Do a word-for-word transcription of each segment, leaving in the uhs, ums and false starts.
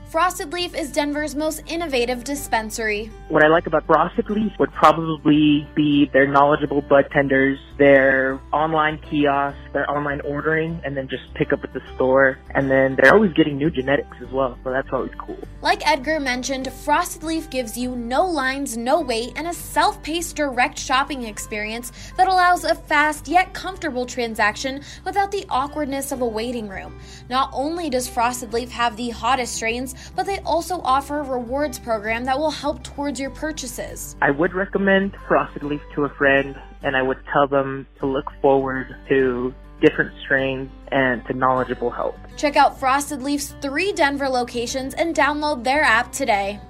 Frosted Leaf is Denver's most innovative dispensary. What I like about Frosted Leaf would probably be their knowledgeable bud tenders, their online kiosks, their online ordering, and then just pick up at the store. And then they're always getting new genetics as well, so that's always cool. Like Edgar mentioned, Frosted Leaf gives you no lines, no wait, and a self-paced direct shopping experience that allows a fast yet comfortable transaction without the awkwardness of a waiting room. Not only does Frosted Leaf have the hottest strains, but they also offer a rewards program that will help towards your purchases. I would recommend Frosted Leaf to a friend, and I would tell them to look forward to different strains and to knowledgeable help. Check out Frosted Leaf's three Denver locations and download their app today.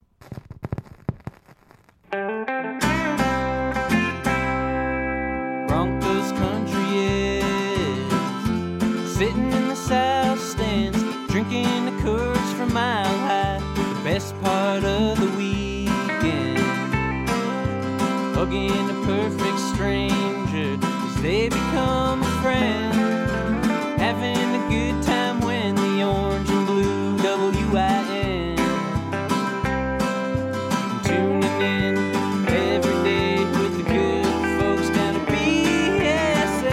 Broncos country is sitting in the south stands, drinking the Coors from Mile High, the best part of the weekend. Hugging a perfect stranger as they become a friend. Having a good time when the orange and blue W I N. Tuning in every day with the good folks down at B S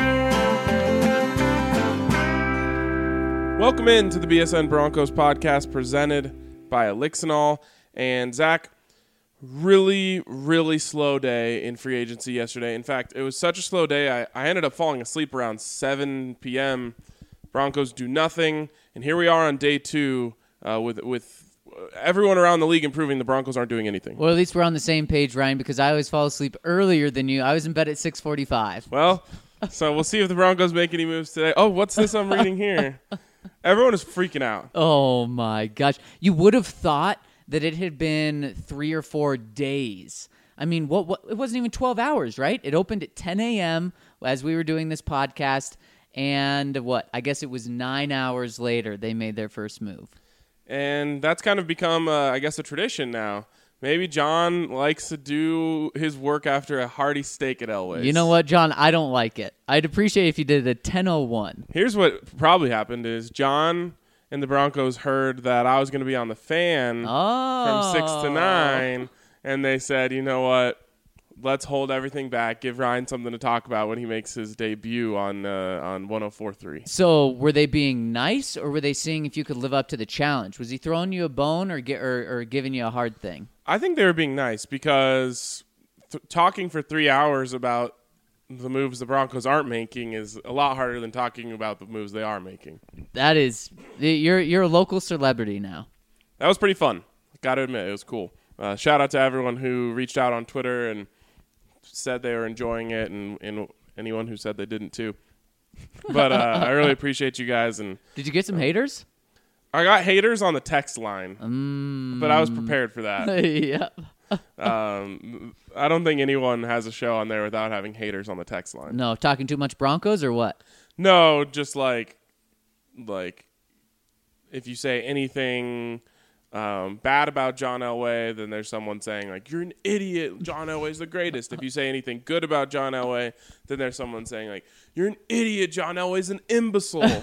N. Welcome in to the B S N Broncos podcast presented by Elixinol. And Zach, really, really slow day in free agency yesterday. In fact, it was such a slow day, I, I ended up falling asleep around seven p.m. Broncos do nothing. And here we are on day two uh, with with everyone around the league improving. The Broncos aren't doing anything. Well, at least we're on the same page, Ryan, because I always fall asleep earlier than you. I was in bed at six forty-five. Well, so we'll see if the Broncos make any moves today. Oh, what's this I'm reading here? Everyone is freaking out. Oh, my gosh. You would have thought that it had been three or four days. I mean, what, what? It wasn't even twelve hours, right? It opened at ten a.m. as we were doing this podcast, and what? I guess it was nine hours later they made their first move. And that's kind of become, uh, I guess, a tradition now. Maybe John likes to do his work after a hearty steak at Elway's. You know what, John? I don't like it. I'd appreciate if you did it at ten oh one. Here's what probably happened is John and the Broncos heard that I was going to be on the fan oh. from six to nine, and they said, you know what, let's hold everything back, give Ryan something to talk about when he makes his debut on uh, on one oh four point three. So were they being nice, or were they seeing if you could live up to the challenge? Was he throwing you a bone or, get, or, or giving you a hard thing? I think they were being nice because th- talking for three hours about the moves the Broncos aren't making is a lot harder than talking about the moves they are making. That is, you're you're a local celebrity now. That was pretty fun. Got to admit, it was cool. Uh, shout out to everyone who reached out on Twitter and said they were enjoying it, and, and anyone who said they didn't too. But uh, I really appreciate you guys. And did you get some haters? I got haters on the text line, um, but I was prepared for that. Yeah. um, I don't think anyone has a show on there without having haters on the text line. No, talking too much Broncos or what? No, just like, like, if you say anything um, bad about John Elway, then there's someone saying like, "You're an idiot. John Elway's the greatest." If you say anything good about John Elway, then there's someone saying like, "You're an idiot. John Elway's an imbecile."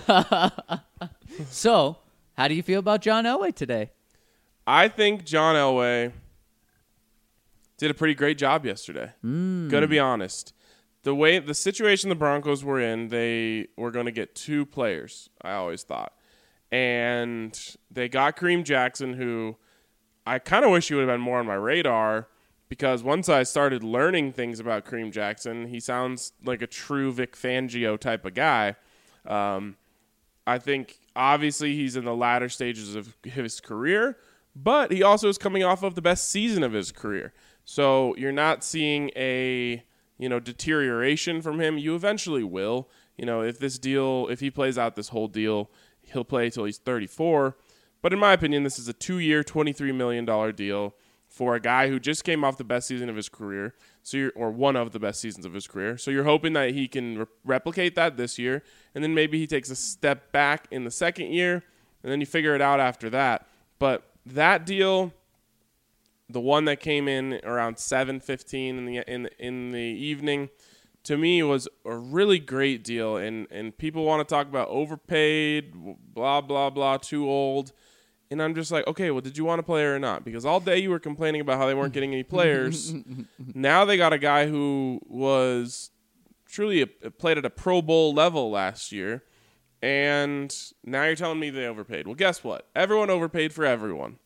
So, how do you feel about John Elway today? I think John Elway did a pretty great job yesterday. Mm. Gonna be honest. The way the situation the Broncos were in, they were going to get two players, I always thought. And they got Kareem Jackson, who I kind of wish he would have been more on my radar, because once I started learning things about Kareem Jackson, he sounds like a true Vic Fangio type of guy. Um, I think obviously he's in the latter stages of his career, but he also is coming off of the best season of his career. So you're not seeing a, you know, deterioration from him. You eventually will. You know, if this deal, if he plays out this whole deal, he'll play till he's thirty-four. But in my opinion, this is a two-year, twenty-three million dollars deal for a guy who just came off the best season of his career, so you're, or one of the best seasons of his career. So you're hoping that he can re- replicate that this year, and then maybe he takes a step back in the second year, and then you figure it out after that. But that deal, the one that came in around seven fifteen in the in in the evening, to me was a really great deal. And, and people want to talk about overpaid, blah, blah, blah, too old. And I'm just like, okay, well, did you want a player or not? Because all day you were complaining about how they weren't getting any players. Now they got a guy who was truly a, played at a Pro Bowl level last year. And now you're telling me they overpaid. Well, guess what? Everyone overpaid for everyone.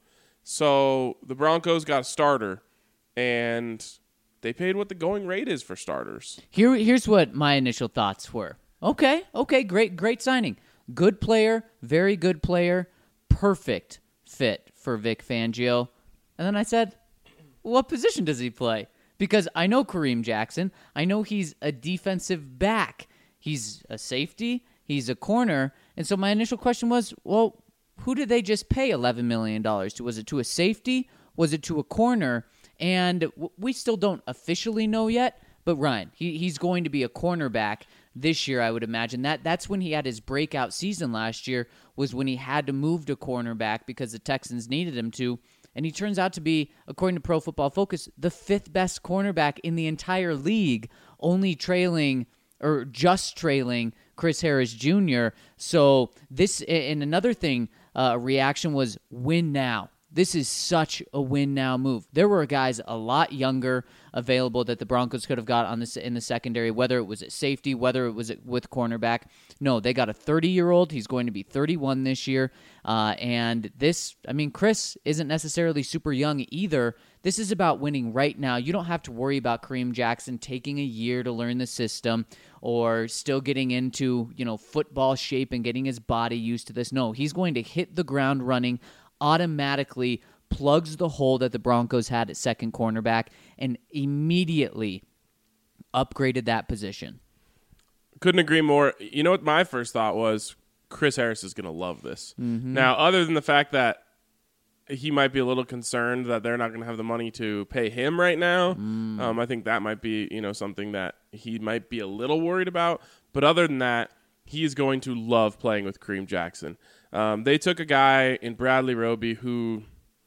So the Broncos got a starter, and they paid what the going rate is for starters. Here, here's what my initial thoughts were. Okay, okay, great, great signing. Good player, very good player, perfect fit for Vic Fangio. And then I said, what position does he play? Because I know Kareem Jackson. I know he's a defensive back. He's a safety. He's a corner. And so my initial question was, well, who did they just pay eleven million dollars to? Was it to a safety? Was it to a corner? And w- we still don't officially know yet. But Ryan, he, he's going to be a cornerback this year, I would imagine. That That's when he had his breakout season last year, was when he had to move to cornerback because the Texans needed him to. And he turns out to be, according to Pro Football Focus, the fifth best cornerback in the entire league, only trailing, or just trailing, Chris Harris Junior So this, and another thing, uh, reaction was win now. This is such a win now move. There were guys a lot younger available that the Broncos could have got on this in the secondary, whether it was at safety, whether it was at, with cornerback. No, they got a thirty-year-old. He's going to be thirty-one this year. Uh, and this, I mean, Chris isn't necessarily super young either. This is about winning right now. You don't have to worry about Kareem Jackson taking a year to learn the system or still getting into, you know, football shape and getting his body used to this. No, he's going to hit the ground running, automatically plugs the hole that the Broncos had at second cornerback, and immediately upgraded that position. Couldn't agree more. You know what my first thought was? Chris Harris is going to love this. Mm-hmm. Now, other than the fact that he might be a little concerned that they're not going to have the money to pay him right now, mm. um, I think that might be, you know, something that he might be a little worried about. But other than that, he is going to love playing with Kareem Jackson. Um, they took a guy in Bradley Roby who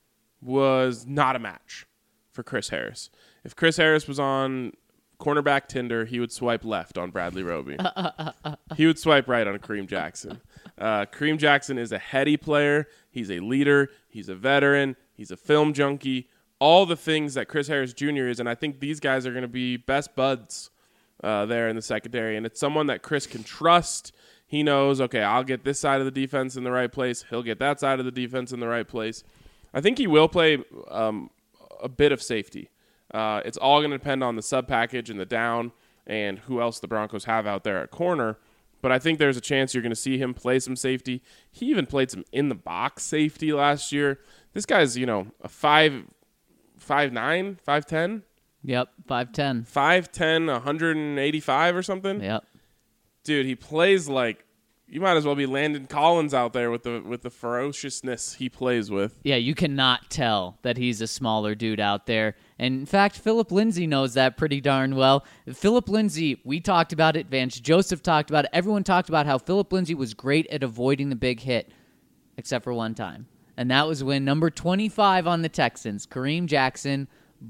was not a match for Chris Harris. If Chris Harris was on cornerback Tinder, he would swipe left on Bradley Roby. He would swipe right on Kareem Jackson. Uh, Kareem Jackson is a heady player. He's a leader. He's a veteran. He's a film junkie. All the things that Chris Harris Junior is, and I think these guys are going to be best buds uh, there in the secondary. And it's someone that Chris can trust. He knows, okay, I'll get this side of the defense in the right place. He'll get that side of the defense in the right place. I think he will play um, a bit of safety. Uh, it's all going to depend on the sub package and the down and who else the Broncos have out there at corner. But I think there's a chance you're going to see him play some safety. He even played some in the box safety last year. This guy's, you know, a five, five nine, five ten. Yep, five ten. five ten, one eighty-five or something. Yep. Dude, he plays like you might as well be Landon Collins out there with the with the ferociousness he plays with. Yeah, you cannot tell that he's a smaller dude out there. And in fact, Philip Lindsay knows that pretty darn well. Philip Lindsay, we talked about it. Vance Joseph talked about it. Everyone talked about how Philip Lindsay was great at avoiding the big hit, except for one time. And that was when number twenty-five on the Texans, Kareem Jackson,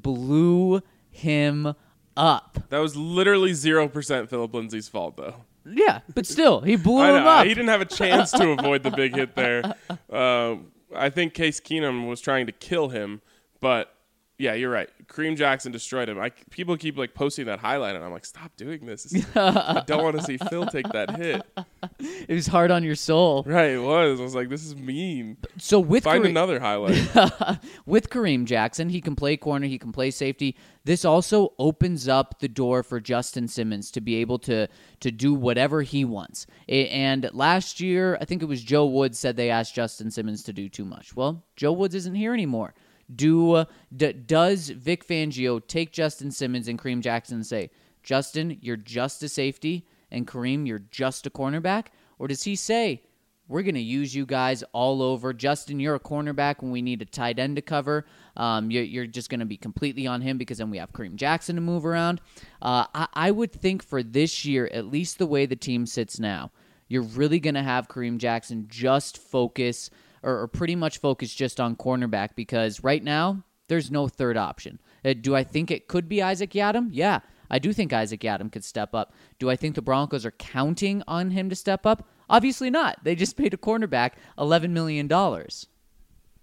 blew him up. That was literally zero percent Philip Lindsay's fault, though. Yeah, but still, he blew I him know, up. He didn't have a chance to avoid the big hit there. Uh, I think Case Keenum was trying to kill him, but yeah, you're right. Kareem Jackson destroyed him. I, people keep like posting that highlight, and I'm like, stop doing this. I don't want to see Phil take that hit. It was hard on your soul. Right, it was. I was like, this is mean. So with Find Kareem, another highlight. with Kareem Jackson, he can play corner, he can play safety. This also opens up the door for Justin Simmons to be able to to do whatever he wants. And last year, I think it was Joe Woods said they asked Justin Simmons to do too much. Well, Joe Woods isn't here anymore. Do uh, d- does Vic Fangio take Justin Simmons and Kareem Jackson and say, Justin, you're just a safety, and Kareem, you're just a cornerback? Or does he say, we're going to use you guys all over. Justin, you're a cornerback when we need a tight end to cover. Um, you're, you're just going to be completely on him because then we have Kareem Jackson to move around. Uh, I, I would think for this year, at least the way the team sits now, you're really going to have Kareem Jackson just focus or, or pretty much focus just on cornerback because right now there's no third option. Uh, do I think it could be Isaac Yiadom? Yeah, I do think Isaac Yiadom could step up. Do I think the Broncos are counting on him to step up? Obviously not. They just paid a cornerback eleven million dollars.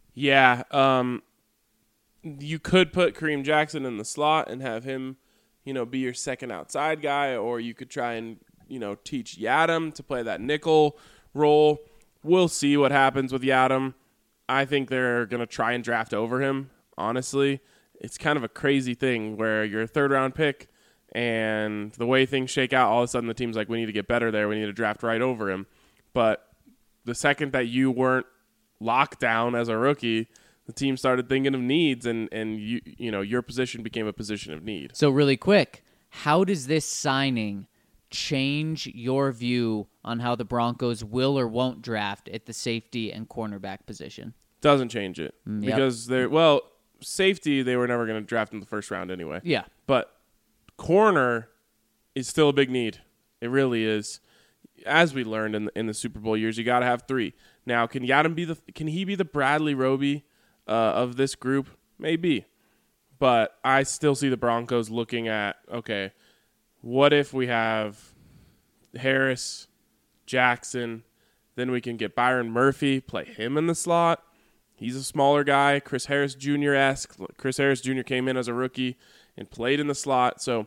Yeah, um, you could put Kareem Jackson in the slot and have him, you know, be your second outside guy, or you could try and, you know, teach Yadam to play that nickel role. We'll see what happens with Yadam. I think they're going to try and draft over him, honestly. It's kind of a crazy thing where you're a third-round pick, and the way things shake out, all of a sudden the team's like, we need to get better there. We need to draft right over him. But the second that you weren't locked down as a rookie, the team started thinking of needs, and, and you you know your position became a position of need. So really quick, how does this signing change your view on how the Broncos will or won't draft at the safety and cornerback position? Doesn't change it. Mm, yep. Because they're, well, safety, they were never going to draft in the first round anyway. Yeah. But corner is still a big need. It really is. As we learned in the, in the Super Bowl years, you got to have three. Now, can Yadam be the can he be the Bradley Roby uh, of this group? Maybe. But I still see the Broncos looking at, okay, what if we have Harris, Jackson, then we can get Byron Murphy, play him in the slot. He's a smaller guy, Chris Harris Junior-esque. Chris Harris Junior came in as a rookie and played in the slot. So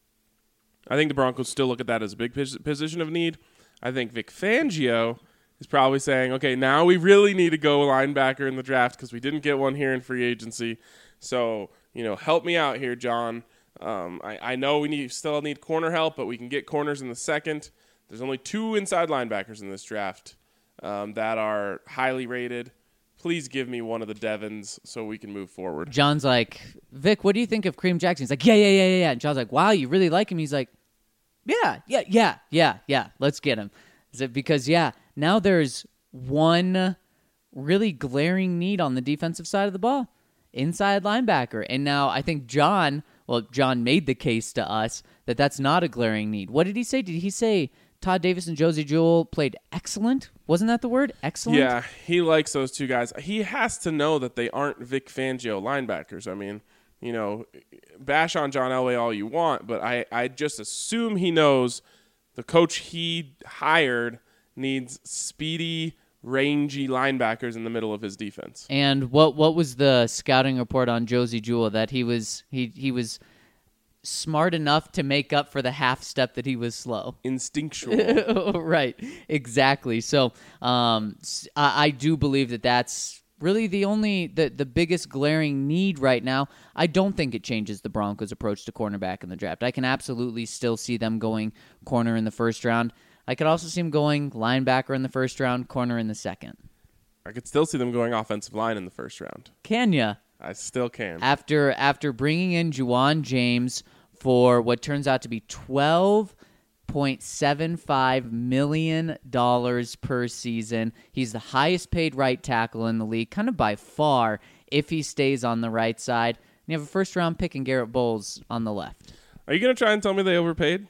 I think the Broncos still look at that as a big position of need. I think Vic Fangio is probably saying, okay, now we really need to go linebacker in the draft because we didn't get one here in free agency. So, you know, help me out here, John. Um, I, I know we need still need corner help, but we can get corners in the second. There's only two inside linebackers in this draft um, that are highly rated. Please give me one of the Devons so we can move forward. John's like, Vic, what do you think of Kareem Jackson? He's like, yeah, yeah, yeah, yeah, yeah. And John's like, wow, you really like him? He's like, yeah, yeah, yeah, yeah, yeah. Let's get him. Is it because, yeah, now there's one really glaring need on the defensive side of the ball, inside linebacker. And now I think John, well, John made the case to us that that's not a glaring need. What did he say? Did he say Todd Davis and Josie Jewell played excellent? Wasn't that the word? Excellent? Yeah, he likes those two guys. He has to know that they aren't Vic Fangio linebackers. I mean, you know, bash on John Elway all you want, but I, I just assume he knows the coach he hired needs speedy, rangy linebackers in the middle of his defense. And what what was the scouting report on Josie Jewell? That he was he he was smart enough to make up for the half step that he was slow. Instinctual. Right, exactly. So um, I, I do believe that that's really the only, the, the biggest glaring need right now. I don't think it changes the Broncos' approach to cornerback in the draft. I can absolutely still see them going corner in the first round. I could also see them going linebacker in the first round, corner in the second. I could still see them going offensive line in the first round. Can ya? I still can. After after bringing in Juwan James for what turns out to be twelve point seven five million dollars per season. He's the highest paid right tackle in the league, kind of by far, if he stays on the right side. And you have a first-round pick in Garrett Bowles on the left. Are you going to try and tell me they overpaid?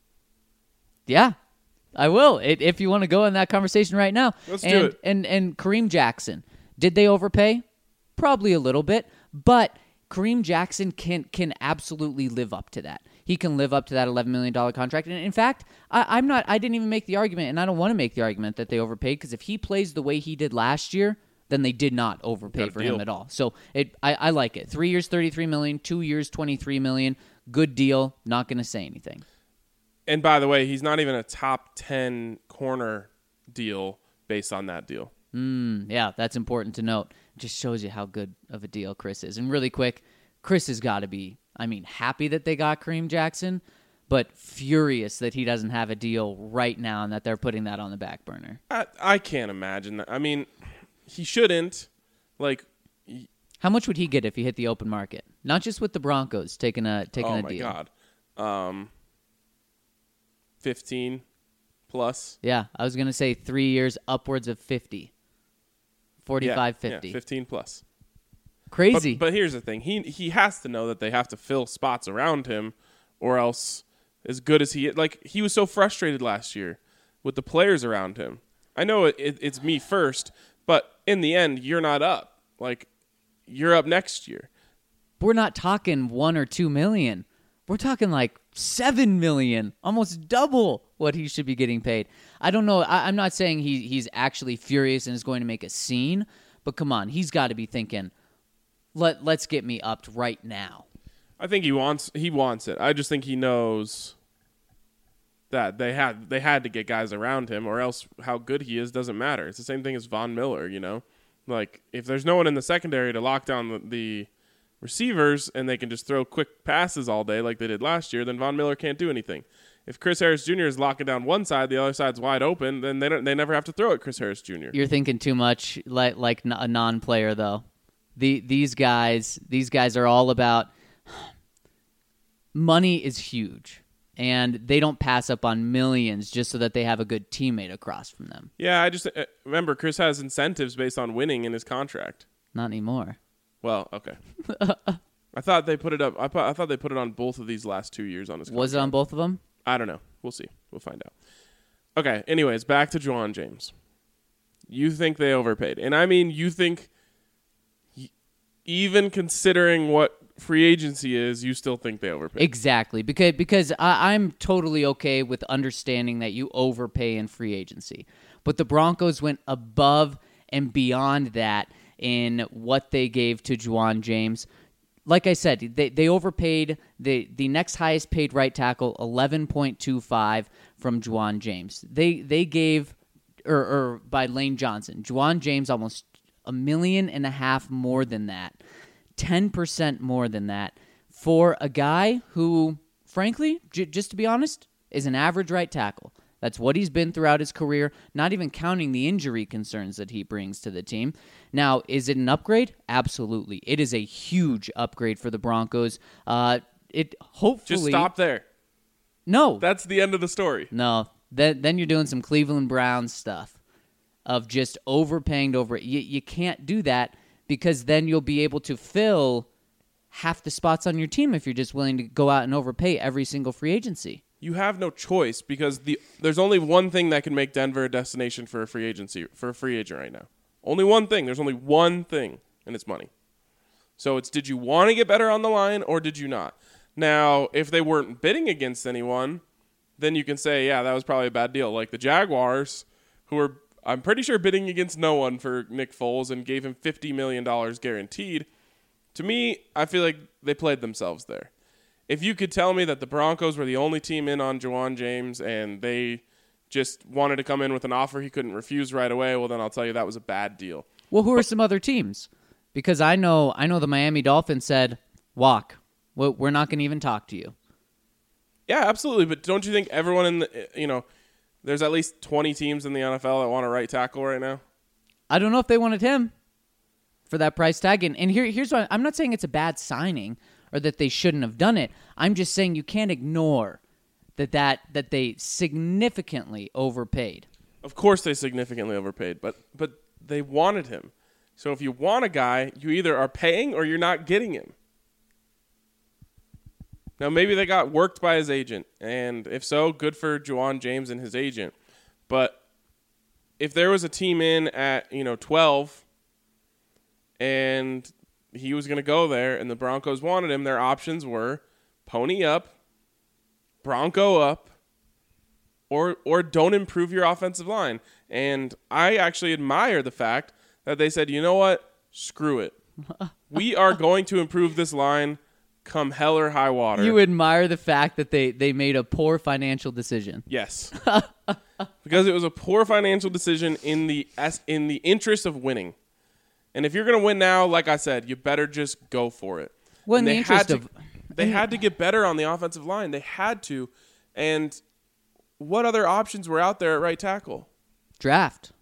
Yeah, I will, it, if you want to go in that conversation right now. Let's and, do it. And, and Kareem Jackson, did they overpay? Probably a little bit, but Kareem Jackson can can absolutely live up to that. He can live up to that eleven million dollars contract. And in fact, I, I'm not. I didn't even make the argument, and I don't want to make the argument that they overpaid, because if he plays the way he did last year, then they did not overpay for deal. him at all. So it, I, I like it. Three years, thirty-three million dollars. Two years, twenty-three million dollars. Good deal. Not going to say anything. And by the way, he's not even a top ten corner deal based on that deal. Mm, yeah, that's important to note. It just shows you how good of a deal Chris is. And really quick, Chris has got to be, I mean, happy that they got Kareem Jackson, but furious that he doesn't have a deal right now and that they're putting that on the back burner. I, I can't imagine that. I mean, he shouldn't. Like, he, how much would he get if he hit the open market? Not just with the Broncos taking a taking oh a my deal. God, um, fifteen plus. Yeah, I was gonna say three years, upwards of fifty. forty-five, yeah, fifty. Yeah, fifteen plus. Crazy. But, but here's the thing. He he has to know that they have to fill spots around him, or else, as good as he like, he was so frustrated last year with the players around him. I know it, it, it's me first, but in the end, you're not up. Like, you're up next year. We're not talking one or two million. We're talking like seven million, almost double what he should be getting paid. I don't know. I, I'm not saying he he's actually furious and is going to make a scene, But come on, he's got to be thinking, Let let's get me upped right now. I think he wants he wants it. I just think he knows that they had they had to get guys around him, or else how good he is doesn't matter. It's the same thing as Von Miller, you know? Like, if there's no one in the secondary to lock down the, the receivers and they can just throw quick passes all day like they did last year, then Von Miller can't do anything. If Chris Harris Junior is locking down one side, the other side's wide open, then they don't they never have to throw at Chris Harris Junior You're thinking too much like like a non-player though. The these guys these guys are all about money is huge, and they don't pass up on millions just so that they have a good teammate across from them. Yeah, I just uh, remember Chris has incentives based on winning in his contract. Not anymore. Well, okay. I thought they put it up. I, pu- I thought they put it on both of these last two years on his contract. Was it on both of them? I don't know. We'll see. We'll find out. Okay. Anyways, back to Juwan James. You think they overpaid, and I mean, you think, even considering what free agency is, you still think they overpaid. Exactly, because because I, I'm totally okay with understanding that you overpay in free agency, but the Broncos went above and beyond that in what they gave to Juwan James. Like I said, they they overpaid the the next highest paid right tackle, eleven point two five from Juwan James. They they gave or, or by Lane Johnson, Juwan James almost a million and a half more than that. ten percent more than that for a guy who, frankly, j- just to be honest, is an average right tackle. That's what he's been throughout his career, not even counting the injury concerns that he brings to the team. Now, is it an upgrade? Absolutely. It is a huge upgrade for the Broncos. Uh, it hopefully... Just stop there. No. That's the end of the story. No. Then, then you're doing some Cleveland Browns stuff of just overpaying to over... You, you can't do that, because then you'll be able to fill half the spots on your team if you're just willing to go out and overpay every single free agency. You have no choice, because the there's only one thing that can make Denver a destination for a free agency for a free agent right now. Only one thing. There's only one thing, and it's money. So it's, did you want to get better on the line or did you not? Now, if they weren't bidding against anyone, then you can say, yeah, that was probably a bad deal. Like the Jaguars, who were, I'm pretty sure, bidding against no one for Nick Foles and gave him fifty million dollars guaranteed. To me, I feel like they played themselves there. If you could tell me that the Broncos were the only team in on Juwan James and they just wanted to come in with an offer he couldn't refuse right away, well, then I'll tell you that was a bad deal. Well, who are some other teams? Because I know I know the Miami Dolphins said, walk. We're not going to even talk to you. Yeah, absolutely. But don't you think everyone in the, you know, there's at least twenty teams in the N F L that want a right tackle right now? I don't know if they wanted him for that price tag. And, and here, here's why. I'm not saying it's a bad signing or that they shouldn't have done it. I'm just saying you can't ignore that that, that they significantly overpaid. Of course they significantly overpaid, but but they wanted him. So if you want a guy, you either are paying or you're not getting him. Now, maybe they got worked by his agent, and if so, good for Juwan James and his agent. But if there was a team in at, you know, twelve and he was going to go there and the Broncos wanted him, their options were pony up, Bronco up, or or don't improve your offensive line. And I actually admire the fact that they said, you know what, screw it. We are going to improve this line come hell or high water. You admire the fact that they, they made a poor financial decision. Yes. Because it was a poor financial decision in the in the interest of winning. And if you're going to win now, like I said, you better just go for it. Well, in and the they interest had of... to, They had to get better on the offensive line. They had to. And what other options were out there at right tackle? Draft.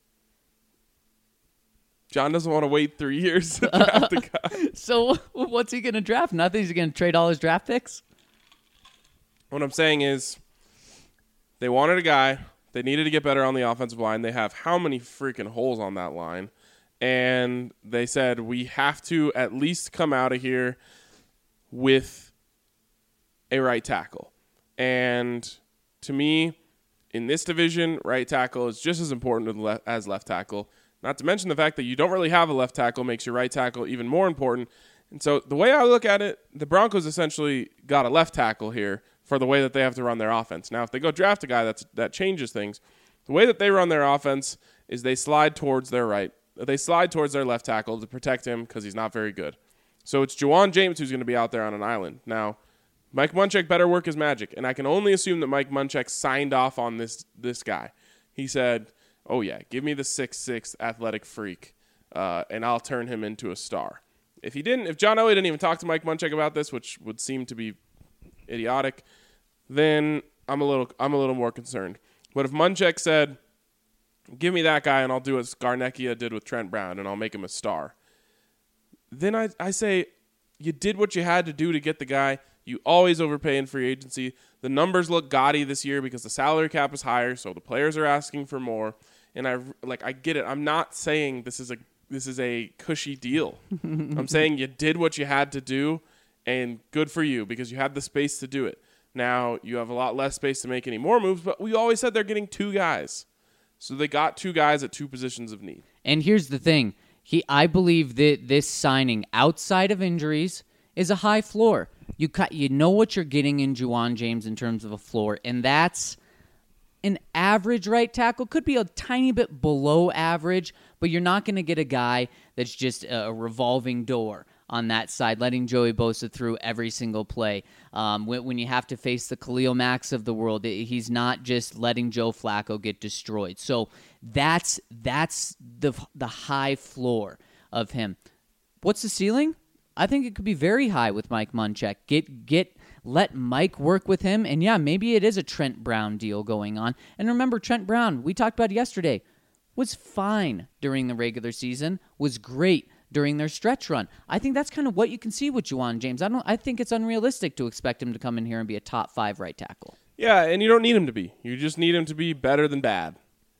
John doesn't want to wait three years to draft a guy. So what's he going to draft? Nothing? He's going to trade all his draft picks? What I'm saying is they wanted a guy. They needed to get better on the offensive line. They have how many freaking holes on that line? And they said, we have to at least come out of here with a right tackle. And to me, in this division, right tackle is just as important as left tackle. Not to mention the fact that you don't really have a left tackle makes your right tackle even more important. And so the way I look at it, the Broncos essentially got a left tackle here for the way that they have to run their offense. Now, if they go draft a guy, that's, that changes things. The way that they run their offense is they slide towards their right they slide towards their left tackle to protect him because he's not very good. So it's Juwan James who's going to be out there on an island. Now, Mike Munchak better work his magic, and I can only assume that Mike Munchak signed off on this this guy. He said, oh, yeah, give me the six six athletic freak, uh, and I'll turn him into a star. If he didn't, if John Elway didn't even talk to Mike Munchak about this, which would seem to be idiotic, then I'm a little I'm a little more concerned. But if Munchak said, give me that guy and I'll do what Scarnecchia did with Trent Brown and I'll make him a star, then I, I say you did what you had to do to get the guy. You always overpay in free agency. The numbers look gaudy this year because the salary cap is higher, so the players are asking for more. And I like I get it. I'm not saying this is a this is a cushy deal. I'm saying you did what you had to do, and good for you because you had the space to do it. Now you have a lot less space to make any more moves, but we always said they're getting two guys. So they got two guys at two positions of need. And here's the thing. He, I believe that this signing, outside of injuries, is a high floor. You cut, you know what you're getting in Juwan James in terms of a floor, and that's an average right tackle. Could be a tiny bit below average, but you're not going to get a guy that's just a revolving door on that side, letting Joey Bosa through every single play. Um, when, when you have to face the Khalil Macks of the world, he's not just letting Joe Flacco get destroyed. So that's that's the the high floor of him. What's the ceiling? I think it could be very high with Mike Munchak. Get get let Mike work with him, and yeah, maybe it is a Trent Brown deal going on. And remember, Trent Brown, we talked about yesterday, was fine during the regular season, was great during their stretch run. I think that's kind of what you can see with Juwan James. I don't. I think it's unrealistic to expect him to come in here and be a top five right tackle. Yeah, and you don't need him to be. You just need him to be better than bad.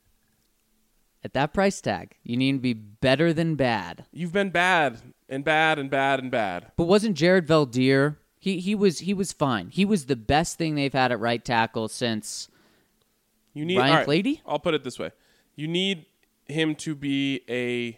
At that price tag, you need to be better than bad. You've been bad and bad and bad and bad. But wasn't Jared Valdir? He he was he was fine. He was the best thing they've had at right tackle since you need, Ryan right, Clady? I'll put it this way. You need him to be a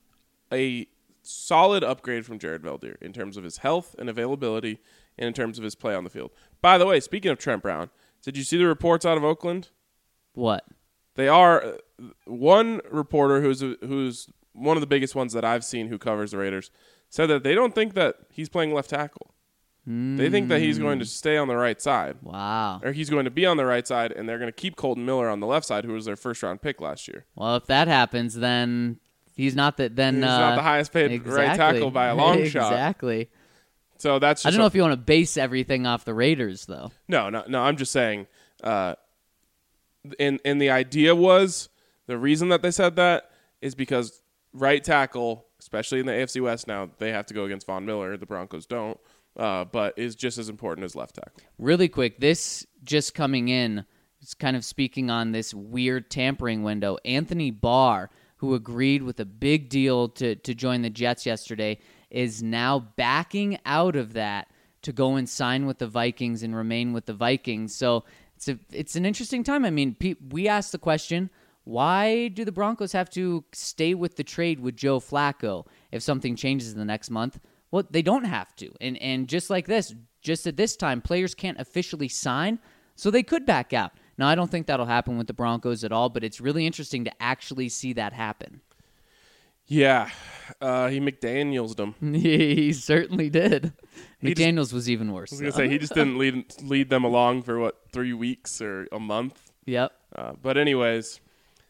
a solid upgrade from Jared Valdir in terms of his health and availability and in terms of his play on the field. By the way, speaking of Trent Brown, did you see the reports out of Oakland? What? They are uh, one reporter who's a, who's one of the biggest ones that I've seen who covers the Raiders said that they don't think that he's playing left tackle. Mm. They think that he's going to stay on the right side. Wow. Or he's going to be on the right side, and they're going to keep Colton Miller on the left side, who was their first-round pick last year. Well, if that happens, then he's not the then he's uh, not the highest paid exactly. right tackle by a long exactly. shot. Exactly. So that's. Just I don't know a, if you want to base everything off the Raiders, though. No, no, no. I'm just saying. Uh, and and the idea was the reason that they said that is because right tackle, especially in the A F C West now, they have to go against Von Miller. The Broncos don't, uh, but is just as important as left tackle. Really quick, this just coming in is kind of speaking on this weird tampering window. Anthony Barr, who agreed with a big deal to to join the Jets yesterday, is now backing out of that to go and sign with the Vikings and remain with the Vikings. So it's a, it's an interesting time. I mean, pe- we asked the question, why do the Broncos have to stay with the trade with Joe Flacco if something changes in the next month? Well, they don't have to. And and just like this, just at this time, players can't officially sign, so they could back out. Now, I don't think that'll happen with the Broncos at all, but it's really interesting to actually see that happen. Yeah, uh, he McDaniels them. He certainly did. He McDaniels just, was even worse. I was going to say, he just didn't lead lead them along for, what, three weeks or a month? Yep. Uh, but anyways,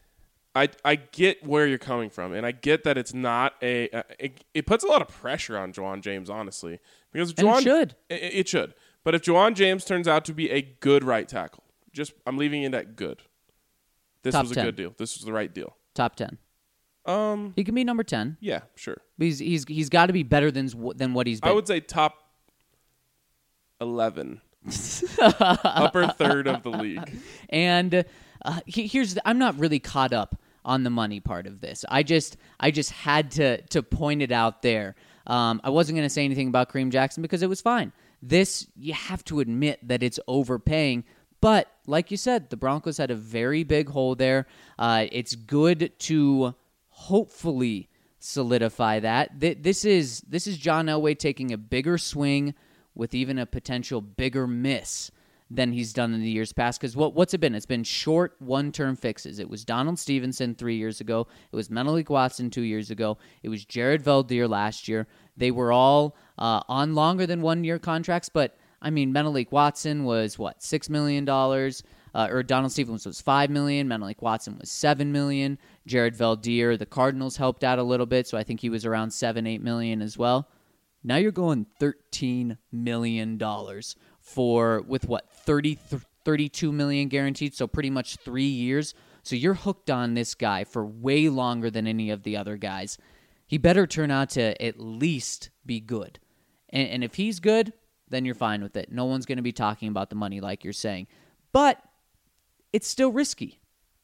I I get where you're coming from, and I get that it's not a uh, – it, it puts a lot of pressure on Juwan James, honestly. Because and Juwan, it should. It, it should. But if Juwan James turns out to be a good right tackle, just I'm leaving it at good. This Top was a ten. good deal. This was the right deal. Top ten. Um, He can be number ten. Yeah, sure. But he's he's he's got to be better than than what he's been. I would say top eleven. Upper third of the league. And uh, he, here's the, I'm not really caught up on the money part of this. I just I just had to to point it out there. Um, I wasn't going to say anything about Kareem Jackson because it was fine. This, you have to admit that it's overpaying. But like you said, the Broncos had a very big hole there. Uh, it's good to hopefully solidify that. Th- This is this is John Elway taking a bigger swing with even a potential bigger miss than he's done in the years past. Because what, what's it been? It's been short one-term fixes. It was Donald Stevenson three years ago. It was Menelik Watson two years ago. It was Jared Valdir last year. They were all uh, on longer than one-year contracts. But, I mean, Menelik Watson was, what, six million dollars? Uh, or Donald Stevenson was five million dollars. Menelik Watson was seven million dollars. Jared Valdir, the Cardinals helped out a little bit, so I think he was around seven, eight million dollars as well. Now you're going thirteen million dollars for, with what, thirty, thirty-two million dollars guaranteed, so pretty much three years. So you're hooked on this guy for way longer than any of the other guys. He better turn out to at least be good. And, and if he's good, then you're fine with it. No one's going to be talking about the money like you're saying. But it's still risky.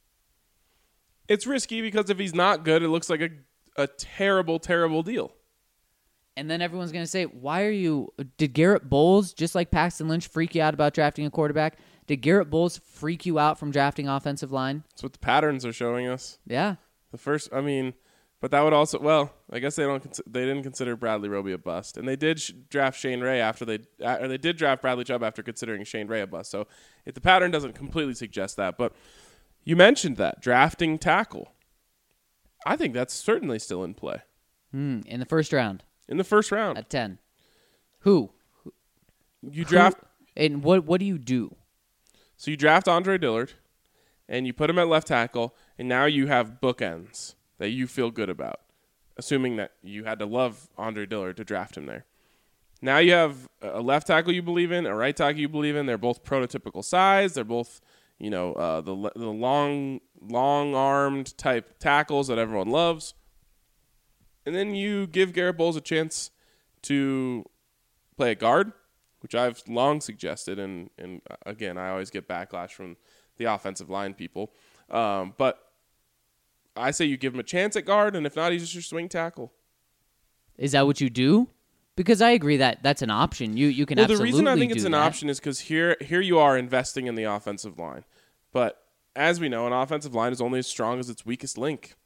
It's risky because if he's not good, it looks like a, a terrible, terrible deal. And then everyone's going to say, why are you... Did Garrett Bowles, just like Paxton Lynch, freak you out about drafting a quarterback? Did Garrett Bowles freak you out from drafting offensive line? That's what the patterns are showing us. Yeah. The first, I mean, but that would also, well, I guess they don't. Cons- they didn't consider Bradley Roby a bust, and they did sh- draft Shane Ray after they, uh, or they did draft Bradley Chubb after considering Shane Ray a bust. So if the pattern doesn't completely suggest that, but you mentioned that drafting tackle, I think that's certainly still in play. Hmm, in the first round. In the first round. At ten. Who? You draft. Who, and what what do you do? So you draft Andre Dillard, and you put him at left tackle, and now you have bookends that you feel good about, assuming that you had to love Andre Dillard to draft him there. Now you have a left tackle you believe in, a right tackle you believe in. They're both prototypical size. They're both, you know, uh, the the long, long-armed type tackles that everyone loves. And then you give Garrett Bowles a chance to play a guard, which I've long suggested. And, and again, I always get backlash from the offensive line people. Um, but I say you give him a chance at guard, and if not, he's just your swing tackle. Is that what you do? Because I agree that that's an option. You you can well, absolutely do the reason I think it's an that. option is because here here you are investing in the offensive line. But as we know, an offensive line is only as strong as its weakest link.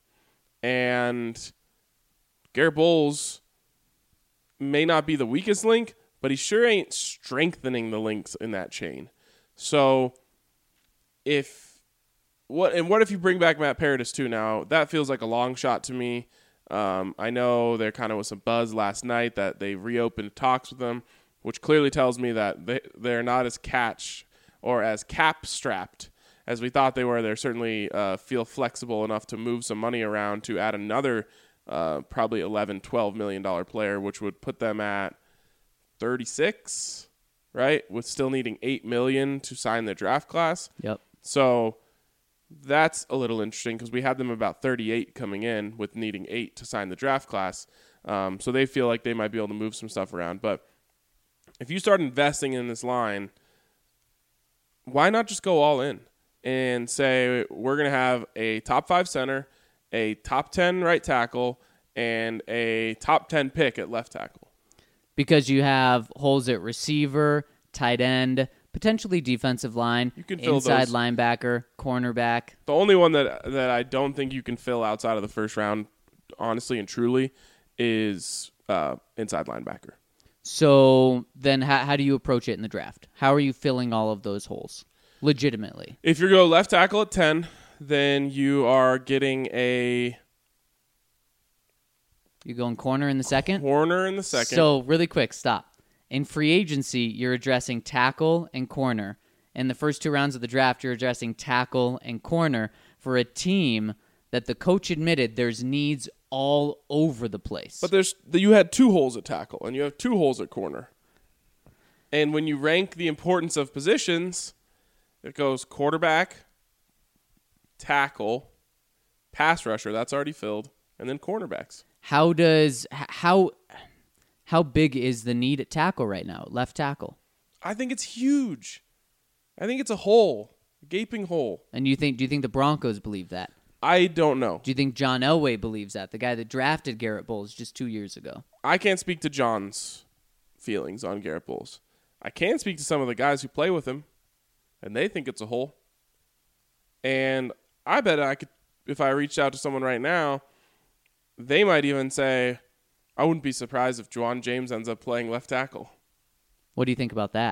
And Garrett Bowles may not be the weakest link, but he sure ain't strengthening the links in that chain. So if what and what if you bring back Matt Paradis too now? That feels like a long shot to me. Um, I know there kind of was some buzz last night that they reopened talks with them, which clearly tells me that they, they're not as catch or as cap strapped as we thought they were. They're certainly uh, feel flexible enough to move some money around to add another uh, probably eleven, twelve million dollars player, which would put them at thirty-six, right? With still needing eight million dollars to sign the draft class. Yep. So that's a little interesting because we had them about thirty-eight coming in with needing eight to sign the draft class. Um, so they feel like they might be able to move some stuff around. But if you start investing in this line, why not just go all in and say we're going to have a top five center, a top ten right tackle, and a top ten pick at left tackle? Because you have holes at receiver, tight end, potentially defensive line, You can fill inside those. linebacker, cornerback. The only one that that I don't think you can fill outside of the first round, honestly and truly, is uh, inside linebacker. So then how, how do you approach it in the draft? How are you filling all of those holes legitimately? If you go left tackle at ten, then you are getting a You going corner in the second? corner in the second. So really quick, stop. In free agency, you're addressing tackle and corner. In the first two rounds of the draft, you're addressing tackle and corner for a team that the coach admitted there's needs all over the place. But there's you had two holes at tackle, and you have two holes at corner. And when you rank the importance of positions, it goes quarterback, tackle, pass rusher, that's already filled, and then cornerbacks. How does h- how how big is the need at tackle right now? Left tackle. I think it's huge. I think it's a hole, a gaping hole. And you think do you think the Broncos believe that? I don't know. Do you think John Elway believes that? The guy that drafted Garrett Bowles just two years ago. I can't speak to John's feelings on Garrett Bowles. I can speak to some of the guys who play with him, and they think it's a hole. And I bet I could, if I reached out to someone right now, they might even say, I wouldn't be surprised if Juwan James ends up playing left tackle. What do you think about that?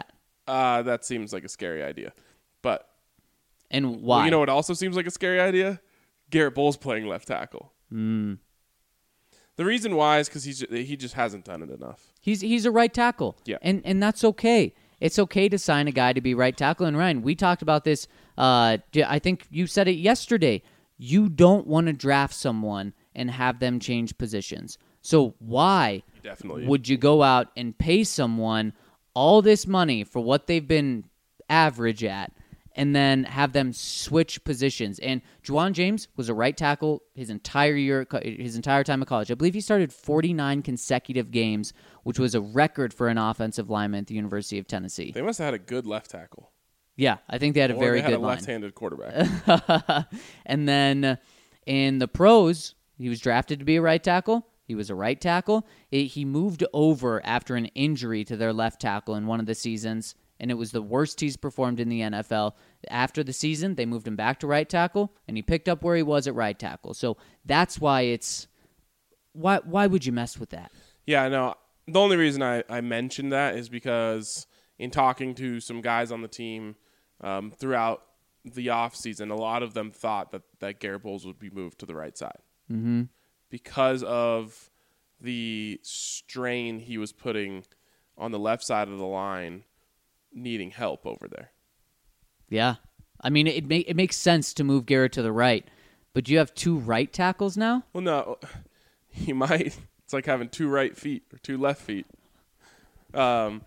Uh, that seems like a scary idea. But And why? well, you know what also seems like a scary idea? Garrett Bowles playing left tackle. Mm. The reason why is because he's he just hasn't done it enough. He's he's a right tackle. Yeah. And and that's okay. It's okay to sign a guy to be right tackle. And Ryan, we talked about this. Uh, I think you said it yesterday. You don't want to draft someone and have them change positions. So why Definitely. would you go out and pay someone all this money for what they've been average at and then have them switch positions? And Juwan James was a right tackle his entire year, his entire time of college. I believe he started forty-nine consecutive games, which was a record for an offensive lineman at the University of Tennessee. They must have had a good left tackle. Yeah, I think they had a Or very they had good a line. left-handed quarterback. And then in the pros, he was drafted to be a right tackle. He was a right tackle. It, he moved over after an injury to their left tackle in one of the seasons, and it was the worst he's performed in the N F L. After the season, they moved him back to right tackle, and he picked up where he was at right tackle. So that's why it's why why would you mess with that? Yeah, no. The only reason I, I mentioned that is because in talking to some guys on the team um, throughout the offseason, a lot of them thought that, that Garrett Bowles would be moved to the right side. Mm-hmm. Because of the strain he was putting on the left side of the line, needing help over there. Yeah. I mean, it, ma- it makes sense to move Garrett to the right, but do you have two right tackles now? Well, no, he might. It's like having two right feet or two left feet. Um,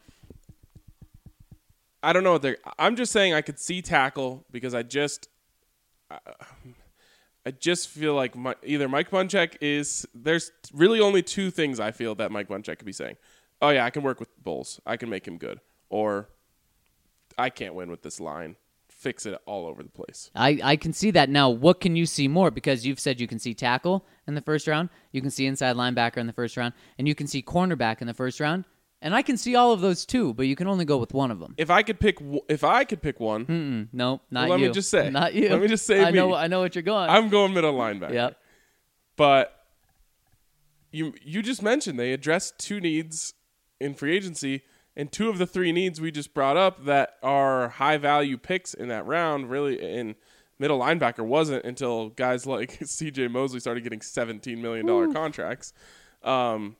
I don't know what they're. I'm just saying I could see tackle because I just, I, I just feel like my, either Mike Munchak is. There's really only two things I feel that Mike Munchak could be saying. Oh yeah, I can work with Bowles. I can make him good. Or I can't win with this line. Fix it all over the place. I, I can see that. Now, what can you see more? Because you've said you can see tackle in the first round, you can see inside linebacker in the first round, and you can see cornerback in the first round. And I can see all of those too, but you can only go with one of them. If I could pick, if I could pick one, Mm-mm, no, not well, let you. me just say, not you. Let me just say, I me. know, I know what you're going. I'm going middle linebacker. Yep. But you you just mentioned they addressed two needs in free agency, and two of the three needs we just brought up that are high value picks in that round. Really, in middle linebacker wasn't until guys like C J Mosley started getting seventeen million dollars contracts. Um,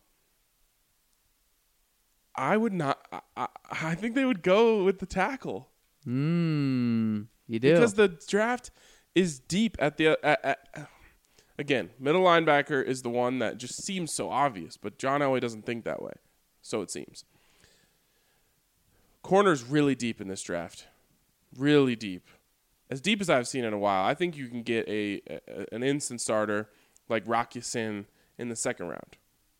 I would not. I, I, I think they would go with the tackle. Mm, you do. Because the draft is deep at the at, at, again, middle linebacker is the one that just seems so obvious, but John Elway doesn't think that way. So it seems. Corner's really deep in this draft. Really deep. As deep as I've seen in a while. I think you can get a, a an instant starter like Rock Ya-Sin in the second round.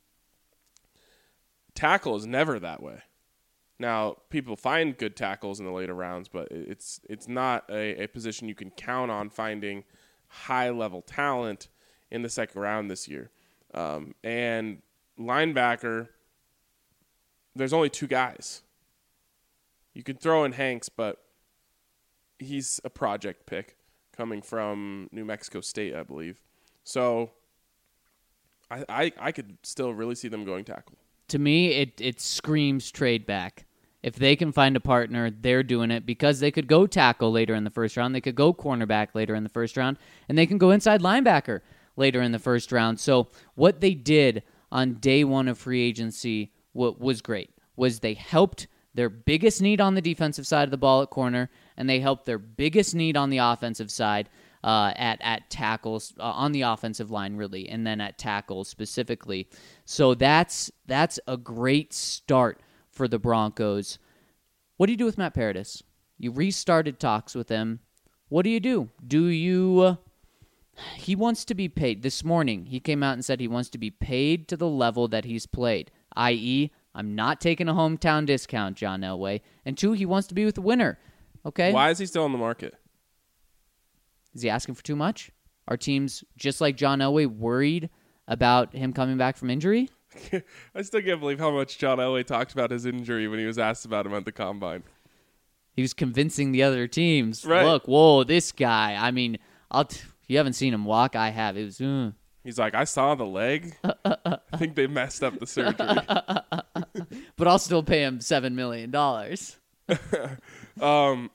Tackle is never that way. Now, people find good tackles in the later rounds, but it's it's not a, a position you can count on finding high-level talent in the second round this year. Um, and linebacker, there's only two guys. You can throw in Hanks, but he's a project pick coming from New Mexico State, I believe. So I I, I could still really see them going tackle. To me, it it screams trade back. If they can find a partner, they're doing it because they could go tackle later in the first round. They could go cornerback later in the first round, and they can go inside linebacker later in the first round. So what they did on day one of free agency what was great was they helped their biggest need on the defensive side of the ball at corner, and they helped their biggest need on the offensive side uh, at at tackles uh, on the offensive line, really, and then at tackles specifically. So that's that's a great start for the Broncos. What do you do with Matt Paradis? You restarted talks with him. What do you do? Do you... Uh, he wants to be paid. This morning, he came out and said he wants to be paid to the level that he's played, that is, I'm not taking a hometown discount, John Elway. And two, he wants to be with the winner. Okay? Why is he still on the market? Is he asking for too much? Are teams, just like John Elway, worried about him coming back from injury? I still can't believe how much John Elway talked about his injury when he was asked about him at the Combine. He was convincing the other teams. Right. Look, whoa, this guy. I mean, I'll t- you haven't seen him walk. I have. It was. Uh. He's like, I saw the leg. I think they messed up the surgery. But I'll still pay him seven million dollars. um,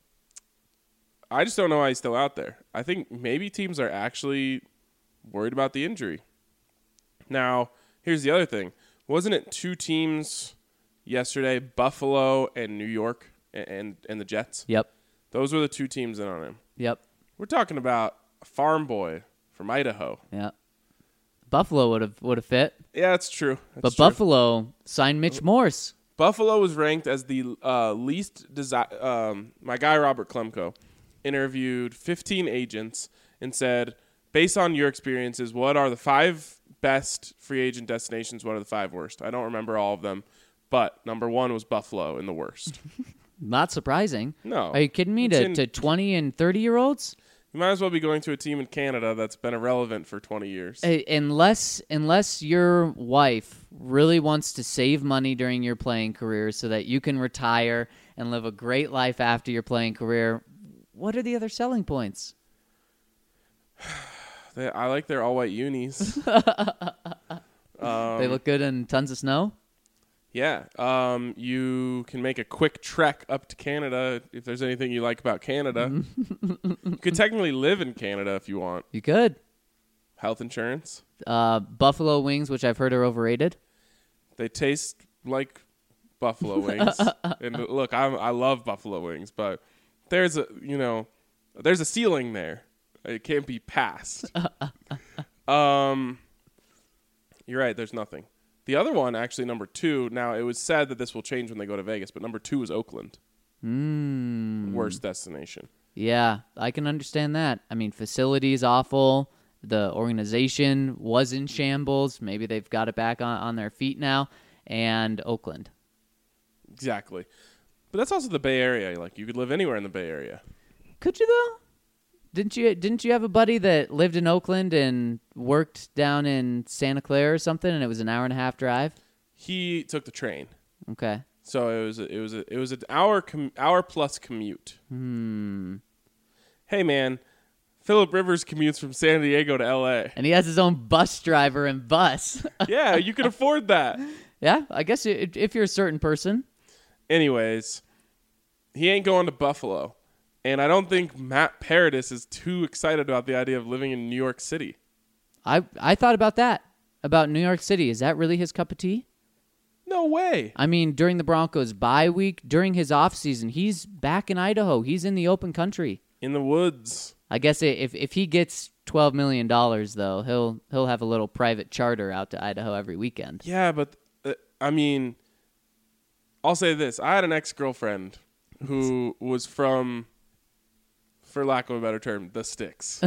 I just don't know why he's still out there. I think maybe teams are actually worried about the injury. Now, here's the other thing. Wasn't it two teams yesterday, Buffalo and New York and, and, and the Jets? Yep. Those were the two teams in on him. Yep. We're talking about a farm boy from Idaho. Yeah. Buffalo would have would have fit. Yeah, that's true. That's But true. Buffalo signed Mitch Morse. Buffalo was ranked as the uh, least desi- um My guy Robert Klemko interviewed fifteen agents and said, based on your experiences, what are the five best free agent destinations? What are the five worst? I don't remember all of them, but number one was Buffalo in the worst. Not surprising. No. Are you kidding me? It's To, in- to twenty and thirty year olds? You might as well be going to a team in Canada that's been irrelevant for twenty years. Uh, Unless unless your wife really wants to save money during your playing career so that you can retire and live a great life after your playing career, what are the other selling points? They, I like their all-white unis. they look good in tons of snow? Yeah. Um, you can make a quick trek up to Canada if there's anything you like about Canada. You could technically live in Canada if you want. You could. Health insurance. Uh, buffalo wings, which I've heard are overrated. They taste like buffalo wings. And look, I'm, I love buffalo wings, but there's a, you know, there's a ceiling there. It can't be passed. um, you're right. There's nothing. The other one, actually, number two, now it was said that this will change when they go to Vegas, but number two is Oakland. Mm. Worst destination. Yeah, I can understand that. I mean, facilities awful. The organization was in shambles. Maybe they've got it back on, on their feet now. And Oakland. Exactly. But that's also the Bay Area. Like, you could live anywhere in the Bay Area. Could you, though? Didn't you didn't you have a buddy that lived in Oakland and worked down in Santa Clara or something, and it was an hour and a half drive? He took the train. Okay. So it was a, it was a, it was an hour com- hour plus commute. Hmm. Hey man, Phillip Rivers commutes from San Diego to L A. And he has his own bus driver and bus. Yeah, you can afford that. Yeah, I guess i- if you're a certain person. Anyways, he ain't going to Buffalo. And I don't think Matt Paradis is too excited about the idea of living in New York City. I I thought about that, about New York City. Is that really his cup of tea? No way. I mean, during the Broncos' bye week, during his offseason, he's back in Idaho. He's in the open country. In the woods. I guess if if he gets twelve million dollars, though, he'll he'll have a little private charter out to Idaho every weekend. Yeah, but, uh, I mean, I'll say this. I had an ex-girlfriend who was from, for lack of a better term, the sticks.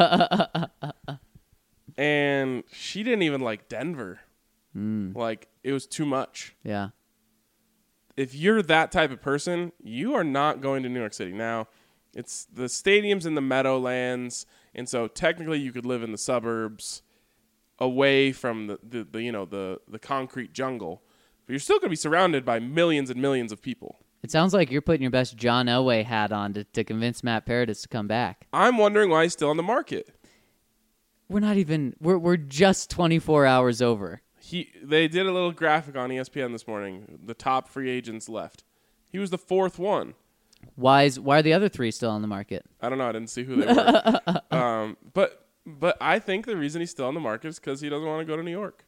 And she didn't even like Denver. Mm. Like, it was too much. Yeah. If you're that type of person, you are not going to New York City. Now, it's the stadium's in the Meadowlands, and so technically you could live in the suburbs away from the, the, the you know, the, the concrete jungle. But you're still going to be surrounded by millions and millions of people. It sounds like you're putting your best John Elway hat on to, to convince Matt Paradis to come back. I'm wondering why he's still on the market. We're not even, we're we're just twenty-four hours over. He They did a little graphic on E S P N this morning, the top free agents left. He was the fourth one. Why is why are the other three still on the market? I don't know. I didn't see who they were. um, but but I think the reason he's still on the market is because he doesn't want to go to New York.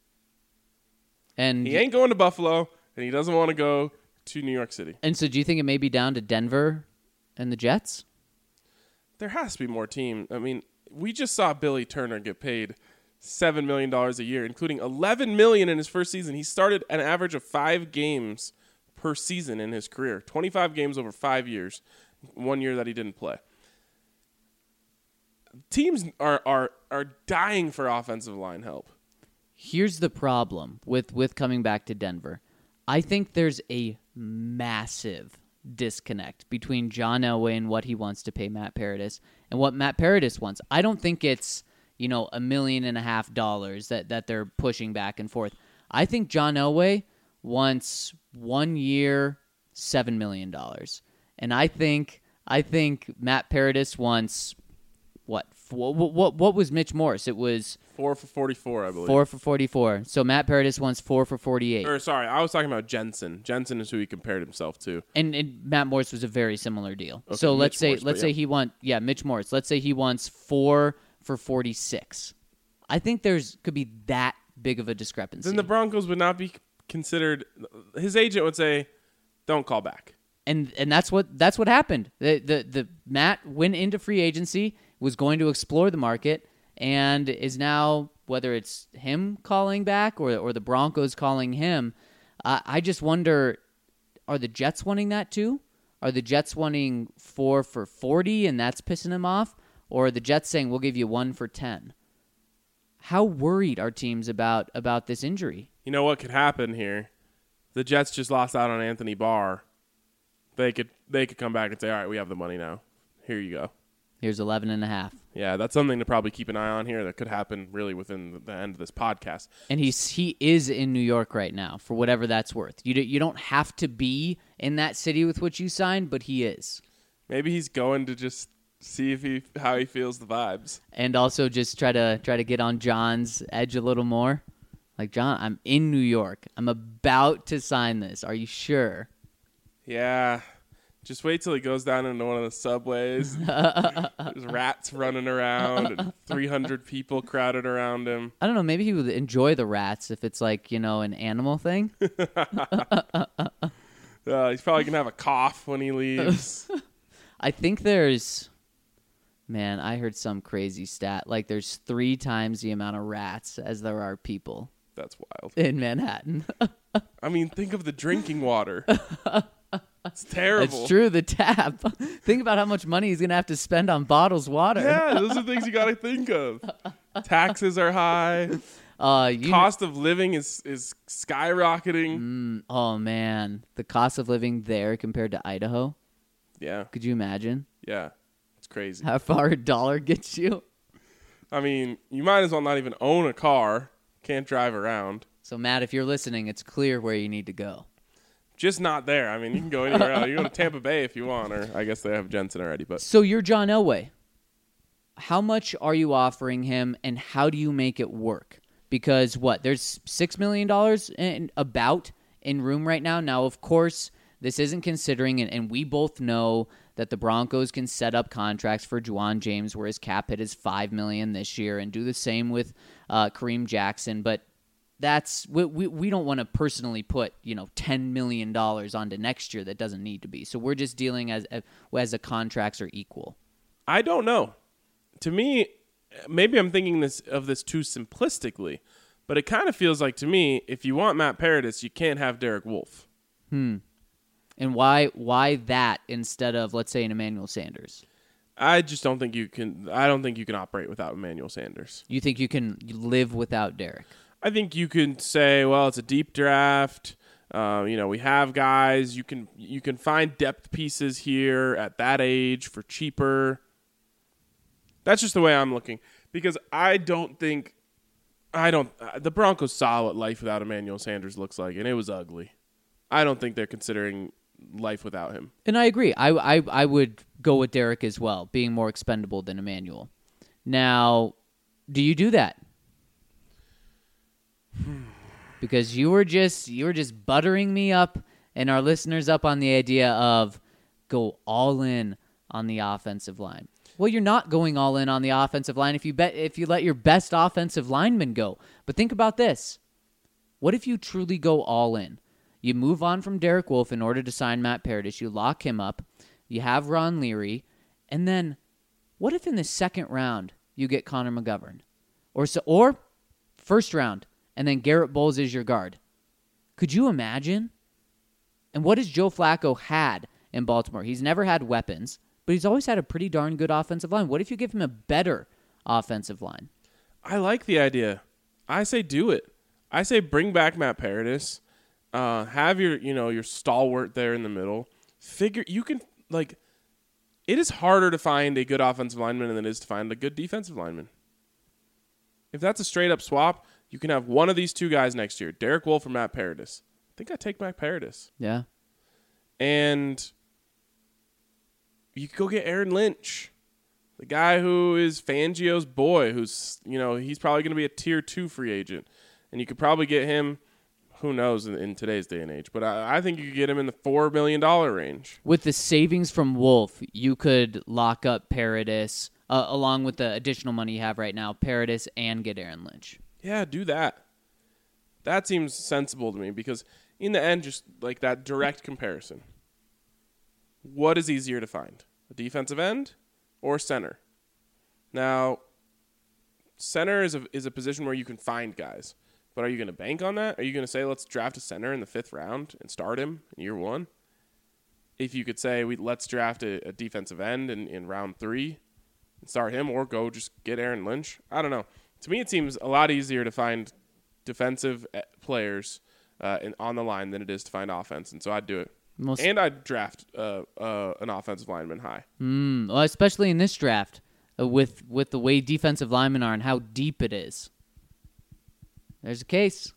And He ain't going to Buffalo, and he doesn't want to go to New York City. and so do you think it may be down to Denver and the Jets? There has to be more team. I mean, we just saw Billy Turner get paid seven million dollars a year, including eleven million dollars in his first season. He started an average of five games per season in his career, twenty-five games over five years, one year that he didn't play. Teams are are are dying for offensive line help. Here's the problem with, with coming back to Denver. I think there's a massive disconnect between John Elway and what he wants to pay Matt Paradis and what Matt Paradis wants. I don't think it's, you know, a million and a half dollars that, that they're pushing back and forth. I think John Elway wants one year, seven million dollars. And I think I think Matt Paradis wants what? Four, what, what? What was Mitch Morse? It was Four for forty-four, I believe. four for forty-four. So Matt Paradis wants four for forty-eight. Or sorry, I was talking about Jensen. Jensen is who he compared himself to. And, and Matt Morse was a very similar deal. Okay, so let's Mitch say Morse, let's but say yeah. he want yeah Mitch Morse. Let's say he wants four for forty-six. I think there's could be that big of a discrepancy. Then the Broncos would not be considered. His agent would say, "Don't call back." and and that's what that's what happened. The the the Matt went into free agency, was going to explore the market, and is now, whether it's him calling back or or the Broncos calling him. Uh, I just wonder, are the Jets wanting that too? Are the Jets wanting four for forty and that's pissing him off? Or are the Jets saying, we'll give you one for ten? How worried are teams about, about this injury? You know what could happen here? The Jets just lost out on Anthony Barr. They could they could come back and say, all right, we have the money now. Here you go. Here's eleven and a half. Yeah, that's something to probably keep an eye on here. That could happen really within the end of this podcast. And he's he is in New York right now, for whatever that's worth. You, do, you don't have to be in that city with which you signed, but he is. Maybe he's going to just see if he how he feels the vibes. And also just try to try to get on John's edge a little more. Like, John, I'm in New York. I'm about to sign this. Are you sure? Yeah. Just wait till he goes down into one of the subways. There's rats running around and three hundred people crowded around him. I don't know. Maybe he would enjoy the rats if it's like, you know, an animal thing. Uh, he's probably going to have a cough when he leaves. I think there's, man, I heard some crazy stat. Like there's three times the amount of rats as there are people That's wild. in Manhattan. I mean, think of the drinking water. It's terrible. It's true. The tap. Think about how much money he's going to have to spend on bottles water. Yeah, those are things you got to think of. Taxes are high. Uh, you Cost of living is, is skyrocketing. Mm, oh, man. The cost of living there compared to Idaho. Yeah, Could you imagine yeah. It's crazy. how far a dollar gets you? I mean, you might as well not even own a car. Can't drive around. So, Matt, if you're listening, it's clear where you need to go. Just not there. I mean, you can go anywhere else. You can go to Tampa Bay if you want, or I guess they have Jensen already. But So you're John Elway. How much are you offering him, and how do you make it work? Because what? There's six million dollars in, about in room right now. Now, of course, this isn't considering, and, and we both know that the Broncos can set up contracts for Juwan James where his cap hit is five million dollars this year, and do the same with uh, Kareem Jackson. But that's we we, we don't want to personally put, you know, ten million dollars onto next year that doesn't need to be. So we're just dealing as as the contracts are equal. I don't know. To me, maybe I'm thinking this of this too simplistically, but it kind of feels like to me, if you want Matt Paradis, you can't have Derek Wolfe. Hmm. And why why that instead of, let's say, an Emmanuel Sanders? I just don't think you can. I don't think you can operate without Emmanuel Sanders. You think you can live without Derek? I think you can say, well, it's a deep draft. Uh, you know, we have guys. You can you can find depth pieces here at that age for cheaper. That's just the way I'm looking, because I don't think I don't. Uh, the Broncos saw what life without Emmanuel Sanders looks like, and it was ugly. I don't think they're considering life without him. And I agree. I, I, I would go with Derek as well, being more expendable than Emmanuel. Now, do you do that? Because you were just you were just buttering me up and our listeners up on the idea of go all in on the offensive line. Well, you're not going all in on the offensive line if you bet if you let your best offensive lineman go. But think about this. What if you truly go all in? You move on from Derek Wolfe in order to sign Matt Paradis. You lock him up. You have Ron Leary. And then what if in the second round you get Connor McGovern? Or so, or first round, and then Garrett Bowles is your guard. Could you imagine? And what has Joe Flacco had in Baltimore? He's never had weapons, but he's always had a pretty darn good offensive line. What if you give him a better offensive line? I like the idea. I say do it. I say bring back Matt Paradis. Uh, have your, you know, your stalwart there in the middle. Figure you can like. It is harder to find a good offensive lineman than it is to find a good defensive lineman. If that's a straight up swap, you can have one of these two guys next year, Derek Wolfe or Matt Paradis. I think I take Matt Paradis. Yeah. And you could go get Aaron Lynch. The guy who is Fangio's boy, who's, you know, he's probably going to be a tier two free agent. And you could probably get him, who knows, in, in today's day and age. But I, I think you could get him in the four million dollars range. With the savings from Wolf, you could lock up Paradis, uh, along with the additional money you have right now, Paradis, and get Aaron Lynch. Yeah, do that. That seems sensible to me because in the end, just like that direct comparison. What is easier to find? A defensive end or center? Now, center is a, is a position where you can find guys. But are you going to bank on that? Are you going to say, let's draft a center in the fifth round and start him in year one? If you could say, we let's draft a, a defensive end in, in round three and start him, or go just get Aaron Lynch. I don't know. To me, it seems a lot easier to find defensive players uh, in, on the line than it is to find offense, and so I'd do it. Most and I'd draft uh, uh, an offensive lineman high. Mm, well, especially in this draft, uh, with with the way defensive linemen are and how deep it is. There's a case.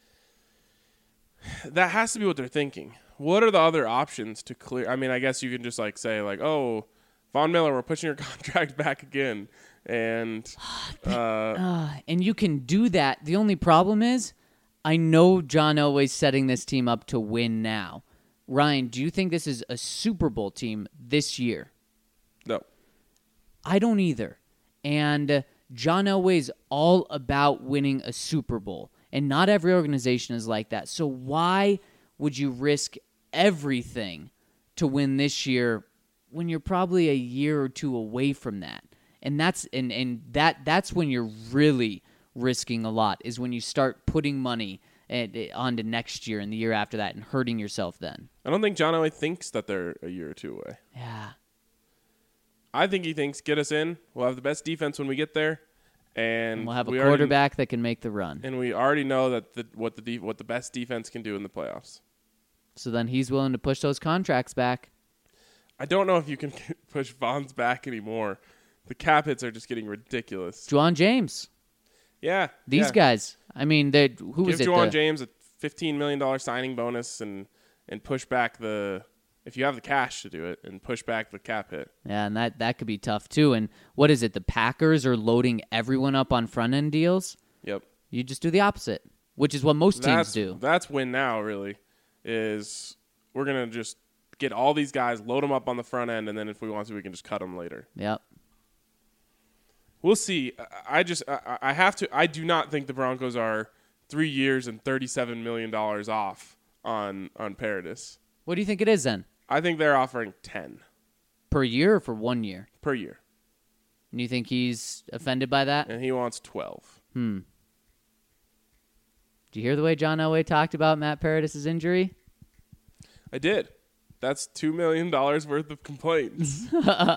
That has to be what they're thinking. What are the other options to clear? I mean, I guess you can just like say like, oh, Von Miller, we're pushing your contract back again, and uh, uh, and you can do that. The only problem is, I know John Elway's setting this team up to win now. Ryan, do you think this is a Super Bowl team this year? No. I don't either. And uh, John Elway's all about winning a Super Bowl. And not every organization is like that. So why would you risk everything to win this year when you're probably a year or two away from that? And that's and, and that that's when you're really risking a lot, is when you start putting money And, uh, on to next year and the year after that and hurting yourself then. I don't think John Elway thinks that they're a year or two away. Yeah. I think he thinks, get us in. We'll have the best defense when we get there. And, and we'll have a we quarterback already, that can make the run. And we already know that the, what the de- what the best defense can do in the playoffs. So then he's willing to push those contracts back. I don't know if you can push Von's back anymore. The cap hits are just getting ridiculous. Juwan James. Yeah. These yeah. guys. I mean, they who Give was it? Give Juwan the, James a fifteen million dollars signing bonus and, and push back the – if you have the cash to do it, and push back the cap hit. Yeah, and that, that could be tough too. And what is it? The Packers are loading everyone up on front-end deals? Yep. You just do the opposite, which is what most that's, teams do. That's win now, really, is we're going to just get all these guys, load them up on the front end, and then if we want to, we can just cut them later. Yep. We'll see. I just I, I have to. I do not think the Broncos are three years and thirty-seven million dollars off on on Paradis. What do you think it is then? I think they're offering ten per year or for one year per year. And you think he's offended by that? And he wants twelve. Hmm. Did you hear the way John Elway talked about Matt Paradis' injury? I did. That's two million dollars worth of complaints.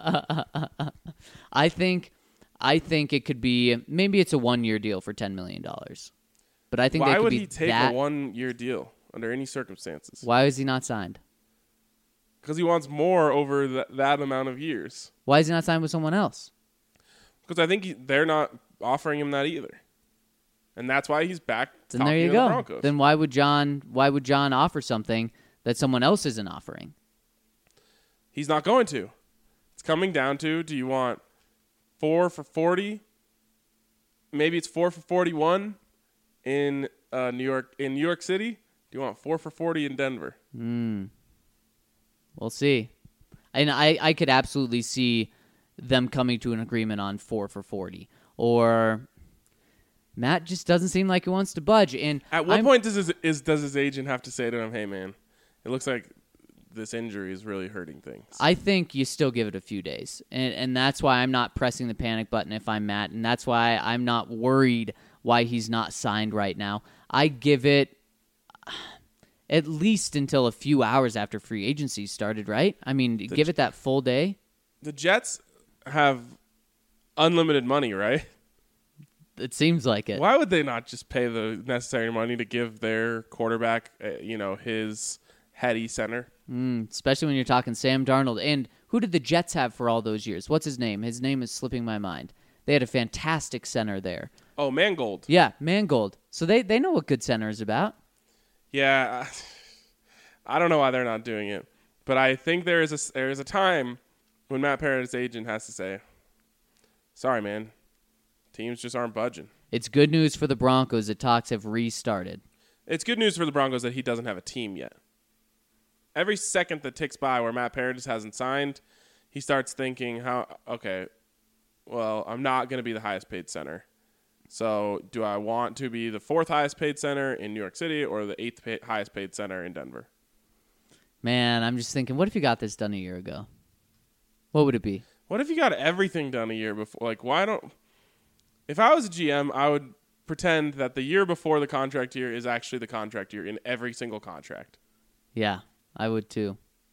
I think I think it could be, maybe it's a one-year deal for ten million dollars. But I think Why that could would be he take that, a one-year deal under any circumstances? Why is he not signed? Because he wants more over th- that amount of years. Why is he not signed with someone else? Because I think he, they're not offering him that either. And that's why he's back Then talking there you to go. the Broncos. Then why would John why would John offer something that someone else isn't offering? He's not going to. It's coming down to, do you want four for forty? Maybe it's four for forty-one in uh, New York in New York City. Do you want four for forty in Denver? Hmm. We'll see. And I, I could absolutely see them coming to an agreement on four for forty. Or Matt just doesn't seem like he wants to budge. And at what I'm, point does his, is does his agent have to say to him, hey, man, it looks like this injury is really hurting things? I think you still give it a few days. And, and that's why I'm not pressing the panic button if I'm Matt. And that's why I'm not worried why he's not signed right now. I give it at least until a few hours after free agency started, right? I mean, the give it that full day. The Jets have unlimited money, right? It seems like it. Why would they not just pay the necessary money to give their quarterback, uh, you know, his heady center? Mm, especially when you're talking Sam Darnold. And who did the Jets have for all those years? What's his name? His name is slipping my mind. They had a fantastic center there. Oh, Mangold. Yeah, Mangold. So they, they know what good center is about. Yeah, I don't know why they're not doing it, but I think there is a there is a time when Matt Paradis' agent has to say, Sorry, man. Teams just aren't budging. It's good news for the Broncos that talks have restarted. It's good news for the Broncos that he doesn't have a team yet. Every second that ticks by where Matt Paradis hasn't signed, he starts thinking, "How? Okay, well, I'm not going to be the highest paid center. So do I want to be the fourth highest paid center in New York City or the eighth pay- highest paid center in Denver?" Man, I'm just thinking, what if you got this done a year ago? What would it be? What if you got everything done a year before? Like, why don't... If I was a G M, I would pretend that the year before the contract year is actually the contract year in every single contract. Yeah, I would too.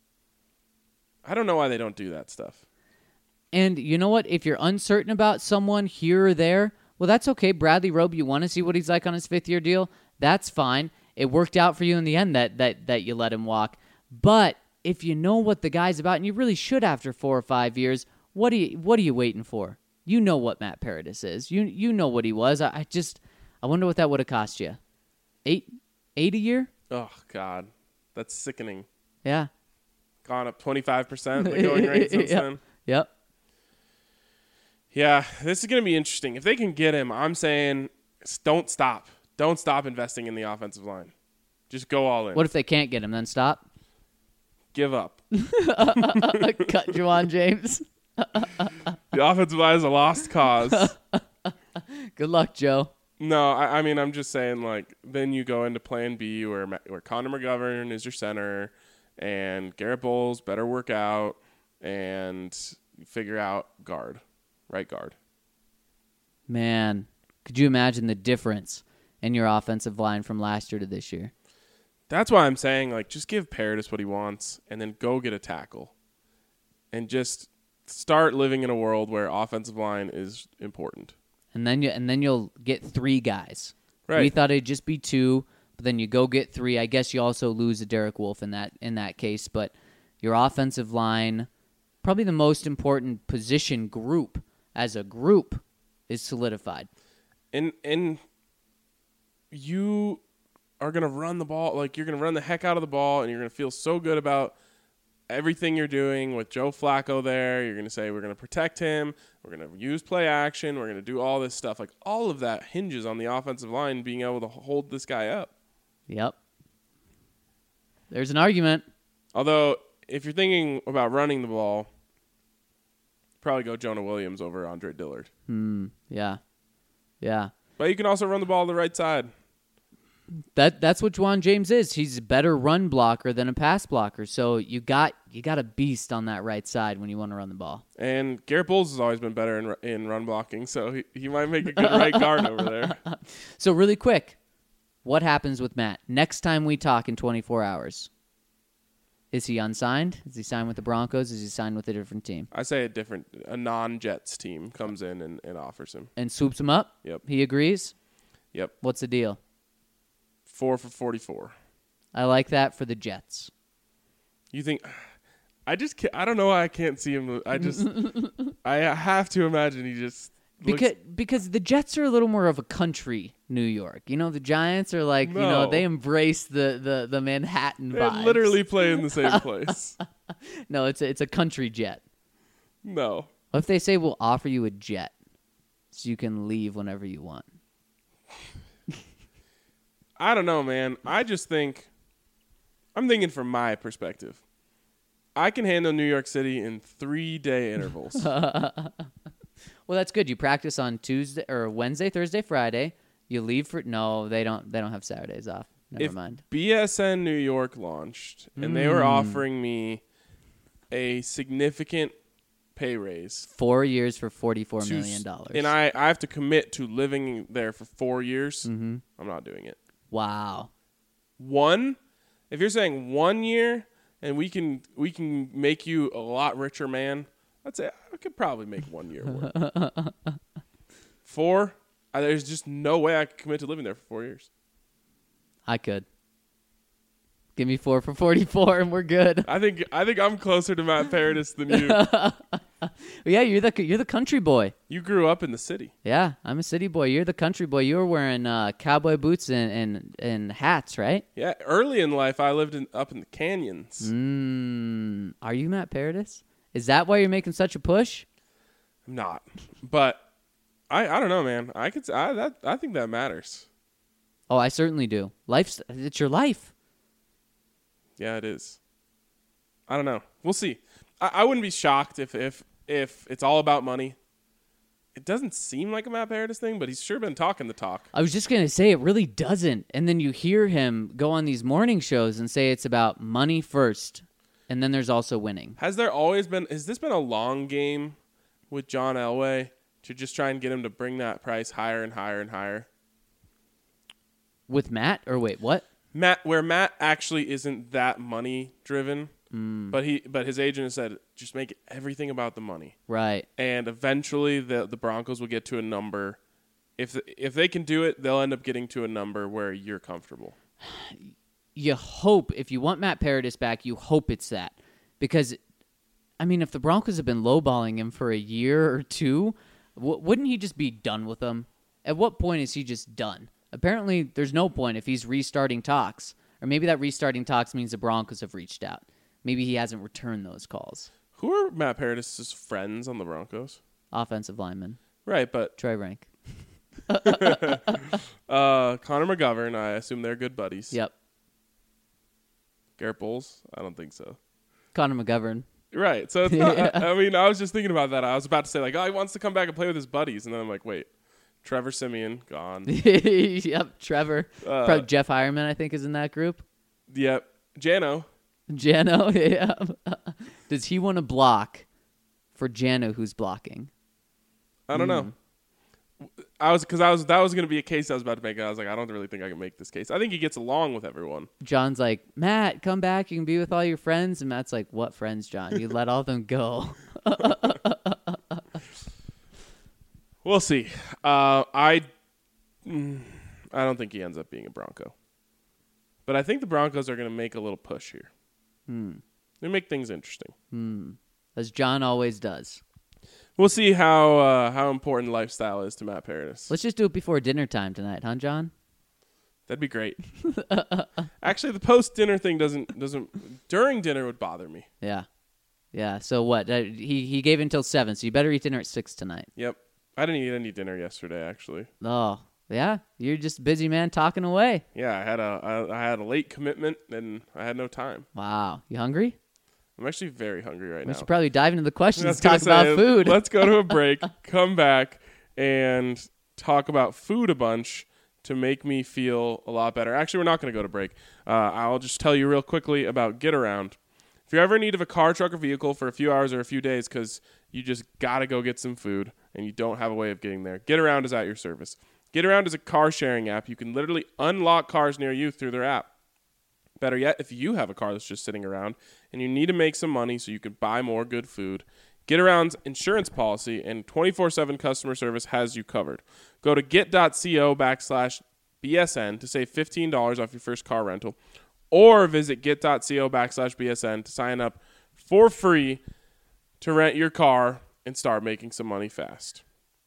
I don't know why they don't do that stuff. And you know what? If you're uncertain about someone here or there, well, that's okay. Bradley Roby, you want to see what he's like on his fifth-year deal? That's fine. It worked out for you in the end that that that you let him walk. But if you know what the guy's about, and you really should after four or five years, what are you what are you waiting for? You know what Matt Paradis is. You you know what he was. I, I just I wonder what that would have cost you. Eight eight a year? Oh God, that's sickening. Yeah. Gone up twenty-five percent the going rate since yep. then. Yep. Yeah, this is going to be interesting. If they can get him, I'm saying don't stop. Don't stop investing in the offensive line. Just go all in. What if they can't get him? Then stop. Give up. Cut Juwan James. The offensive line is a lost cause. Good luck, Joe. No, I, I mean, I'm just saying, like, then you go into plan B where, where Connor McGovern is your center and Garrett Bowles better work out and figure out guard, right guard. Man, could you imagine the difference in your offensive line from last year to this year? That's why I'm saying, like, just give Paradis what he wants and then go get a tackle and just start living in a world where offensive line is important. And then you and then you'll get three guys. Right. We thought it'd just be two, but then you go get three. I guess you also lose a Derek Wolfe in that in that case, but your offensive line, probably the most important position group as a group, is solidified. And and you are going to run the ball, like you're going to run the heck out of the ball, and you're going to feel so good about everything you're doing with Joe Flacco there. You're going to say, we're going to protect him. We're going to use play action. We're going to do all this stuff. Like, all of that hinges on the offensive line being able to hold this guy up. Yep. There's an argument. Although, if you're thinking about running the ball, probably go Jonah Williams over Andre Dillard. Hmm. Yeah. Yeah. But you can also run the ball to the right side. That that's what Juwan James is. He's a better run blocker than a pass blocker. So you got you got a beast on that right side when you want to run the ball. And Garrett Bowles has always been better in in run blocking, so he, he might make a good right guard over there. So really quick, what happens with Matt next time we talk in twenty-four hours? Is he unsigned? Is he signed with the Broncos? Is he signed with a different team? I say a different, a non-Jets team comes in and, and offers him. And swoops him up? Yep. He agrees? Yep. What's the deal? Four for forty-four. I like that for the Jets. You think? I just can't, I don't know why I can't see him. I just I have to imagine he just looks, Because because the Jets are a little more of a country New York. You know, the Giants are like, no. you know, they embrace the, the, the Manhattan they vibes. literally play in the same place. No, it's a, it's a country jet. No. What if they say we'll offer you a jet so you can leave whenever you want? I don't know, man. I just think I'm thinking from my perspective. I can handle New York City in three-day intervals. Well, that's good. You practice on Tuesday or Wednesday, Thursday, Friday. You leave for no, they don't. They don't have Saturdays off. Never if mind. B S N New York launched and they were offering me a significant pay raise, Four years for forty-four to million s- dollars. and I, I have to commit to living there for four years, Mm-hmm. I'm not doing it. Wow. One, if you're saying one year and we can we can make you a lot richer man, I'd say I could probably make one year work. Four, I, there's just no way I could commit to living there for four years. I could. Give me four for forty-four, and we're good. I think I think I'm closer to Matt Paradis than you. Yeah, you're the you're the country boy. You grew up in the city. Yeah, I'm a city boy. You're the country boy. You were wearing uh, cowboy boots and, and, and hats, right? Yeah, early in life, I lived in, up in the canyons. Mm, are you Matt Paradis? Is that why you're making such a push? I'm not. But I, I don't know, man. I could I that I think that matters. Oh, I certainly do. Life's it's your life. Yeah, it is. I don't know. We'll see. I, I wouldn't be shocked if, if if it's all about money. It doesn't seem like a Matt Paradis thing, but he's sure been talking the talk. I was just going to say it really doesn't. And then you hear him go on these morning shows and say it's about money first. And then there's also winning. Has there always been, has this been a long game with John Elway to just try and get him to bring that price higher and higher and higher? With Matt? Or wait, what? Matt, where Matt actually isn't that money driven, mm. but he, but his agent has said, just make everything about the money. Right. And eventually the the Broncos will get to a number. If if they can do it, they'll end up getting to a number where you're comfortable. You hope, if you want Matt Paradis back, you hope it's that. Because, I mean, if the Broncos have been lowballing him for a year or two, w- wouldn't he just be done with them? At what point is he just done? Apparently, there's no point if he's restarting talks. Or maybe that restarting talks means the Broncos have reached out. Maybe he hasn't returned those calls. Who are Matt Paradis' friends on the Broncos? Offensive lineman. Right, but... Troy Rank. uh, Connor McGovern, I assume they're good buddies. Yep. Garrett Bowles? I don't think so. Connor McGovern. Right, so it's not... I, I mean, I was just thinking about that. I was about to say, like, oh, he wants to come back and play with his buddies. And then I'm like, wait. Trevor Siemian, gone. Yep, Trevor. Uh, Probably Jeff Hireman, I think, is in that group. Yep. Jano. Jano, yeah. Does he want to block for Jano who's blocking? I don't mm. know. I was because I was that was going to be a case I was about to make. I was like, I don't really think I can make this case. I think he gets along with everyone. John's like, Matt, come back. You can be with all your friends. And Matt's like, what friends, John? You let all of them go. We'll see. Uh, I mm, I don't think he ends up being a Bronco, but I think the Broncos are going to make a little push here. Hmm. They make things interesting. Hmm. As John always does. We'll see how uh, how important lifestyle is to Matt Paradis. Let's just do it before dinner time tonight, huh, John? That'd be great. Actually, the post dinner thing doesn't doesn't during dinner would bother me. Yeah, yeah. So what? Uh, he he gave until seven, so you better eat dinner at six tonight. Yep. I didn't eat any dinner yesterday, actually. Oh, yeah. You're just a busy man talking away. Yeah, I had a I, I had a late commitment and I had no time. Wow. You hungry? I'm actually very hungry right we now. We should probably dive into the questions and talk say, about food. Let's go to a break, come back, and talk about food a bunch to make me feel a lot better. Actually, we're not going to go to break. Uh, I'll just tell you real quickly about Get Around. If you're ever in need of a car, truck, or vehicle for a few hours or a few days because you just got to go get some food and you don't have a way of getting there, Get Around is at your service. Get Around is a car sharing app. You can literally unlock cars near you through their app. Better yet, if you have a car that's just sitting around and you need to make some money so you can buy more good food, Get Around's insurance policy and twenty-four seven customer service has you covered. Go to get.co backslash BSN to save fifteen dollars off your first car rental, or visit get.co backslash BSN to sign up for free to rent your car and start making some money fast.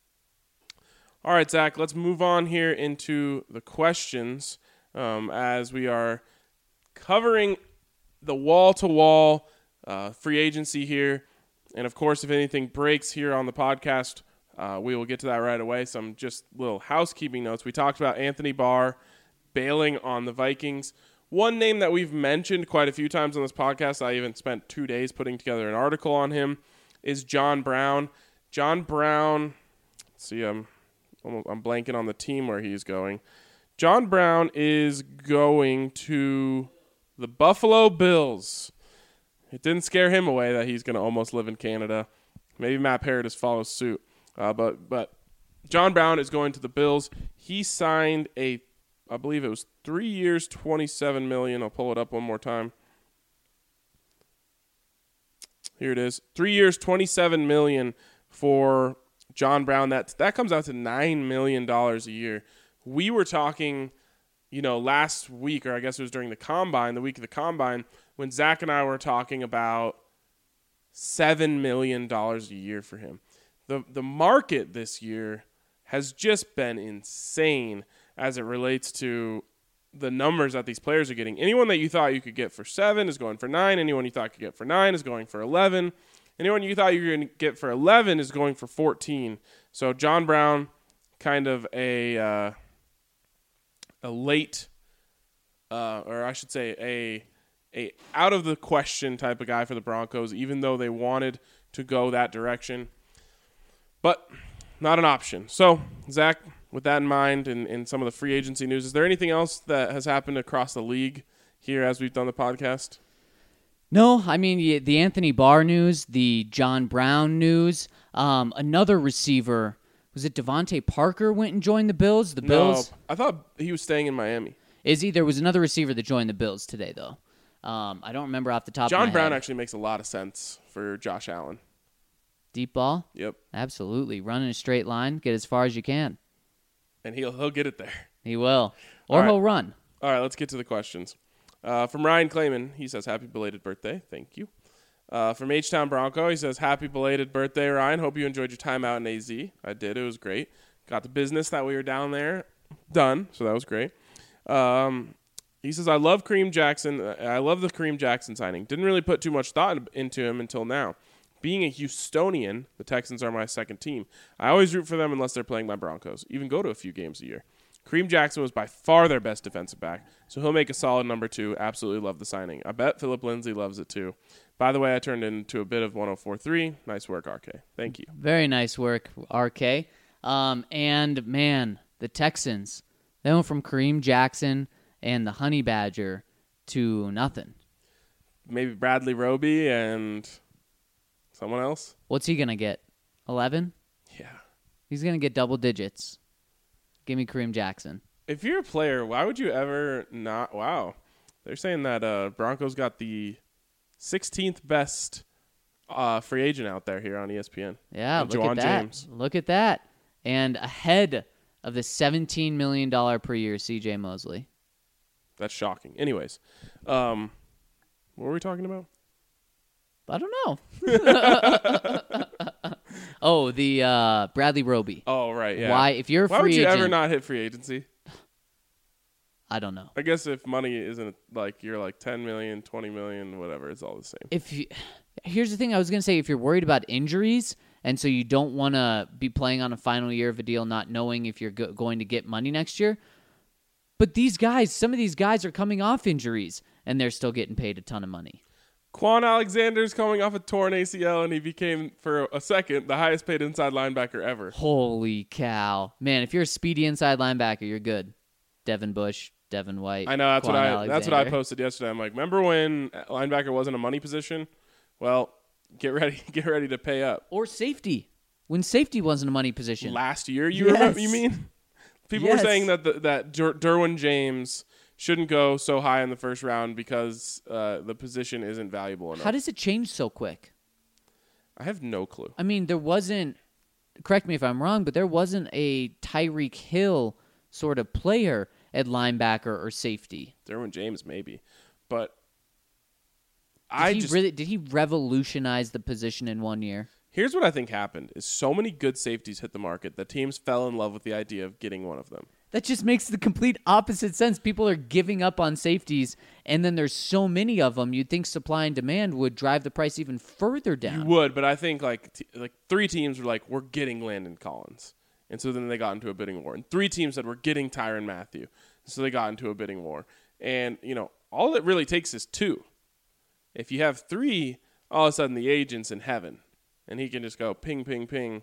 All right, Zach, let's move on here into the questions um, as we are covering the wall-to-wall uh, free agency here. And, of course, if anything breaks here on the podcast, uh, we will get to that right away. Some just little housekeeping notes. We talked about Anthony Barr bailing on the Vikings. One name that we've mentioned quite a few times on this podcast, I even spent two days putting together an article on him, is John Brown. John Brown, let's see, I'm, almost, I'm blanking on the team where he's going. John Brown is going to the Buffalo Bills. It didn't scare him away that he's going to almost live in Canada. Maybe Matt Paradis follows suit. Uh, but but John Brown is going to the Bills. He signed a, I believe it was three years, twenty-seven million dollars. I'll pull it up one more time. Here it is. Three years, twenty-seven million dollars for John Brown. That, that comes out to nine million dollars a year. We were talking, you know, last week, or I guess it was during the Combine, the week of the Combine, when Zach and I were talking about seven million dollars a year for him. The the market this year has just been insane as it relates to the numbers that these players are getting. Anyone that you thought you could get for seven is going for nine. Anyone you thought you could get for nine is going for eleven. Anyone you thought you were going to get for eleven is going for fourteen. So John Brown, kind of a uh, a late, uh, or I should say a a out of the question type of guy for the Broncos, even though they wanted to go that direction, but not an option. So Zach, with that in mind, and, and some of the free agency news, is there anything else that has happened across the league here as we've done the podcast? No, I mean, y- the Anthony Barr news, the John Brown news, um, another receiver, was it Devontae Parker went and joined the Bills? The Bills? No, I thought he was staying in Miami. Is he? There was another receiver that joined the Bills today, though. Um, I don't remember off the top John of my Brown head. actually makes a lot of sense for Josh Allen. Deep ball? Yep. Absolutely. Run in a straight line, get as far as you can. And he'll he'll get it there. He will. Or All right. he'll run. All right, let's get to the questions. Uh, from Ryan Clayman, he says, happy belated birthday. Thank you. Uh, from H-Town Bronco, he says, happy belated birthday, Ryan. Hope you enjoyed your time out in A Z. I did. It was great. Got the business that we were down there done, so that was great. Um, he says, I love Kareem Jackson. I love the Kareem Jackson signing. Didn't really put too much thought into him until now. Being a Houstonian, the Texans are my second team. I always root for them unless they're playing my Broncos. Even go to a few games a year. Kareem Jackson was by far their best defensive back, so he'll make a solid number two. Absolutely love the signing. I bet Philip Lindsay loves it too. By the way, I turned into a bit of one oh four point three. Nice work, R K. Thank you. Very nice work, R K. Um, and, man, the Texans, they went from Kareem Jackson and the Honey Badger to nothing. Maybe Bradley Roby and someone else? What's he going to get? eleven? Yeah. He's going to get double digits. Give me Kareem Jackson. If you're a player, why would you ever not? Wow. They're saying that uh, Broncos got the sixteenth best uh, free agent out there here on E S P N. Yeah, With look Juwan at that. James. Look at that. And ahead of the seventeen million dollars per year C J Mosley. That's shocking. Anyways, um, what were we talking about? I don't know. oh, the uh, Bradley Roby. Oh, right, yeah. Why, if you're a Why free would you agent, ever not hit free agency? I don't know. I guess if money isn't like you're like ten million, twenty million, whatever, it's all the same. If you, here's the thing I was going to say, if you're worried about injuries and so you don't want to be playing on a final year of a deal not knowing if you're go- going to get money next year, but these guys, some of these guys are coming off injuries and they're still getting paid a ton of money. Quan Alexander's coming off a torn A C L, and he became, for a second, the highest paid inside linebacker ever. Holy cow. Man, if you're a speedy inside linebacker, you're good. Devin Bush, Devin White. I know, that's Quan what I Alexander. that's what I posted yesterday. I'm like, remember when linebacker wasn't a money position? Well, get ready get ready to pay up. Or safety. When safety wasn't a money position. Last year, you Yes. remember, you mean? People Yes. were saying that the, that Der- Derwin James shouldn't go so high in the first round because uh, the position isn't valuable enough. How does it change so quick? I have no clue. I mean, there wasn't, correct me if I'm wrong, but there wasn't a Tyreek Hill sort of player at linebacker or safety. Derwin James maybe, but Did I he just really did he revolutionize the position in one year? here's what I think happened: is so many good safeties hit the market that teams fell in love with the idea of getting one of them. That just makes the complete opposite sense. People are giving up on safeties, and then there's so many of them. You'd think supply and demand would drive the price even further down. You would, but I think like t- like three teams were like, we're getting Landon Collins, and so then they got into a bidding war. And three teams said we're getting Tyrann Mathieu, so they got into a bidding war. And you know, all it really takes is two. If you have three, all of a sudden the agent's in heaven, and he can just go ping, ping, ping.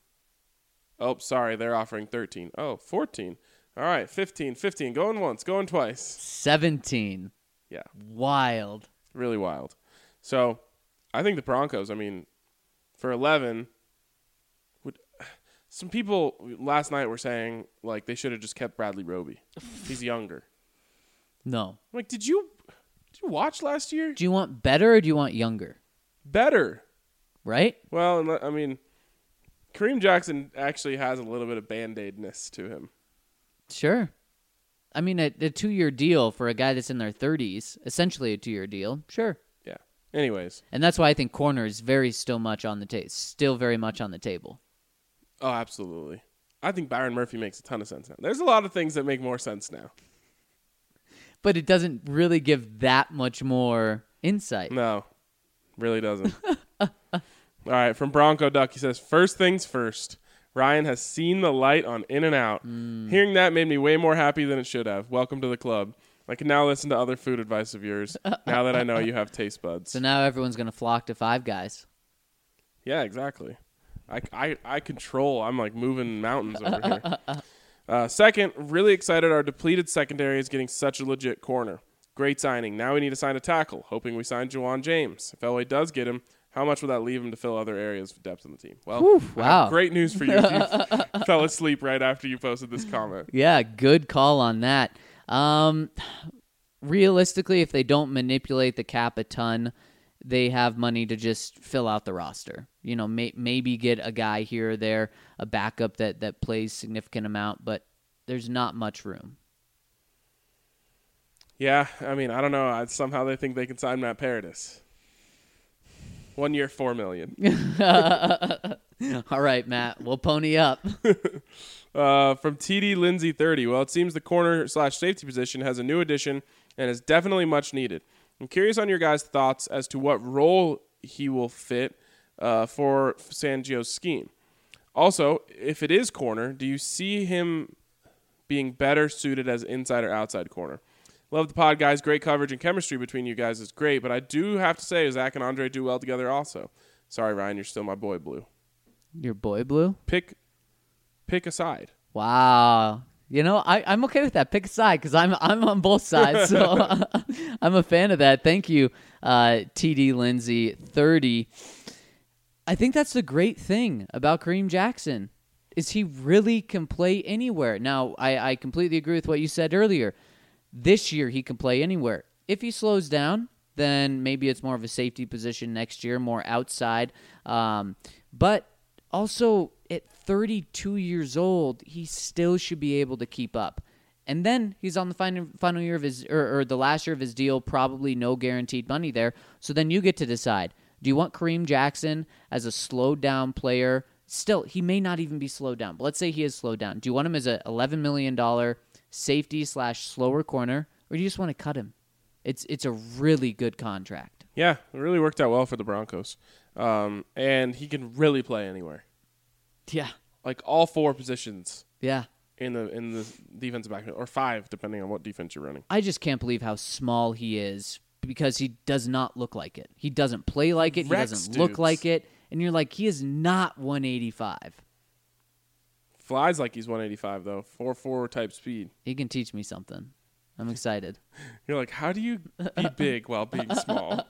Oh, sorry, they're offering thirteen. Oh, fourteen. All right, fifteen, fifteen. Going once, going twice. seventeen. Yeah, Wild. really wild. So I think the Broncos, I mean, for eleven, would some people last night were saying, like, they should have just kept Bradley Roby. He's younger. No. I'm like, did you did you watch last year? Do you want better or do you want younger? Better. Right? Well, and I mean, Kareem Jackson actually has a little bit of Band-Aid-ness to him. Sure. I mean, a, a two-year deal for a guy that's in their thirties, essentially a two-year deal. Sure. Yeah. Anyways. And that's why I think corner is very still much on the ta- still very much on the table. Oh, absolutely. I think Byron Murphy makes a ton of sense now. There's a lot of things that make more sense now. But it doesn't really give that much more insight. No, really doesn't. All right, from Bronco Duck, he says, first things first. Ryan has seen the light on In-N-Out. Mm. Hearing that made me way more happy than it should have. Welcome to the club. I can now listen to other food advice of yours now that I know you have taste buds. So now everyone's going to flock to Five Guys. Yeah, exactly. I, I, I control. I'm like moving mountains over here. Uh, second, really excited our depleted secondary is getting such a legit corner. Great signing. Now we need to sign a tackle, hoping we sign Juwan James. If L A does get him, how much will that leave him to fill other areas of depth in the team? Well, Oof, wow. great news for you if you fell asleep right after you posted this comment. Yeah, good call on that. Um, realistically, if they don't manipulate the cap a ton, they have money to just fill out the roster. You know, may, maybe get a guy here or there, a backup that, that plays significant amount, but there's not much room. Yeah, I mean, I don't know. I, somehow they think they can sign Matt Paradis. One year, four million. All right, Matt, we'll pony up. uh, from T D Lindsay thirty. Well, it seems the corner slash safety position has a new addition and is definitely much needed. I'm curious on your guys' thoughts as to what role he will fit uh, for Fangio's scheme. Also, if it is corner, do you see him being better suited as inside or outside corner? Love the pod, guys. Great coverage and chemistry between you guys is great, but I do have to say Zach and Andre do well together also. Sorry, Ryan, you're still my boy, Blue. Your boy, Blue? Pick pick a side. Wow. You know, I, I'm okay with that. Pick a side because I'm I'm on both sides, so I'm a fan of that. Thank you, uh, T D Lindsay thirty. I think that's the great thing about Kareem Jackson is he really can play anywhere. Now, I, I completely agree with what you said earlier. This year, he can play anywhere. If he slows down, then maybe it's more of a safety position next year, more outside. Um, but also, at thirty-two years old, he still should be able to keep up. And then he's on the final, final year of his, or, or the last year of his deal, probably no guaranteed money there. So then you get to decide, do you want Kareem Jackson as a slowed down player? Still, he may not even be slowed down, but let's say he is slowed down. Do you want him as an eleven million dollars safety slash slower corner, or do you just want to cut him? It's it's a really good contract. Yeah, it really worked out well for the Broncos. Um, and he can really play anywhere. Yeah. Like all four positions. Yeah. In the in the defensive backfield, or five, depending on what defense you're running. I just can't believe how small he is because he does not look like it. He doesn't play like it. Rex he doesn't dudes. look like it. And you're like, he is not one eighty-five. Flies like he's one eighty-five, though. four four type speed. He can teach me something. I'm excited. You're like, how do you be big while being small?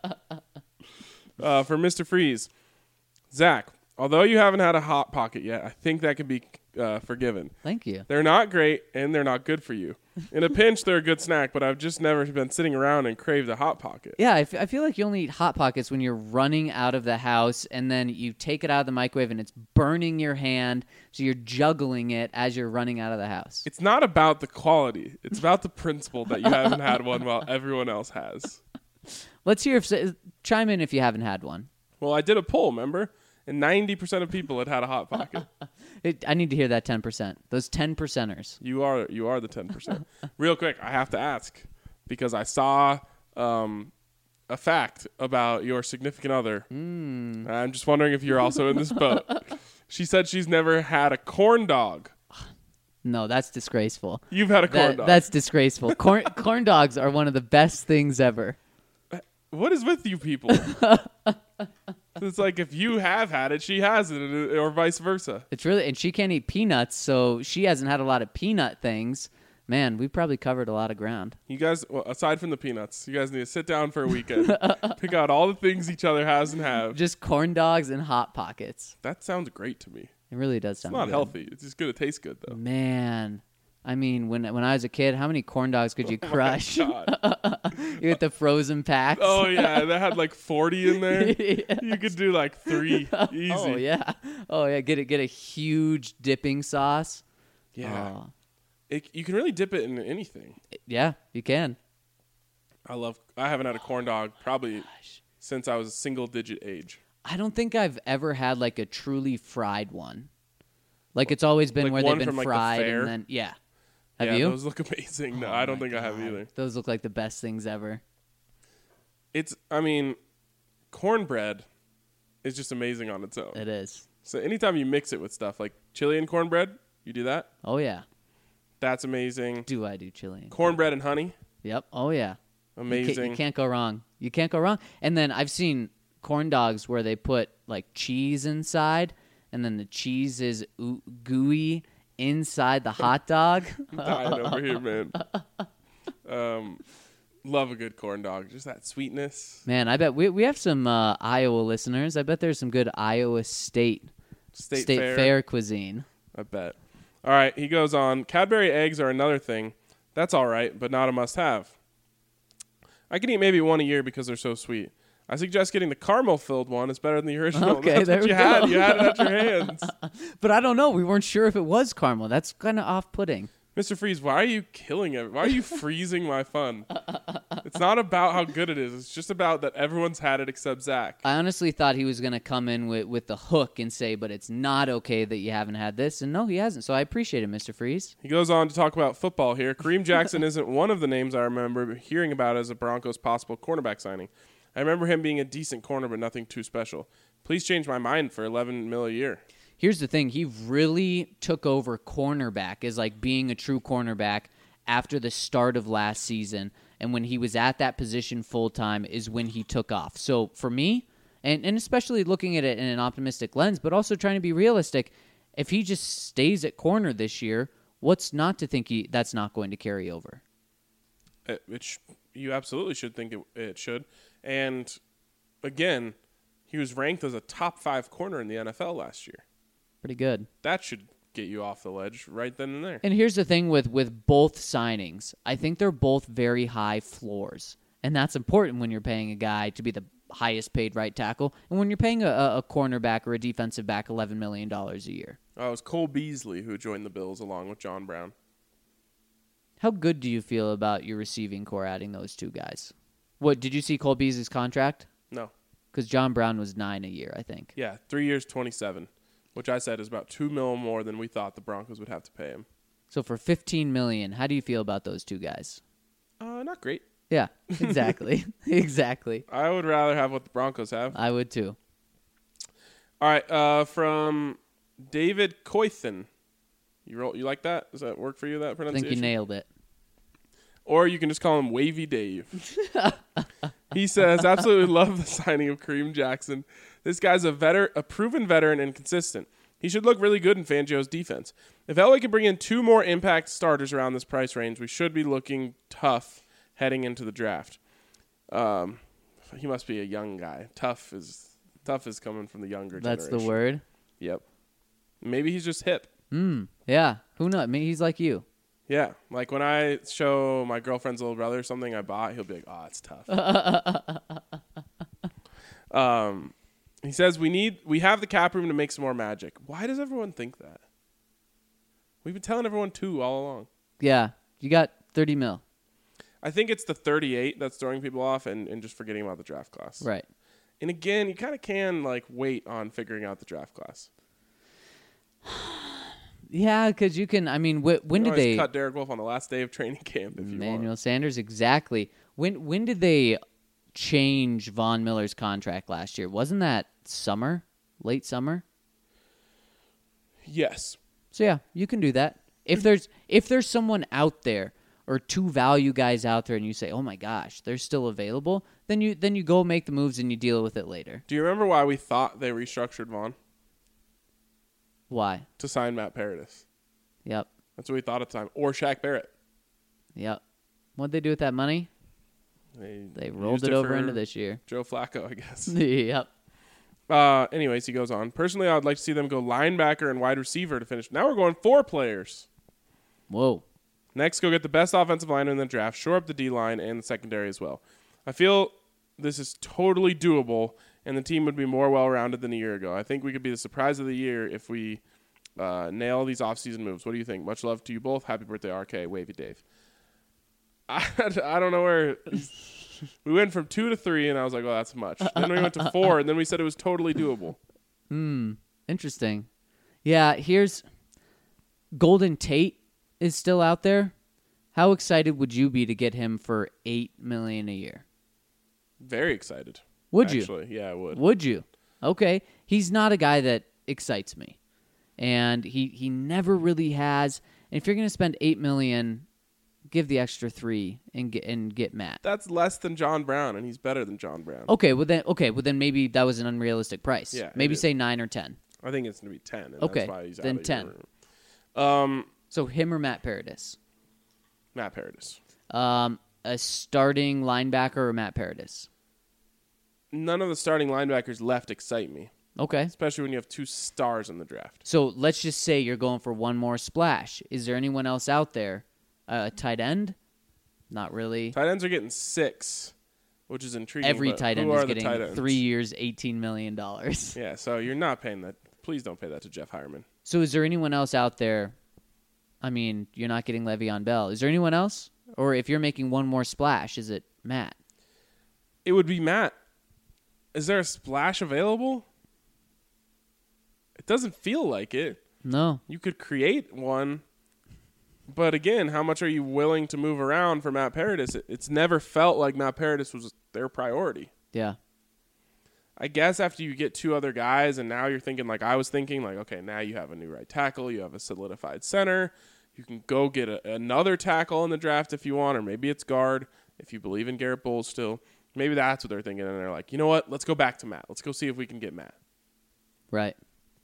Uh, for Mister Freeze, Zach, although you haven't had a Hot Pocket yet, I think that can be uh, forgiven. Thank you. They're not great, and they're not good for you. In a pinch, they're a good snack, but I've just never been sitting around and craved a Hot Pocket. Yeah, I, f- I feel like you only eat Hot Pockets when you're running out of the house, and then you take it out of the microwave, and it's burning your hand, so you're juggling it as you're running out of the house. It's not about the quality. It's about the principle that you haven't had one while everyone else has. Let's hear if chime in if you haven't had one. Well, I did a poll, remember? And ninety percent of people had had a Hot Pocket. It, I need to hear that ten percent. Those ten percenters. You are you are the ten percent. Real quick, I have to ask, because I saw um, a fact about your significant other. Mm. I'm just wondering if you're also in this boat. She said she's never had a corn dog. No, that's disgraceful. You've had a corn that, dog. That's disgraceful. Corn, corn dogs are one of the best things ever. What is with you people? It's like if you have had it, she hasn't, or vice versa. It's really, and she can't eat peanuts, so she hasn't had a lot of peanut things. Man, we probably covered a lot of ground. You guys, well, aside from the peanuts, you guys need to sit down for a weekend, pick out all the things each other has and have. Just corn dogs and Hot Pockets. That sounds great to me. It really does It's sound not good. healthy. It's just going to taste good, though. Man, I mean, when when I was a kid, how many corn dogs could you Oh my crush? God. You get the frozen packs. Oh, yeah. That had like forty in there. Yes. You could do like three easy. Oh yeah, oh yeah. Get it, get a huge dipping sauce. Yeah. Oh. It, you can really dip it in anything. Yeah, you can. I love, I haven't had a corn dog probably since I was a single digit age. I don't think I've ever had like a truly fried one. Like it's always been Like where one they've been from, like, the fried fair? and then yeah. Have yeah, you? Those look amazing. No, Oh I don't my think I have God. either. Those look like the best things ever. It's, I mean, cornbread is just amazing on its own. It is. So anytime you mix it with stuff like chili and cornbread, you do that. Oh, yeah. That's amazing. Do I do chili? And Cornbread and honey, Yep. Oh, yeah. You amazing. can't, you can't go wrong. You can't go wrong. And then I've seen corn dogs where they put like cheese inside, and then the cheese is oo- gooey inside the hot dog. I'm dying over here, man. Um, love a good corn dog. Just that sweetness. Man, I bet we we have some uh, Iowa listeners. I bet there's some good Iowa State State, State fair. fair cuisine. I bet. All right, he goes on. Cadbury eggs are another thing. That's all right, but not a must-have. I can eat maybe one a year because they're so sweet. I suggest getting the caramel-filled one. It's better than the original. Okay, That's there what we you had. go. You had it at your hands. But I don't know. We weren't sure if it was caramel. That's kind of off-putting. Mister Freeze, why are you killing it? Why are you freezing my fun? It's not about how good it is. It's just about that everyone's had it except Zach. I honestly thought he was going to come in with, with the hook and say, but it's not okay that you haven't had this. And no, he hasn't. So I appreciate it, Mister Freeze. He goes on to talk about football here. Kareem Jackson isn't one of the names I remember hearing about as a Broncos possible cornerback signing. I remember him being a decent corner, but nothing too special. Please change my mind for eleven mil a year. Here's the thing. He really took over cornerback as like being a true cornerback after the start of last season. And when he was at that position full-time is when he took off. So for me, and, and especially looking at it in an optimistic lens, but also trying to be realistic, if he just stays at corner this year, what's not to think he that's not going to carry over? It, it sh- you absolutely should think it, it should. And again, he was ranked as a top five corner in the N F L last year. Pretty good. That should get you off the ledge right then and there. And here's the thing with, with both signings. I think they're both very high floors. And that's important when you're paying a guy to be the highest paid right tackle and when you're paying a, a cornerback or a defensive back eleven million dollars a year. Oh, it was Cole Beasley who joined the Bills along with John Brown. How good do you feel about your receiving core adding those two guys? What, did you see Cole Beasley's contract? No. Because John Brown was nine a year, I think. Yeah, three years, twenty-seven, which I said is about two mil more than we thought the Broncos would have to pay him. So for fifteen million dollars, how do you feel about those two guys? Uh, not great. Yeah, exactly. exactly. I would rather have what the Broncos have. I would too. All right, uh, from David Coythan. You roll, you like that? Does that work for you, that I pronunciation? think you nailed it. Or you can just call him Wavy Dave. He says, absolutely love the signing of Kareem Jackson. This guy's a veteran, a proven veteran and consistent. He should look really good in Fangio's defense. If L A can bring in two more impact starters around this price range, we should be looking tough heading into the draft. Um, he must be a young guy. Tough is tough is coming from the younger That's generation. the word? Yep. Maybe he's just hip. Mm, yeah. Who knows? Maybe he's like you. Yeah, like when I show my girlfriend's little brother something I bought, he'll be like, "Oh, it's tough." um, he says we need we have the cap room to make some more magic. Why does everyone think that? We've been telling everyone two all along. Yeah. You got thirty mil. I think it's the thirty-eight that's throwing people off, and, and just forgetting about the draft class. Right. And again, you kind of can like wait on figuring out the draft class. Yeah, because you can. I mean, wh- when You did can always they? cut Derek Wolf on the last day of training camp if you Emmanuel want? Sanders, exactly. When when did they change Von Miller's contract last year? Wasn't that summer, late summer? Yes. So yeah, you can do that. If there's if there's someone out there or two value guys out there, and you say, "Oh my gosh, they're still available," then you then you go make the moves and you deal with it later. Do you remember why we thought they restructured Vaughn? Why? To sign Matt Paradis. Yep. That's what we thought at the time. Or Shaq Barrett. Yep. What'd they do with that money? They, They rolled used it over for into this year. Joe Flacco, I guess. Yep. uh, anyways, he goes on. Personally, I would like to see them go linebacker and wide receiver to finish. Now we're going four players. Whoa. Next, go get the best offensive lineman in the draft. Shore up the D-line and the secondary as well. I feel this is totally doable, and the team would be more well-rounded than a year ago. I think we could be the surprise of the year if we uh, nail these offseason moves. What do you think? Much love to you both. Happy birthday, R K. Wavy Dave. I, I don't know where we went from two to three, and I was like, well, that's much. Then we went to four, and then we said it was totally doable. Hmm. Interesting. Yeah, here's Golden Tate is still out there. How excited would you be to get him for eight million a year? Very excited. Would you? Actually, yeah, I would. Would you? Okay. He's not a guy that excites me. And he, he never really has. And if you're going to spend eight million dollars, give the extra three and get and get Matt. That's less than John Brown, and he's better than John Brown. Okay, well then okay, well then maybe that was an unrealistic price. Yeah, maybe it say nine or ten. I think it's going to be ten. And Okay, that's why he's then out of ten. your room. Um, So him or Matt Paradis? Matt Paradis. Um, a starting linebacker or Matt Paradis? None of the starting linebackers left excite me, Okay. especially when you have two stars in the draft. So let's just say you're going for one more splash. Is there anyone else out there? Uh, a tight end? Not really. Tight ends are getting six, which is intriguing. Every but tight end who is are the tight getting ends? three years, eighteen million dollars. Yeah, so you're not paying that. Please don't pay that to Jeff Hireman. So is there anyone else out there? I mean, you're not getting Le'Veon Bell. Is there anyone else? Or if you're making one more splash, is it Matt? It would be Matt. Is there a splash available? It doesn't feel like it. No. You could create one, but again, how much are you willing to move around for Matt Paradis? It, it's never felt like Matt Paradis was their priority. Yeah. I guess after you get two other guys and now you're thinking like I was thinking, like, okay, now you have a new right tackle, you have a solidified center, you can go get a, another tackle in the draft if you want, or maybe it's guard if you believe in Garrett Bowles still. Maybe that's what they're thinking, and they're like, you know what, let's go back to Matt. Let's go see if we can get Matt. Right.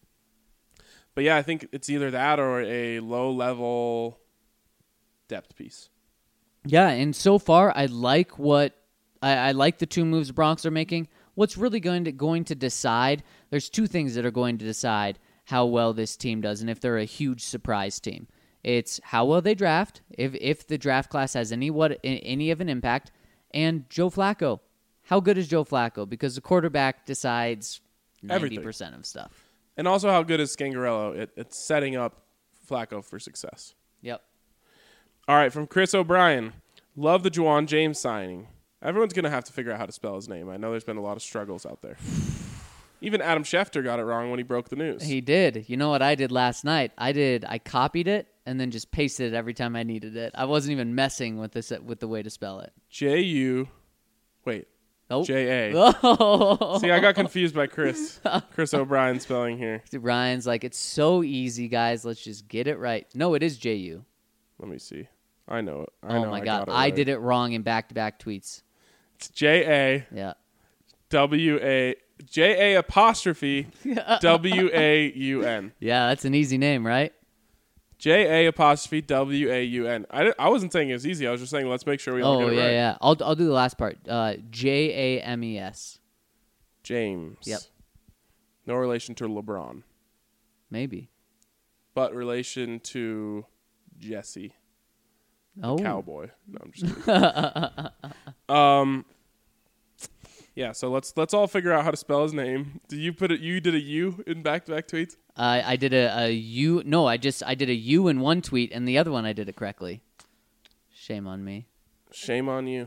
But yeah, I think it's either that or a low-level depth piece. Yeah, and so far I like what I, I like the two moves the Broncos are making. What's really going to going to decide? There's two things that are going to decide how well this team does, and if they're a huge surprise team. It's how well they draft, if if the draft class has any what any of an impact, and Joe Flacco. How good is Joe Flacco? Because the quarterback decides ninety percent of stuff. And also, how good is Scangarello at, at setting up Flacco for success? Yep. All right, from Chris O'Brien. Love the Juwan James signing. Everyone's going to have to figure out how to spell his name. I know there's been a lot of struggles out there. Even Adam Schefter got it wrong when he broke the news. He did. You know what I did last night? I did. I copied it and then just pasted it every time I needed it. I wasn't even messing with this with the way to spell it. J U. Wait. Nope. J A. Oh. See, I got confused by Chris. Chris O'Brien spelling here. Ryan's like, it's so easy, guys. Let's just get it right. No, it is J U. Let me see. I know it. I Oh know my I God. got it I right. did it wrong in back-to-back tweets. It's J A Yeah. W A J A apostrophe W A U N. Yeah, that's an easy name, right? J A apostrophe W A U N. I, I wasn't saying it was easy. I was just saying let's make sure we all Oh, get it yeah, right. yeah. I'll, I'll do the last part. Uh, J A M E S. James. Yep. No relation to LeBron, Maybe. but relation to Jesse, Oh. cowboy. No, I'm just kidding. um, yeah. So let's let's all figure out how to spell his name. Did you put it? You did a U in back-to-back tweets? Uh, I did a, a U. No, I just I did a U in one tweet, and the other one I did it correctly. Shame on me. Shame on you.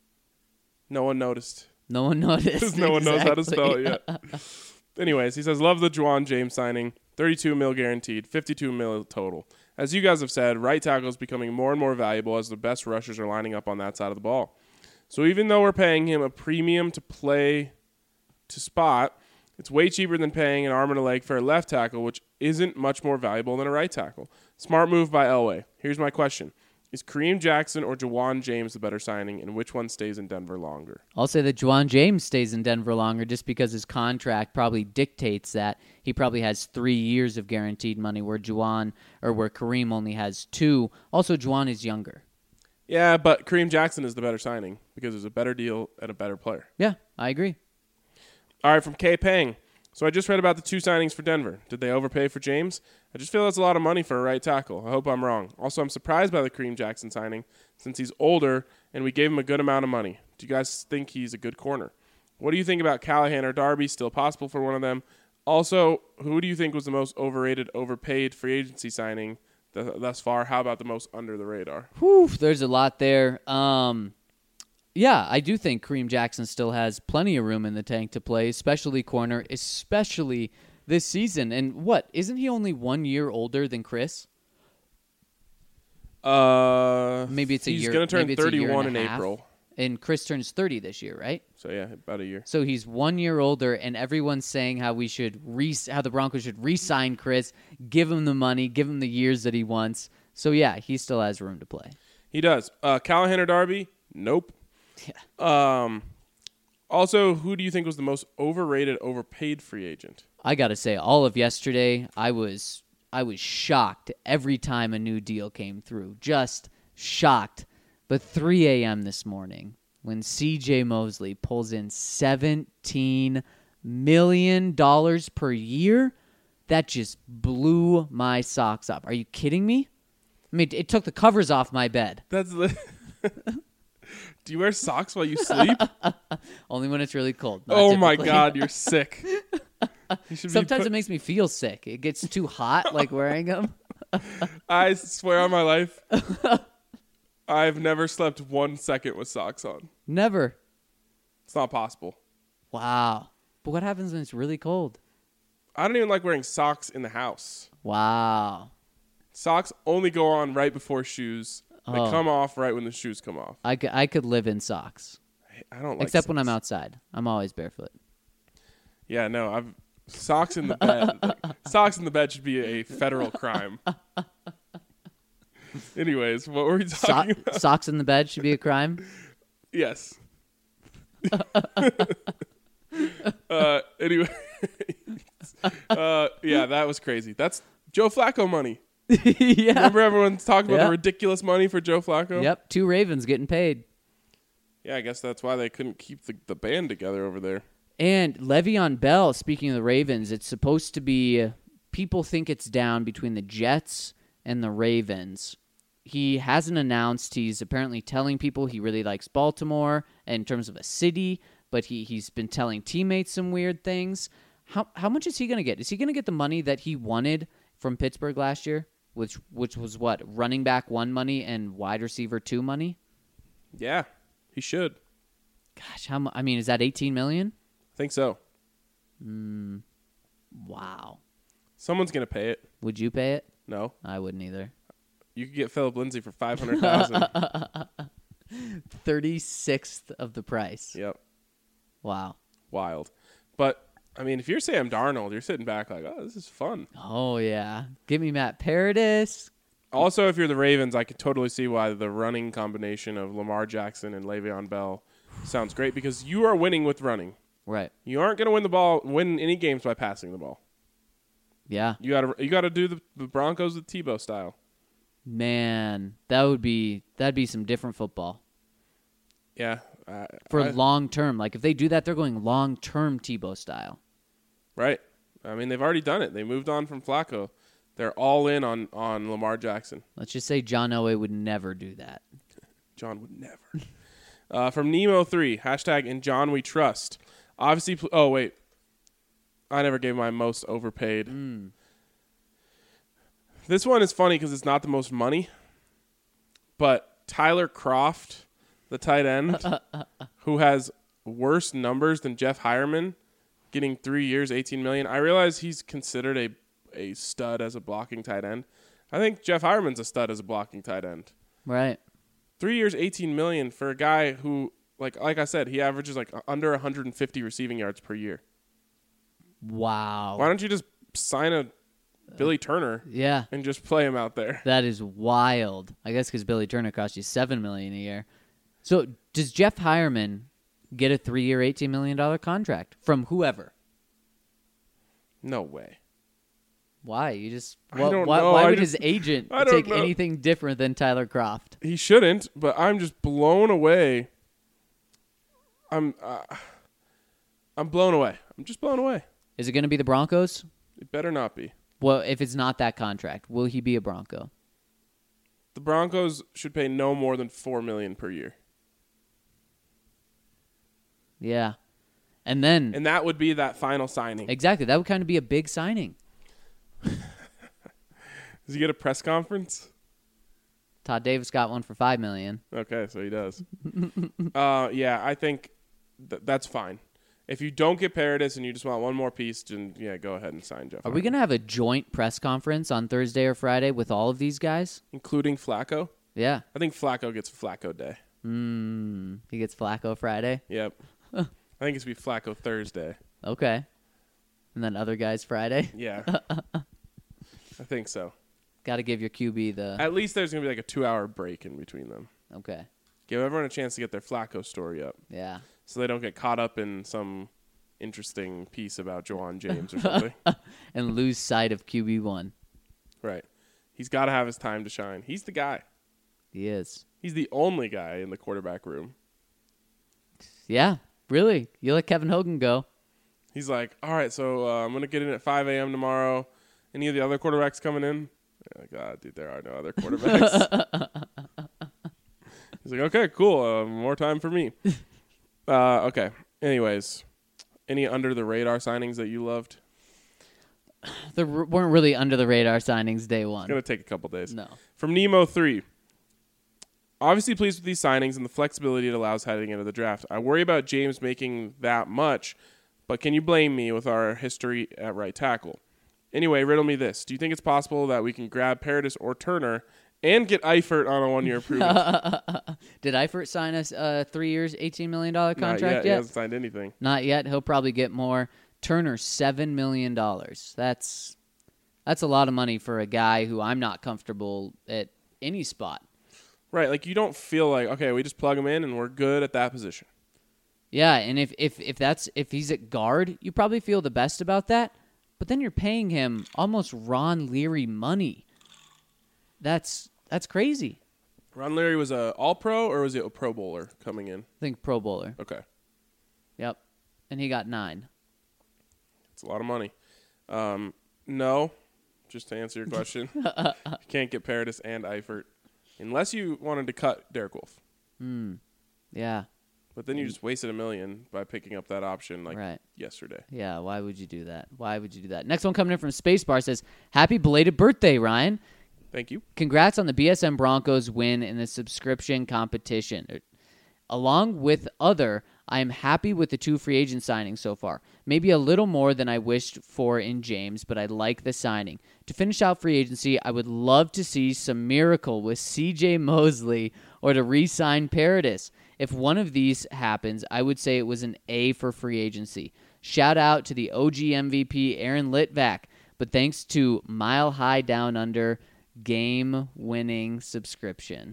No one noticed. No one noticed. Because no one knows how to spell Exactly. it yet. Anyways, he says, love the Juwan James signing. thirty-two mil guaranteed, fifty-two mil total. As you guys have said, right tackle is becoming more and more valuable as the best rushers are lining up on that side of the ball. So even though we're paying him a premium to play to spot, it's way cheaper than paying an arm and a leg for a left tackle, which isn't much more valuable than a right tackle. Smart move by Elway. Here's my question. Is Kareem Jackson or Juwan James the better signing, and which one stays in Denver longer? I'll say that Juwan James stays in Denver longer just because his contract probably dictates that. He probably has three years of guaranteed money, where Juwan or where Kareem only has two. Also, Juwan is younger. Yeah, but Kareem Jackson is the better signing because it's a better deal and a better player. Yeah, I agree. All right, from K. Pang. So I just read about the two signings for Denver. Did they overpay for James? I just feel that's a lot of money for a right tackle. I hope I'm wrong. Also, I'm surprised by the Kareem Jackson signing since he's older and we gave him a good amount of money. Do you guys think he's a good corner? What do you think about Callahan or Darby? Still possible for one of them. Also, who do you think was the most overrated, overpaid free agency signing th- thus far? How about the most under the radar? Whew, there's a lot there. Um, yeah, I do think Kareem Jackson still has plenty of room in the tank to play, especially corner, especially this season. And what, isn't he only one year older than Chris? Uh, Maybe it's a he's year. going to turn maybe it's a year thirty-one and in a half. April. And Chris turns thirty this year, right? So yeah, about a year. So he's one year older, and everyone's saying how we should re- how the Broncos should re-sign Chris, give him the money, give him the years that he wants. So yeah, he still has room to play. He does. Uh, Callahan or Darby? Nope. Yeah. Um. Also, who do you think was the most overrated, overpaid free agent? I gotta say, all of yesterday, I was I was shocked every time a new deal came through. Just shocked. But three a.m. this morning, when C J Mosley pulls in seventeen million dollars per year, that just blew my socks up. Are you kidding me? I mean, it took the covers off my bed. That's the. Do you wear socks while you sleep? Only when it's really cold. Not Oh my typically. God, you're sick. You should be Sometimes put- it makes me feel sick. It gets too hot, like wearing them. I swear on my life, I've never slept one second with socks on. Never. It's not possible. Wow. But what happens when it's really cold? I don't even like wearing socks in the house. Wow. Socks only go on right before shoes. They Oh. come off right when the shoes come off. I, c- I could live in socks. I don't like Except when I'm socks. outside. I'm always barefoot. Yeah, no, I've socks in the bed. Like, socks in the bed should be a federal crime. Anyways, what were we So- talking about? socks in the bed should be a crime? Yes. uh, anyway, uh, yeah, that was crazy. That's Joe Flacco money. Yeah. Remember everyone's talking about Yeah. the ridiculous money for Joe Flacco? Yep. Two Ravens getting paid. Yeah, I guess that's why they couldn't keep the, the band together over there. And Le'Veon Bell, speaking of the Ravens, it's supposed to be, people think it's down between the Jets and the Ravens. He hasn't announced. He's apparently telling people he really likes Baltimore in terms of a city, but he, he's been telling teammates some weird things. How how much is he going to get? Is he going to get the money that he wanted from Pittsburgh last year, which which was what? Running back one money and wide receiver two money? Yeah, he should. Gosh, how mu- I mean, is that eighteen million I think so. dollars? Wow. Someone's going to pay it. Would you pay it? No. I wouldn't either. You could get Philip Lindsay for five hundred thousand dollars. thirty-sixth of the price. Yep. Wow. Wild. But, I mean, if you're Sam Darnold, you're sitting back like, oh, this is fun. Oh, yeah. Give me Matt Paradis. Also, if you're the Ravens, I could totally see why the running combination of Lamar Jackson and Le'Veon Bell sounds great because you are winning with running. Right. You aren't going to win the ball, win any games by passing the ball. Yeah. You got to you got to do the, the Broncos with Tebow style. Man, that would be that'd be some different football. Yeah. Uh, For I- long term. Like if they do that, they're going long term Tebow style. Right. I mean, they've already done it. They moved on from Flacco. They're all in on, on Lamar Jackson. Let's just say John Elway would never do that. John would never. uh, from Nemo three, hashtag in John we trust. Obviously, pl- oh, wait. I never gave my most overpaid. Mm. This one is funny because it's not the most money. But Tyler Kroft, the tight end, who has worse numbers than Jeff Hireman, getting three years, eighteen million dollars. I realize he's considered a, a stud as a blocking tight end. I think Jeff Hireman's a stud as a blocking tight end. Right. Three years, eighteen million dollars for a guy who, like like I said, he averages like under one hundred fifty receiving yards per year. Wow. Why don't you just sign a Billy Turner Yeah. and just play him out there? That is wild. I guess because Billy Turner cost you seven million dollars a year. So does Jeff Hireman get a three-year, eighteen million dollars contract from whoever? No way. Why? You just I why, don't why, know. why I would just- his agent I don't take know. anything different than Tyler Kroft? He shouldn't, but I'm just blown away. I'm uh, I'm blown away. I'm just blown away. Is it going to be the Broncos? It better not be. Well, if it's not that contract, will he be a Bronco? The Broncos should pay no more than four million dollars per year. Yeah. And then And that would be that final signing. exactly, that would kind of be a big signing. Does he get a press conference? Todd Davis got one for five million dollars. Okay, so he does. uh, yeah, I think th- that's fine. If you don't get Paradis and you just want one more piece, then yeah, go ahead and sign Jeff. Are we going to have a joint press conference on Thursday or Friday with all of these guys? including Flacco? Yeah. I think Flacco gets Flacco Day. Mm, he gets Flacco Friday. Yep. I think it's be Flacco Thursday. Okay. And then other guys Friday. Yeah. I think so. Got to give your Q B the. At least there's going to be like a two-hour break in between them. Okay. Give everyone a chance to get their Flacco story up. Yeah. So they don't get caught up in some interesting piece about Juwan James or something. And lose sight of Q B one. Right. He's got to have his time to shine. He's the guy. He is. He's the only guy in the quarterback room. Yeah, really. You let Kevin Hogan go. He's like, all right, so uh, I'm going to get in at five a.m. tomorrow. Any of the other quarterbacks coming in? Oh, God, dude, there are no other quarterbacks. He's like, okay, cool. Uh, more time for me. Uh, okay. Anyways, any under-the-radar signings that you loved? There weren't really under-the-radar signings day one. It's going to take a couple days. No. From Nemo three. Obviously pleased with these signings and the flexibility it allows heading into the draft. I worry about James making that much, but can you blame me with our history at right tackle? Anyway, riddle me this. Do you think it's possible that we can grab Paradis or Turner and get Eifert on a one-year approval? Did Eifert sign a uh, three years, eighteen million dollars contract Not yet. yet? He hasn't signed anything. Not yet. He'll probably get more. Turner, seven million dollars. That's that's a lot of money for a guy who I'm not comfortable at any spot. Right, like you don't feel like, okay, we just plug him in and we're good at that position. Yeah, and if, if, if that's if he's at guard, you probably feel the best about that. But then you're paying him almost Ron Leary money. That's that's crazy. Ron Leary was a All-Pro or was he a Pro Bowler coming in? I think Pro Bowler. Okay. Yep. And he got nine. It's a lot of money. Um, no, just to answer your question, you can't get Paradis and Eifert unless you wanted to cut Derek Wolfe. Hmm. Yeah. But then you just wasted a million by picking up that option like Right. yesterday. Yeah, why would you do that? Why would you do that? Next one coming in from Spacebar says, happy belated birthday, Ryan. Thank you. Congrats on the B S N Broncos win in the subscription competition. Along with other, I am happy with the two free agent signings so far. Maybe a little more than I wished for in James, but I like the signing. To finish out free agency, I would love to see some miracle with C J Mosley or to re-sign Paradis. If one of these happens, I would say it was an A for free agency. Shout out to the O G M V P Aaron Litvak, but thanks to Mile High Down Under game-winning subscription.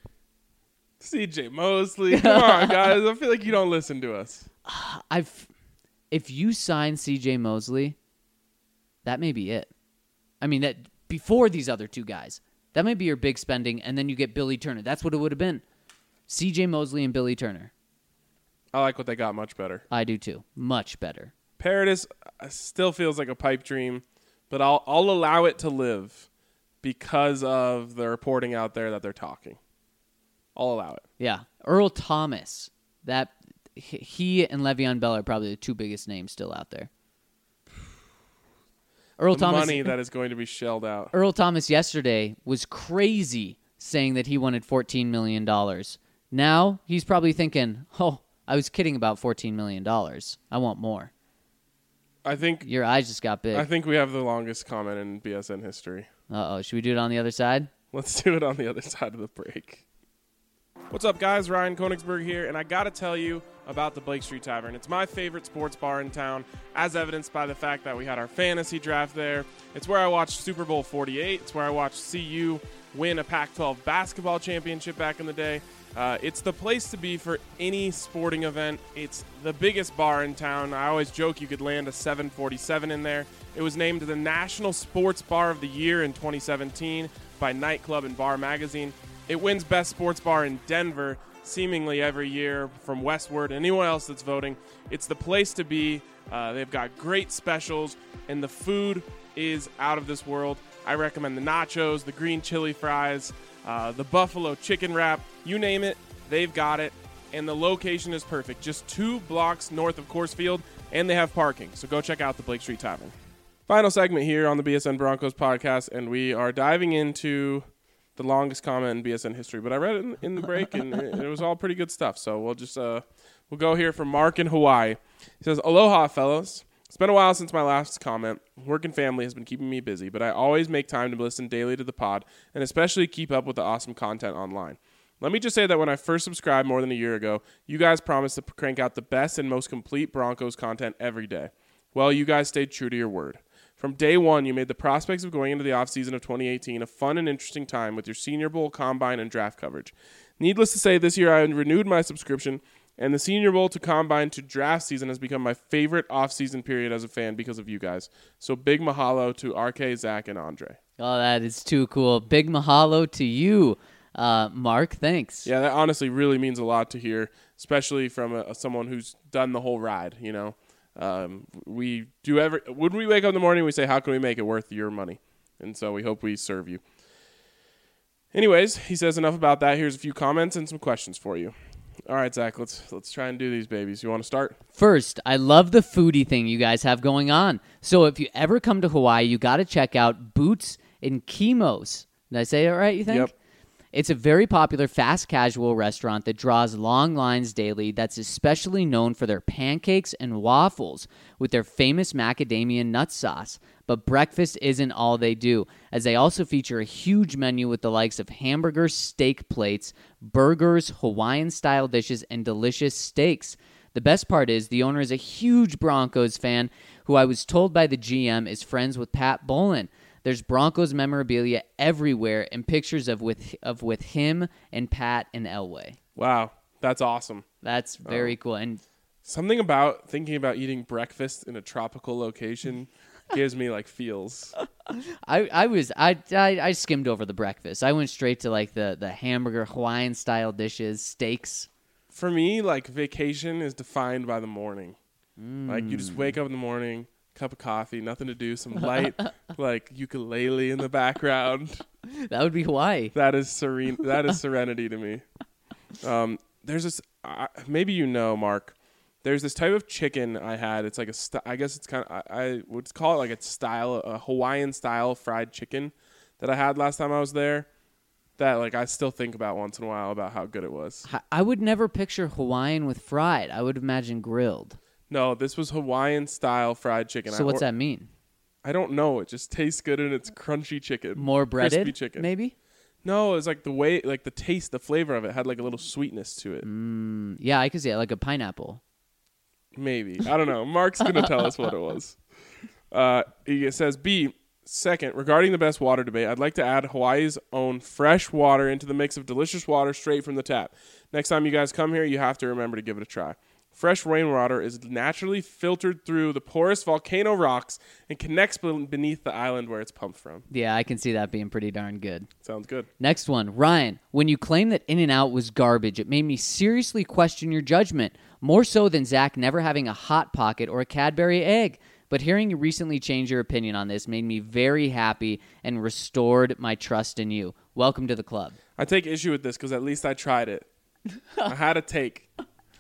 C J Mosley. Come on, guys. I feel like you don't listen to us. I've, if you sign C J Mosley, that may be it. I mean, that before these other two guys, that might be your big spending, and then you get Billy Turner. That's what it would have been. C J Mosley and Billy Turner. I like what they got much better. I do too. Much better. Paradis still feels like a pipe dream, but I'll I'll allow it to live because of the reporting out there that they're talking. I'll allow it. Yeah. Earl Thomas. That he and Le'Veon Bell are probably the two biggest names still out there. Earl the Thomas money that is going to be shelled out. Earl Thomas yesterday was crazy saying that he wanted fourteen million dollars. Now he's probably thinking, "Oh, I was kidding about fourteen million dollars. I want more." I think Your eyes just got big. I think we have the longest comment in B S N history. Uh-oh. Should we do it on the other side? Let's do it on the other side of the break. What's up, guys? Ryan Koenigsberg here, and I got to tell you about the Blake Street Tavern. It's my favorite sports bar in town, as evidenced by the fact that we had our fantasy draft there. It's where I watched Super Bowl forty-eight. It's where I watched C U win a Pac twelve basketball championship back in the day. Uh, it's the place to be for any sporting event. It's the biggest bar in town. I always joke you could land a seven forty-seven in there. It was named the National Sports Bar of the Year in twenty seventeen by Nightclub and Bar Magazine. It wins Best Sports Bar in Denver seemingly every year from Westward. Anyone else that's voting, it's the place to be. Uh, they've got great specials, and the food is out of this world. I recommend the nachos, the green chili fries, uh, the buffalo chicken wrap. You name it, they've got it. And the location is perfect. Just two blocks north of Coors Field, and they have parking. So go check out the Blake Street Tavern. Final segment here on the B S N Broncos podcast, and we are diving into the longest comment in B S N history. But I read it in, in the break, and it, it was all pretty good stuff. So we'll just uh, we'll go here from Mark in Hawaii. He says, "Aloha, fellas. It's been a while since my last comment. Work and family has been keeping me busy, but I always make time to listen daily to the pod and especially keep up with the awesome content online. Let me just say that when I first subscribed more than a year ago, you guys promised to crank out the best and most complete Broncos content every day. Well, you guys stayed true to your word. From day one, you made the prospects of going into the offseason of twenty eighteen a fun and interesting time with your Senior Bowl, Combine, and Draft coverage. Needless to say, this year I renewed my subscription, and the Senior Bowl to Combine to Draft season has become my favorite offseason period as a fan because of you guys. So big mahalo to R K, Zach, and Andre. Oh, that is too cool. Big mahalo to you, uh, Mark. Thanks. Yeah, that honestly really means a lot to hear, especially from a, someone who's done the whole ride, you know. Um, we do every when we wake up in the morning, we say, how can we make it worth your money? And so we hope we serve you. Anyways, he says enough about that. Here's a few comments and some questions for you. All right, Zach, let's let's try and do these babies. You want to start? First, I love the foodie thing you guys have going on. So if you ever come to Hawaii, you got to check out Boots in Kimos. Did I say it right, you think? Yep. It's a very popular fast casual restaurant that draws long lines daily that's especially known for their pancakes and waffles with their famous macadamia nut sauce. But breakfast isn't all they do, as they also feature a huge menu with the likes of hamburgers, steak plates, burgers, Hawaiian-style dishes, and delicious steaks. The best part is the owner is a huge Broncos fan who I was told by the G M is friends with Pat Bolin. There's Broncos memorabilia everywhere and pictures of with of with him and Pat and Elway. Wow, that's awesome. That's very Oh. cool. And Something about thinking about eating breakfast in a tropical location gives me like feels. I, I was I, I I skimmed over the breakfast. I went straight to like the the hamburger Hawaiian style dishes, steaks. For me, like vacation is defined by the morning. Mm. Like you just wake up in the morning, cup of coffee, nothing to do, some light like ukulele in the background. That would be Hawaii. That is serene. That is serenity to me. Um, there's this. Uh, maybe you know, Mark. There's this type of chicken I had. It's like a. St- I guess it's kind of. I, I would call it like a style, a Hawaiian style fried chicken that I had last time I was there. That like I still think about once in a while about how good it was. I would never picture Hawaiian with fried. I would imagine grilled. No, this was Hawaiian style fried chicken. So I, what's or, that mean? I don't know. It just tastes good and it's crunchy chicken. More breaded, crispy chicken. Maybe. No, it's like the way, like the taste, the flavor of it had like a little sweetness to it. Mm, yeah, I could see it like a pineapple. Maybe. I don't know. Mark's going to tell us what it was. Uh, he says, B, second, regarding the best water debate, I'd like to add Hawaii's own fresh water into the mix of delicious water straight from the tap. Next time you guys come here, you have to remember to give it a try. Fresh rainwater is naturally filtered through the porous volcano rocks and connects beneath the island where it's pumped from. Yeah, I can see that being pretty darn good. Sounds good. Next one. Ryan, when you claimed that In-N-Out was garbage, it made me seriously question your judgment, more so than Zach never having a Hot Pocket or a Cadbury egg. But hearing you recently change your opinion on this made me very happy and restored my trust in you. Welcome to the club. I take issue with this because at least I tried it. I had a take.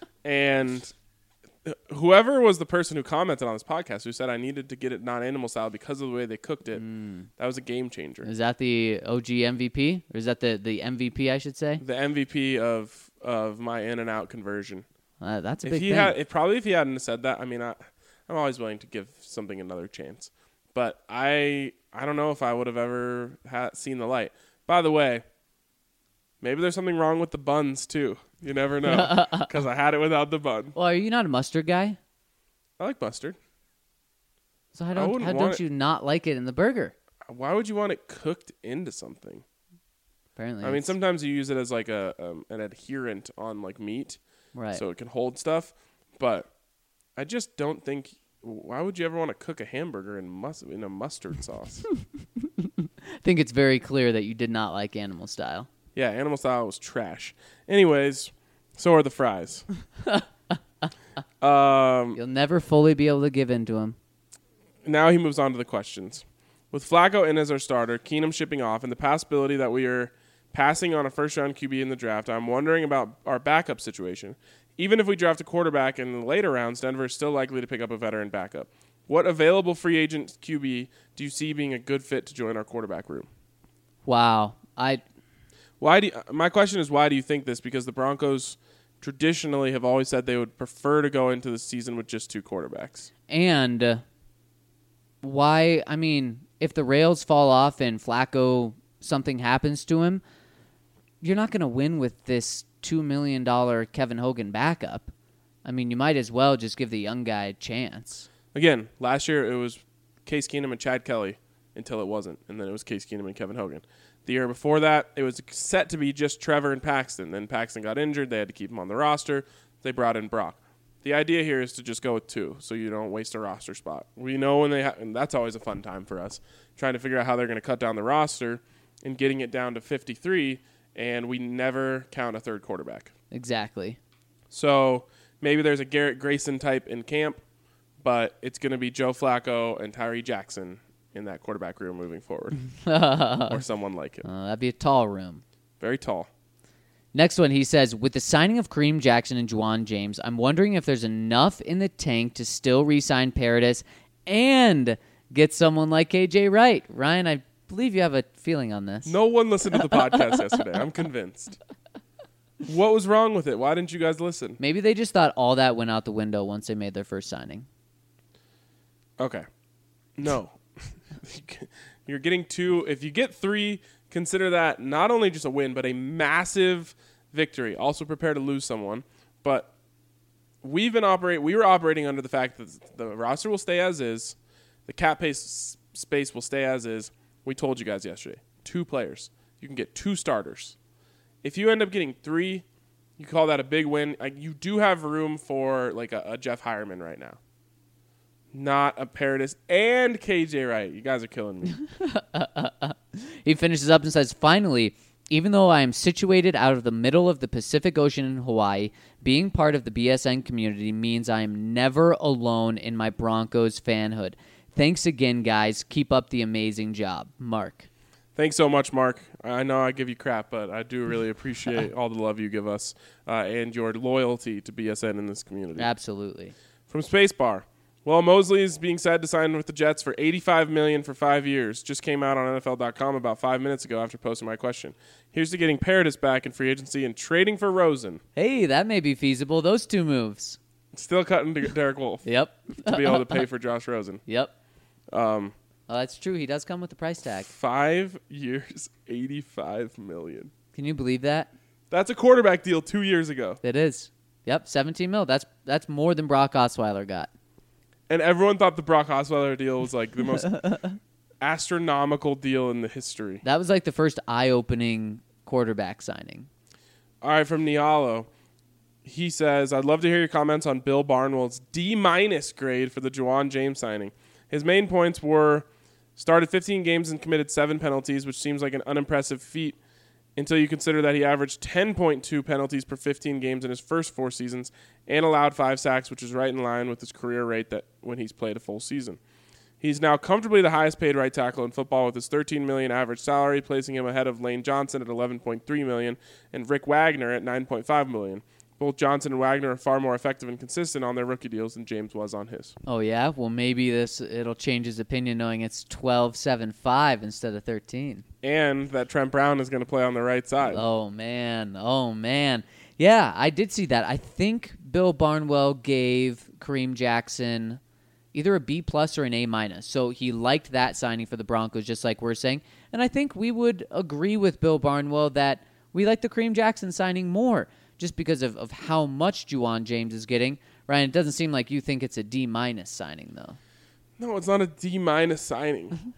And whoever was the person who commented on this podcast who said I needed to get it non-animal style because of the way they cooked it, mm. that was a game changer. Is that the O G M V P? Or is that the, the M V P, I should say? The M V P of of my In-N-Out conversion. Uh, that's a if big he thing. Had, if probably if he hadn't said that, I mean, I, I'm always willing to give something another chance. But I I don't know if I would have ever ha- seen the light. By the way, maybe there's something wrong with the buns, too. You never know, because I had it without the bun. Well, are you not a mustard guy? I like mustard. So how don't, how don't you not like it in the burger? Why would you want it cooked into something? Apparently, I mean, sometimes you use it as like a um, an adherent on like meat, right? So it can hold stuff. But I just don't think. Why would you ever want to cook a hamburger in mus- in a mustard sauce? I think it's very clear that you did not like animal style. Yeah, animal style was trash. Anyways, so are the fries. um, You'll never fully be able to give in to him. Now he moves on to the questions. With Flacco in as our starter, Keenum shipping off, and the possibility that we are passing on a first-round Q B in the draft, I'm wondering about our backup situation. Even if we draft a quarterback in the later rounds, Denver is still likely to pick up a veteran backup. What available free agent Q B do you see being a good fit to join our quarterback room? Wow. I... Why do you, my question is, why do you think this? Because the Broncos traditionally have always said they would prefer to go into the season with just two quarterbacks. And uh, why, I mean, if the rails fall off and Flacco, something happens to him, you're not going to win with this two million dollars Kevin Hogan backup. I mean, you might as well just give the young guy a chance. Again, last year it was Case Keenum and Chad Kelly until it wasn't, and then it was Case Keenum and Kevin Hogan. The year before that, it was set to be just Trevor and Paxton. Then Paxton got injured. They had to keep him on the roster. They brought in Brock. The idea here is to just go with two so you don't waste a roster spot. We know when they ha- and that's always a fun time for us, trying to figure out how they're going to cut down the roster and getting it down to fifty-three, and we never count a third quarterback. Exactly. So maybe there's a Garrett Grayson type in camp, but it's going to be Joe Flacco and Tyree Jackson in that quarterback room moving forward, or someone like it. Uh, that'd be a tall room. Very tall. Next one, he says, with the signing of Kareem Jackson and Juwan James, I'm wondering if there's enough in the tank to still re-sign Paradis and get someone like K J Wright. Ryan, I believe you have a feeling on this. No one listened to the podcast yesterday. I'm convinced. What was wrong with it? Why didn't you guys listen? Maybe they just thought all that went out the window once they made their first signing. Okay. No. You're getting two. If you get three, consider that not only just a win, but a massive victory. Also prepare to lose someone. But we've been operate. We were operating under the fact that the roster will stay as is. The cap pace space will stay as is. We told you guys yesterday. Two players. You can get two starters. If you end up getting three, you call that a big win. Like, you do have room for like a, a Jeff Hireman right now. Not a Paradis and K J Wright. You guys are killing me. He finishes up and says, finally, even though I am situated out of the middle of the Pacific Ocean in Hawaii, being part of the B S N community means I am never alone in my Broncos fanhood. Thanks again, guys. Keep up the amazing job. Mark. Thanks so much, Mark. I know I give you crap, but I do really appreciate all the love you give us uh, and your loyalty to B S N in this community. Absolutely. From Spacebar. Well, Mosley is being said to sign with the Jets for eighty-five million dollars for five years. Just came out on N F L dot com about five minutes ago after posting my question. Here's to getting Paradis back in free agency and trading for Rosen. Hey, that may be feasible. Those two moves. Still cutting to Derek Wolfe. Yep. To be able to pay for Josh Rosen. Yep. Um, well, that's true. He does come with the price tag. Five years, eighty-five million dollars. Can you believe that? That's a quarterback deal two years ago. It is. Yep, seventeen mil. That's that's more than Brock Osweiler got. And everyone thought the Brock Osweiler deal was like the most astronomical deal in the history. That was like the first eye-opening quarterback signing. All right, from Nialo. He says, I'd love to hear your comments on Bill Barnwell's D-minus grade for the Juwan James signing. His main points were started fifteen games and committed seven penalties, which seems like an unimpressive feat until you consider that he averaged ten point two penalties per fifteen games in his first four seasons and allowed five sacks, which is right in line with his career rate that when he's played a full season. He's now comfortably the highest paid right tackle in football with his thirteen million dollars average salary, placing him ahead of Lane Johnson at eleven point three million dollars and Rick Wagner at nine point five million dollars. Both Johnson and Wagner are far more effective and consistent on their rookie deals than James was on his. Oh, yeah? Well, maybe this it'll change his opinion knowing it's twelve seven five instead of thirteen. And that Trent Brown is going to play on the right side. Oh, man. Oh, man. Yeah, I did see that. I think Bill Barnwell gave Kareem Jackson either a B plus or an A minus. So he liked that signing for the Broncos, just like we're saying. And I think we would agree with Bill Barnwell that we like the Kareem Jackson signing more just because of, of how much Juwan James is getting. Ryan, it doesn't seem like you think it's a D minus signing, though. No, it's not a D minus signing.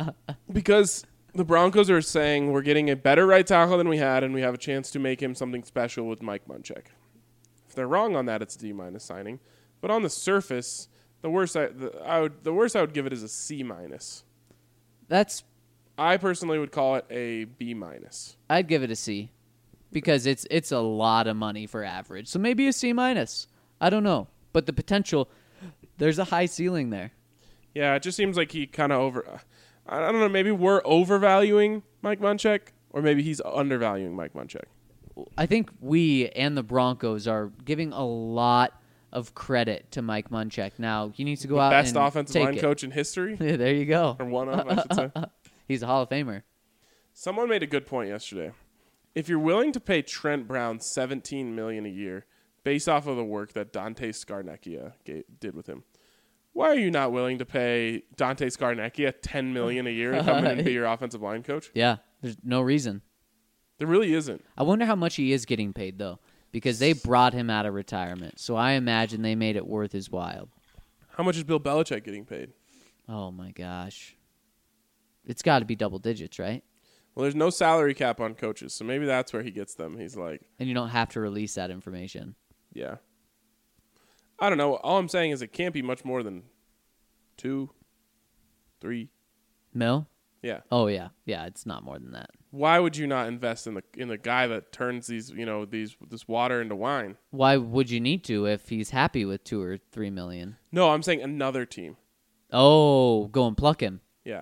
Because the Broncos are saying we're getting a better right tackle than we had, and we have a chance to make him something special with Mike Munchak. If they're wrong on that, it's a D minus signing. But on the surface, the worst I, the, I would the worst I would give it is a C minus. That's I personally would call it a B minus. I'd give it a C because it's it's a lot of money for average. So maybe a C minus. I don't know, but the potential, there's a high ceiling there. Yeah, it just seems like he kind of over. I don't know. Maybe we're overvaluing Mike Munchak, or maybe he's undervaluing Mike Munchak. I think we and the Broncos are giving a lot of credit to Mike Munchak. Now he needs to go the out best and offensive take line it. coach in history, There you go. or one of, I should say. He's a Hall of Famer. Someone made a good point yesterday. If you're willing to pay Trent Brown seventeen million dollars a year based off of the work that Dante Scarnecchia ga- did with him, why are you not willing to pay Dante Scarnecchia ten million dollars a year to come in and be your offensive line coach? Yeah, there's no reason. There really isn't. I wonder how much he is getting paid, though, because they brought him out of retirement. So I imagine they made it worth his while. How much is Bill Belichick getting paid? Oh, my gosh. It's got to be double digits, right? Well, there's no salary cap on coaches, so maybe that's where he gets them. He's like... And you don't have to release that information. Yeah. I don't know. All I'm saying is it can't be much more than two, three. Mil? Yeah. Oh, yeah. Yeah, it's not more than that. Why would you not invest in the in the guy that turns these, you know, these this water into wine? Why would you need to if he's happy with two or three million? No, I'm saying another team. Oh, go and pluck him. Yeah.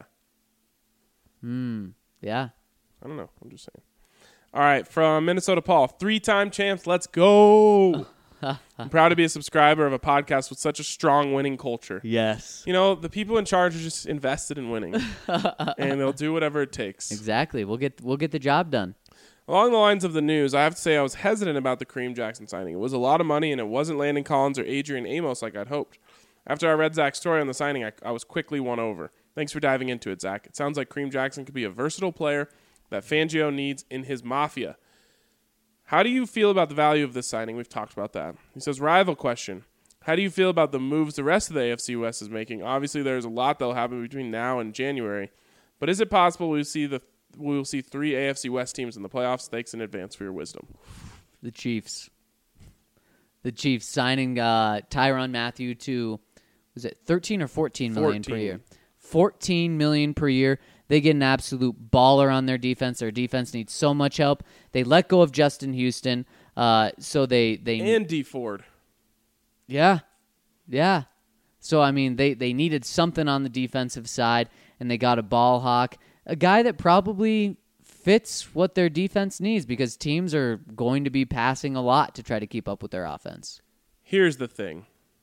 Hmm. Yeah. I don't know. I'm just saying. All right, from Minnesota Paul, three-time champs, let's go. I'm proud to be a subscriber of a podcast with such a strong winning culture. Yes. You know, the people in charge are just invested in winning, and they'll do whatever it takes. Exactly. We'll get we'll get the job done. Along the lines of the news, I have to say I was hesitant about the Kareem Jackson signing. It was a lot of money, and it wasn't Landon Collins or Adrian Amos like I'd hoped. After I read Zach's story on the signing, I, I was quickly won over. Thanks for diving into it, Zach. It sounds like Kareem Jackson could be a versatile player that Fangio needs in his mafia. How do you feel about the value of this signing? We've talked about that. He says, rival question. How do you feel about the moves the rest of the A F C West is making? Obviously, there's a lot that will happen between now and January. But is it possible we'll see the we'll see three A F C West teams in the playoffs? Thanks in advance for your wisdom. The Chiefs. The Chiefs signing uh, Tyrann Mathieu to, was it thirteen or fourteen million per year? fourteen million per year. They get an absolute baller on their defense. Their defense needs so much help. They let go of Justin Houston, uh, so they they and D Ford. Yeah, yeah. So I mean, they they needed something on the defensive side, and they got a ball hawk, a guy that probably fits what their defense needs because teams are going to be passing a lot to try to keep up with their offense. Here's the thing: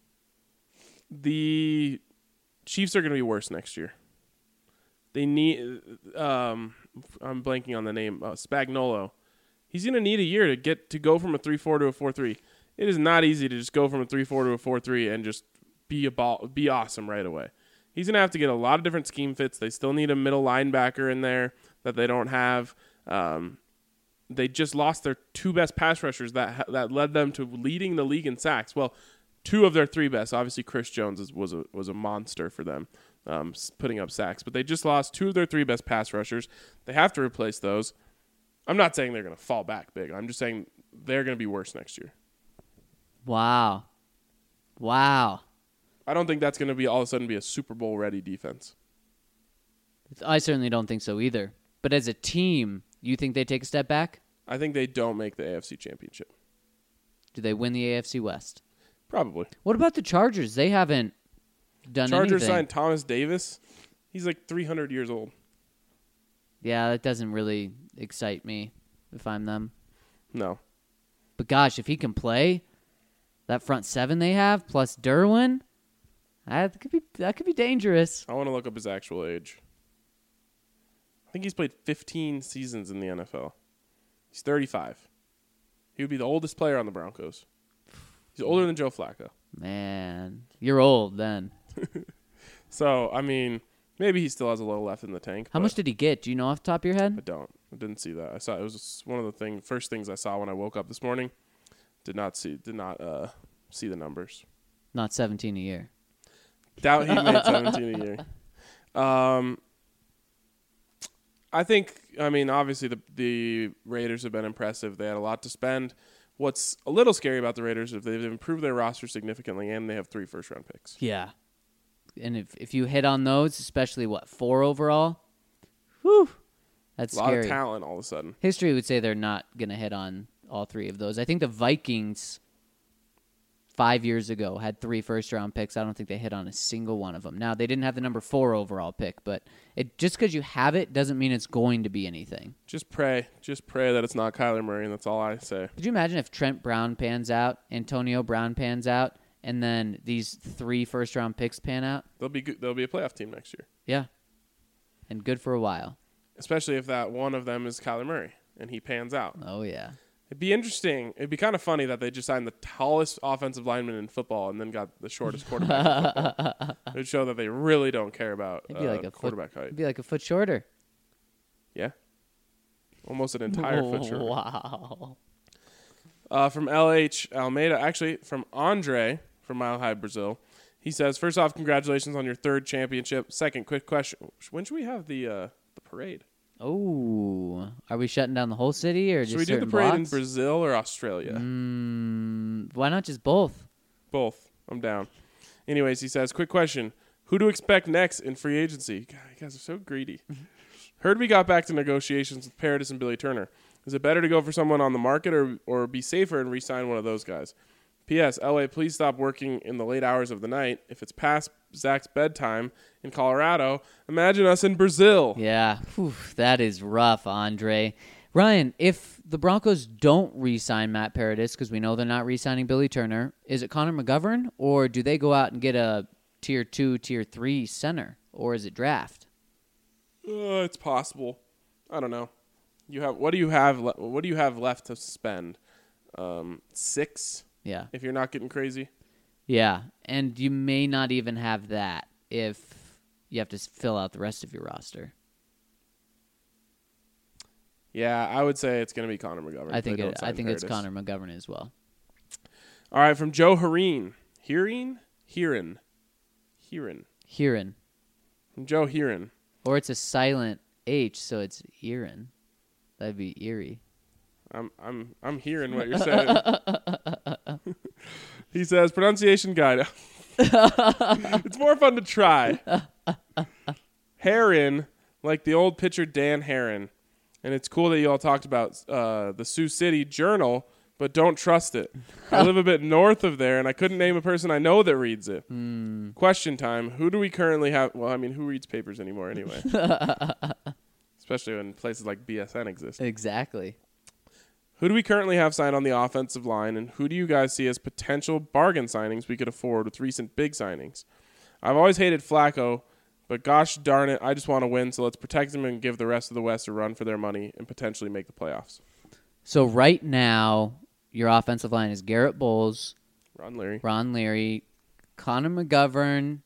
the Chiefs are going to be worse next year. They need, um, I'm blanking on the name, uh, Spagnuolo. He's going to need a year to get to go from a three four to a four three. It is not easy to just go from a three four to a four three and just be a ball, be awesome right away. He's going to have to get a lot of different scheme fits. They still need a middle linebacker in there that they don't have. Um, they just lost their two best pass rushers that that led them to leading the league in sacks. Well, two of their three best. Obviously, Chris Jones is, was a was a monster for them. Um, putting up sacks, but they just lost two of their three best pass rushers. They have to replace those. I'm not saying they're going to fall back big. I'm just saying they're going to be worse next year. Wow. Wow. I don't think that's going to be all of a sudden be a Super Bowl ready defense. I certainly don't think so either. But as a team, you think they take a step back? I think they don't make the A F C Championship. Do they win the A F C West? Probably. What about the Chargers? They haven't done Chargers anything. signed Thomas Davis. He's like three hundred years old. Yeah, that doesn't really excite me if I'm them. No. But gosh, if he can play, that front seven they have plus Derwin, that could be that could be dangerous. I want to look up his actual age. I think he's played fifteen seasons in the N F L. He's thirty-five. He would be the oldest player on the Broncos. He's older than Joe Flacco. Man, you're old then. So, I mean, maybe he still has a little left in the tank. How much did he get? Do you know off the top of your I head? don't. I didn't see that. I saw it was one of the thing first things I saw when I woke up this morning. Did not see did not uh, see the numbers. Not seventeen a year. Doubt he made seventeen a year. Um, I think. I mean, obviously the the Raiders have been impressive. They had a lot to spend. What's a little scary about the Raiders is they've improved their roster significantly, and they have three first round picks. Yeah. And if if you hit on those, especially what, four overall, whew, that's A lot scary. of talent all of a sudden. History would say they're not going to hit on all three of those. I think the Vikings five years ago had three first-round picks. I don't think they hit on a single one of them. Now, they didn't have the number four overall pick, but it just because you have it doesn't mean it's going to be anything. Just pray. Just pray that it's not Kyler Murray, and that's all I say. Could you imagine if Trent Brown pans out, Antonio Brown pans out, and then these three first-round picks pan out? They'll be good. They'll be a playoff team next year, Yeah. And good for a while. especially if that one of them is Kyler Murray and he pans out. Oh, yeah. It'd be interesting. It'd be kind of funny that they just signed the tallest offensive lineman in football and then got the shortest quarterback in football. It would show that they really don't care about It'd be uh, like a quarterback foot, height. It'd be like a foot shorter. Yeah. almost an entire foot shorter. Wow. Uh, from L H Almeida, actually from Andre from Mile High Brazil. He says, first off, congratulations on your third championship. Second, quick question: when should we have the uh, the parade? Oh, are we shutting down the whole city or Should just we do the certain parade blocks? in Brazil or Australia? Mm, why not just both? Both. I'm down. Anyways, he says, quick question: who to expect next in free agency? God, you guys are so greedy. Heard we got back to negotiations with Paradis and Billy Turner. Is it better to go for someone on the market or or be safer and re-sign one of those guys? P S. L A, please stop working in the late hours of the night. If it's past Zach's bedtime in Colorado, imagine us in Brazil. Yeah, Whew, that is rough, Andre. Ryan, if the Broncos don't re-sign Matt Paradis, because we know they're not re-signing Billy Turner, is it Connor McGovern, or do they go out and get a tier two, tier three center, or is it draft? Uh, it's possible. I don't know. You have what do you have? Le- what do you have left to spend? Um, six. Yeah. If you're not getting crazy. Yeah, and you may not even have that if you have to s- fill out the rest of your roster. Yeah, I would say it's going to be Connor McGovern. I if think they don't it, sign I think it's Paradis. Connor McGovern as well. All right, from Joe Hereen. Hearing? Hearin. Hearin. Hearin. From Joe Hearin. Or it's a silent H, so it's Erin. That'd be eerie. I'm I'm I'm hearing what you're saying. He says pronunciation guide. It's more fun to try. Heron, like the old pitcher Dan Heron, and it's cool that you all talked about uh, the Sioux City Journal, but don't trust it. I live a bit north of there, and I couldn't name a person I know that reads it. Mm. Question time: who do we currently have? Well, I mean, who reads papers anymore anyway? Especially when places like B S N exist. Exactly. Who do we currently have signed on the offensive line, and who do you guys see as potential bargain signings we could afford with recent big signings? I've always hated Flacco, but gosh darn it, I just want to win, so let's protect him and give the rest of the West a run for their money and potentially make the playoffs. So right now, your offensive line is Garrett Bowles, Ron Leary. Ron Leary, Connor McGovern.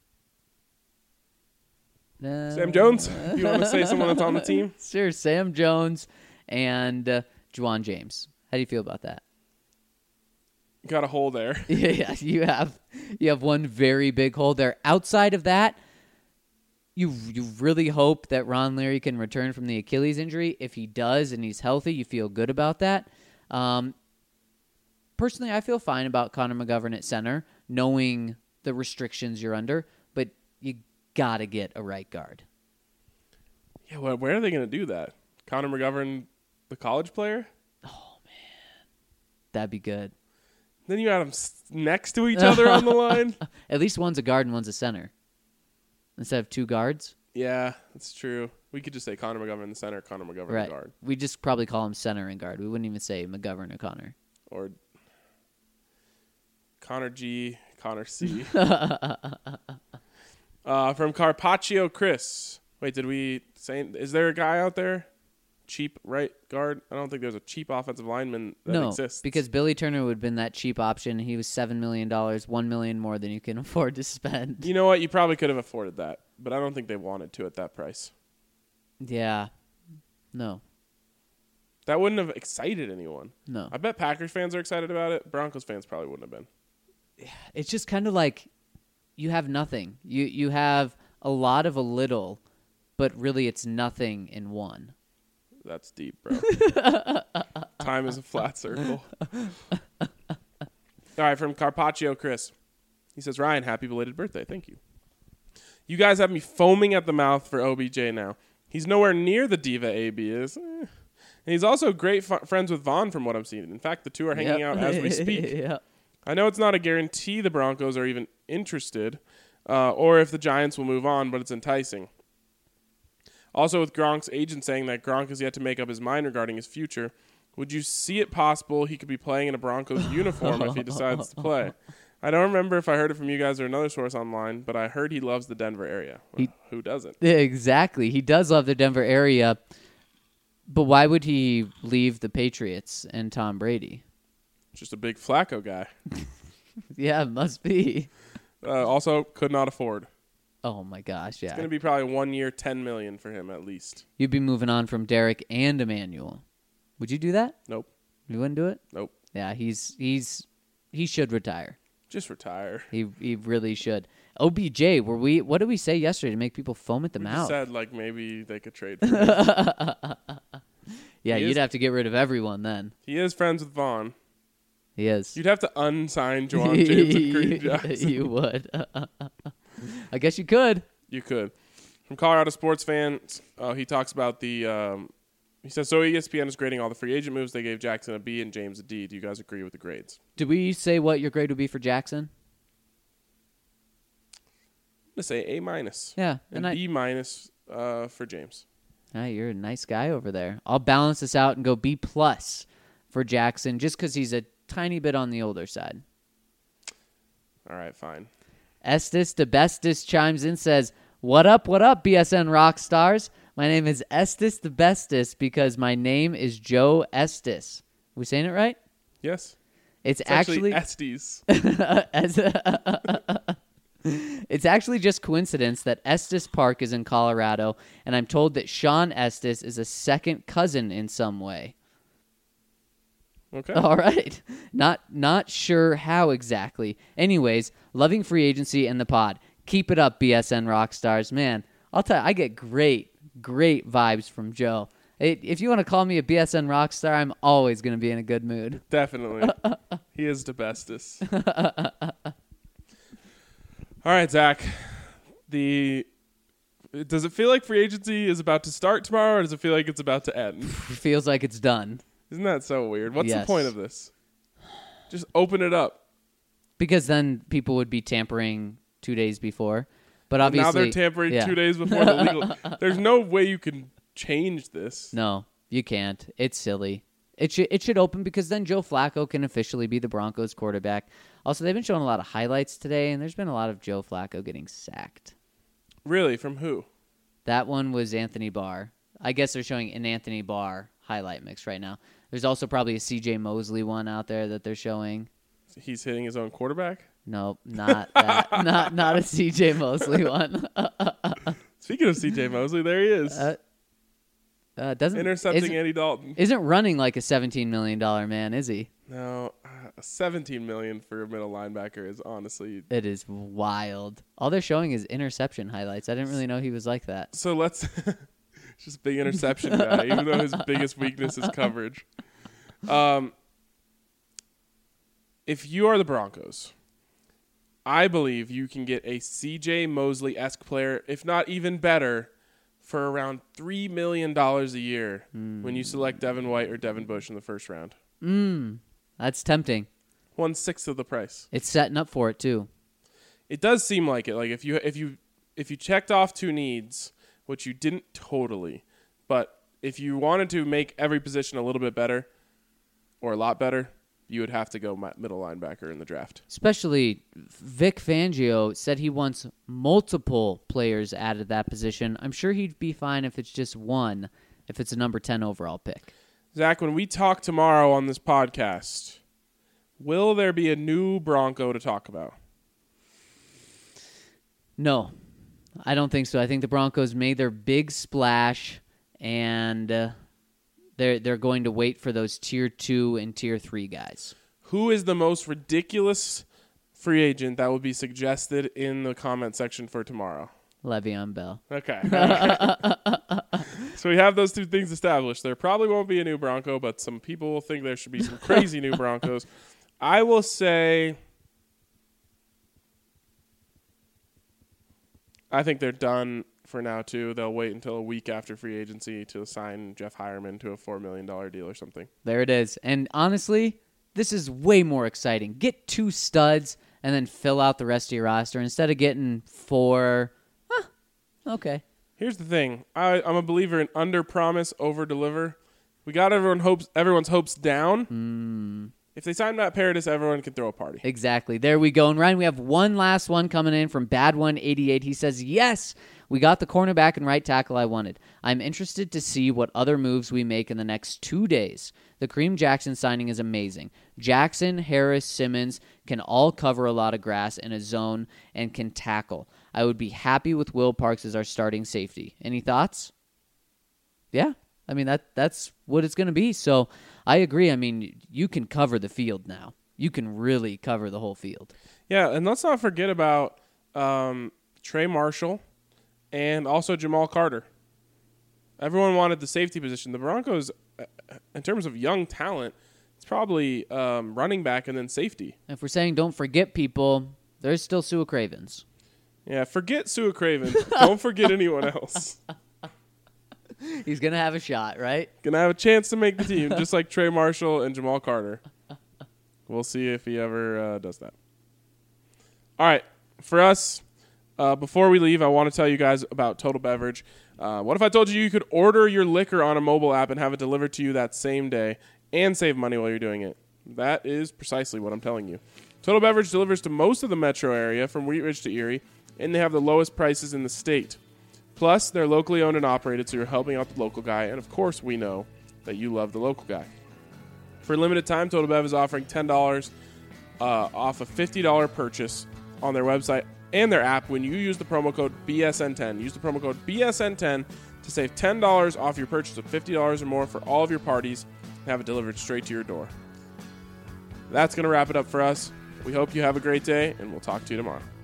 Uh, Sam Jones? You want to say someone that's on the team? Sure, Sam Jones and uh, Juwan James. How do you feel about that? Got a hole there. Yeah, you have you have one very big hole there. Outside of that, you you really hope that Ron Leary can return from the Achilles injury. If he does and he's healthy, you feel good about that. Um, personally, I feel fine about Connor McGovern at center, knowing the restrictions you're under, but you got to get a right guard. Yeah, well, where are they going to do that? Connor McGovern, the college player? That'd be good. Then you have them s- next to each other on the line? At least one's a guard and one's a center. Instead of two guards. Yeah, that's true. We could just say Connor McGovern in the center, Connor McGovern Right. the guard. We just probably call him center and guard. We wouldn't even say McGovern or Connor. Or Connor G, Connor C. uh, from Carpaccio Chris. Wait, did we say, is there a guy out there? Cheap right guard? I don't think there's a cheap offensive lineman that no, exists. because Billy Turner would have been that cheap option. He was seven million dollars, one million dollars more than you can afford to spend. You know what? You probably could have afforded that, but I don't think they wanted to at that price. Yeah. No. That wouldn't have excited anyone. No. I bet Packers fans are excited about it. Broncos fans probably wouldn't have been. It's just kind of like you have nothing. You you have a lot of a little, but really it's nothing in one. That's deep, bro. Time is a flat circle. All right, from Carpaccio Chris. He says, Ryan, happy belated birthday. Thank you. You guys have me foaming at the mouth for O B J now. He's nowhere near the diva A B is. Eh. And he's also great f- friends with Vaughn from what I'm seeing. In fact, the two are hanging Yep. out as we speak. Yep. I know it's not a guarantee the Broncos are even interested uh, or if the Giants will move on, but it's enticing. Also, with Gronk's agent saying that Gronk has yet to make up his mind regarding his future, would you see it possible he could be playing in a Broncos uniform if he decides to play? I don't remember if I heard it from you guys or another source online, but I heard he loves the Denver area. Well, He- who doesn't? Exactly. He does love the Denver area, but why would he leave the Patriots and Tom Brady? Just a big Flacco guy. Yeah, it must be. Uh, also, could not afford. Oh my gosh, It's yeah. going to be probably one year, ten million dollars for him at least. You'd be moving on from Derek and Emmanuel. Would you do that? Nope. You wouldn't do it? Nope. Yeah, he's he's he should retire. Just retire. He he really should. O B J, were we? What did we say yesterday to make people foam at the We mouth? just said like maybe they could trade for him. yeah, He you'd is- have to get rid of everyone then. He is friends with Vaughn. He is. You'd have to unsign Juwan James and Kareem Jackson. You would. I guess you could. You could. From Colorado Sports Fans, uh, he talks about the. Um, he says, so E S P N is grading all the free agent moves. They gave Jackson a B and James a D. Do you guys agree with the grades? Did we say what your grade would be for Jackson? I'm going to say A minus. Yeah, And, and I- B minus uh, for James. Ah, you're a nice guy over there. I'll balance this out and go B plus for Jackson just because he's a tiny bit on the older side. All right, fine. Estes the Bestis chimes in, says, what up, what up, B S N rock stars? My name is Estes the Bestis because my name is Joe Estes. We saying it right? Yes. It's, It's actually, actually Estes. as it's actually just coincidence that Estes Park is in Colorado, and I'm told that Sean Estes is a second cousin in some way. Okay. All right. Not not sure how exactly. Anyways, loving free agency and the pod. Keep it up, B S N rock stars. Man, I'll tell you, I get great, great vibes from Joe. It, if you want to call me a B S N rock star, I'm always going to be in a good mood. Definitely. He is the bestest. All right, Zach. The does it feel like free agency is about to start tomorrow, or does it feel like it's about to end? Feels like it's done. Isn't that so weird? What's Yes. the point of this? Just open it up. Because then people would be tampering two days before. But Now obviously, they're tampering yeah. two days before the legal. There's no way you can change this. No, you can't. It's silly. It should it should open because then Joe Flacco can officially be the Broncos quarterback. Also, they've been showing a lot of highlights today, and there's been a lot of Joe Flacco getting sacked. Really? From who? That one was Anthony Barr. I guess they're showing an Anthony Barr highlight mix right now. There's also probably a C J Mosley one out there that they're showing. He's hitting his own quarterback? Nope, not that. not not a C J Mosley one. Speaking of C J Mosley, there he is. Uh, uh, doesn't Intercepting isn't, Andy Dalton. isn't running like a seventeen million dollars man, is he? No, uh, seventeen million dollars for a middle linebacker is honestly. It is wild. All they're showing is interception highlights. I didn't really know he was like that. So let's. Just big interception guy, even though his biggest weakness is coverage. Um, if you are the Broncos, I believe you can get a C J Mosley-esque player, if not even better, for around three million dollars a year mm. when you select Devin White or Devin Bush in the first round. Mm, that's tempting. One-sixth of the price. It's setting up for it, too. It does seem like it. Like if you if you if you checked off two needs, which you didn't totally, but if you wanted to make every position a little bit better or a lot better, you would have to go middle linebacker in the draft. Especially Vic Fangio said he wants multiple players added at that position. I'm sure he'd be fine if it's just one, if it's a number ten overall pick. Zach, when we talk tomorrow on this podcast, will there be a new Bronco to talk about? No, I don't think so. I think the Broncos made their big splash, and uh, they're they're going to wait for those tier two and tier three guys. Who is the most ridiculous free agent that would be suggested in the comment section for tomorrow? Le'Veon Bell. Okay. So we have those two things established. There probably won't be a new Bronco, but some people will think there should be some crazy new Broncos. I will say I think they're done for now, too. They'll wait until a week after free agency to sign Jeff Hireman to a four million dollars deal or something. There it is. And honestly, this is way more exciting. Get two studs and then fill out the rest of your roster instead of getting four. Huh, okay. Here's the thing. I, I'm a believer in under-promise, over-deliver. We got everyone hopes, everyone's hopes down. Mm. If they sign Matt Paradis, everyone can throw a party. Exactly. There we go. And Ryan, we have one last one coming in from Bad One eighty-eight. He says, yes, we got the cornerback and right tackle I wanted. I'm interested to see what other moves we make in the next two days. The Kareem Jackson signing is amazing. Jackson, Harris, Simmons can all cover a lot of grass in a zone and can tackle. I would be happy with Will Parks as our starting safety. Any thoughts? Yeah, I mean, that that's what it's going to be. So I agree. I mean, you can cover the field now. You can really cover the whole field. Yeah, and let's not forget about um, Trey Marshall and also Jamal Carter. Everyone wanted the safety position. The Broncos, uh, in terms of young talent, it's probably um, running back and then safety. If we're saying don't forget people, there's still Sua Cravens. Yeah, forget Sua Craven. Don't forget anyone else. He's going to have a shot, right? Going to have a chance to make the team, just like Trey Marshall and Jamal Carter. We'll see if he ever uh, does that. All right, for us, uh, before we leave, I want to tell you guys about Total Beverage. Uh, what if I told you you could order your liquor on a mobile app and have it delivered to you that same day and save money while you're doing it? That is precisely what I'm telling you. Total Beverage delivers to most of the metro area from Wheat Ridge to Erie, and they have the lowest prices in the state. Plus, they're locally owned and operated, so you're helping out the local guy, and of course we know that you love the local guy. For a limited time, Total Bev is offering ten dollars uh, off a fifty dollars purchase on their website and their app when you use the promo code B S N ten. Use the promo code B S N ten to save ten dollars off your purchase of fifty dollars or more for all of your parties and have it delivered straight to your door. That's going to wrap it up for us. We hope you have a great day, and we'll talk to you tomorrow.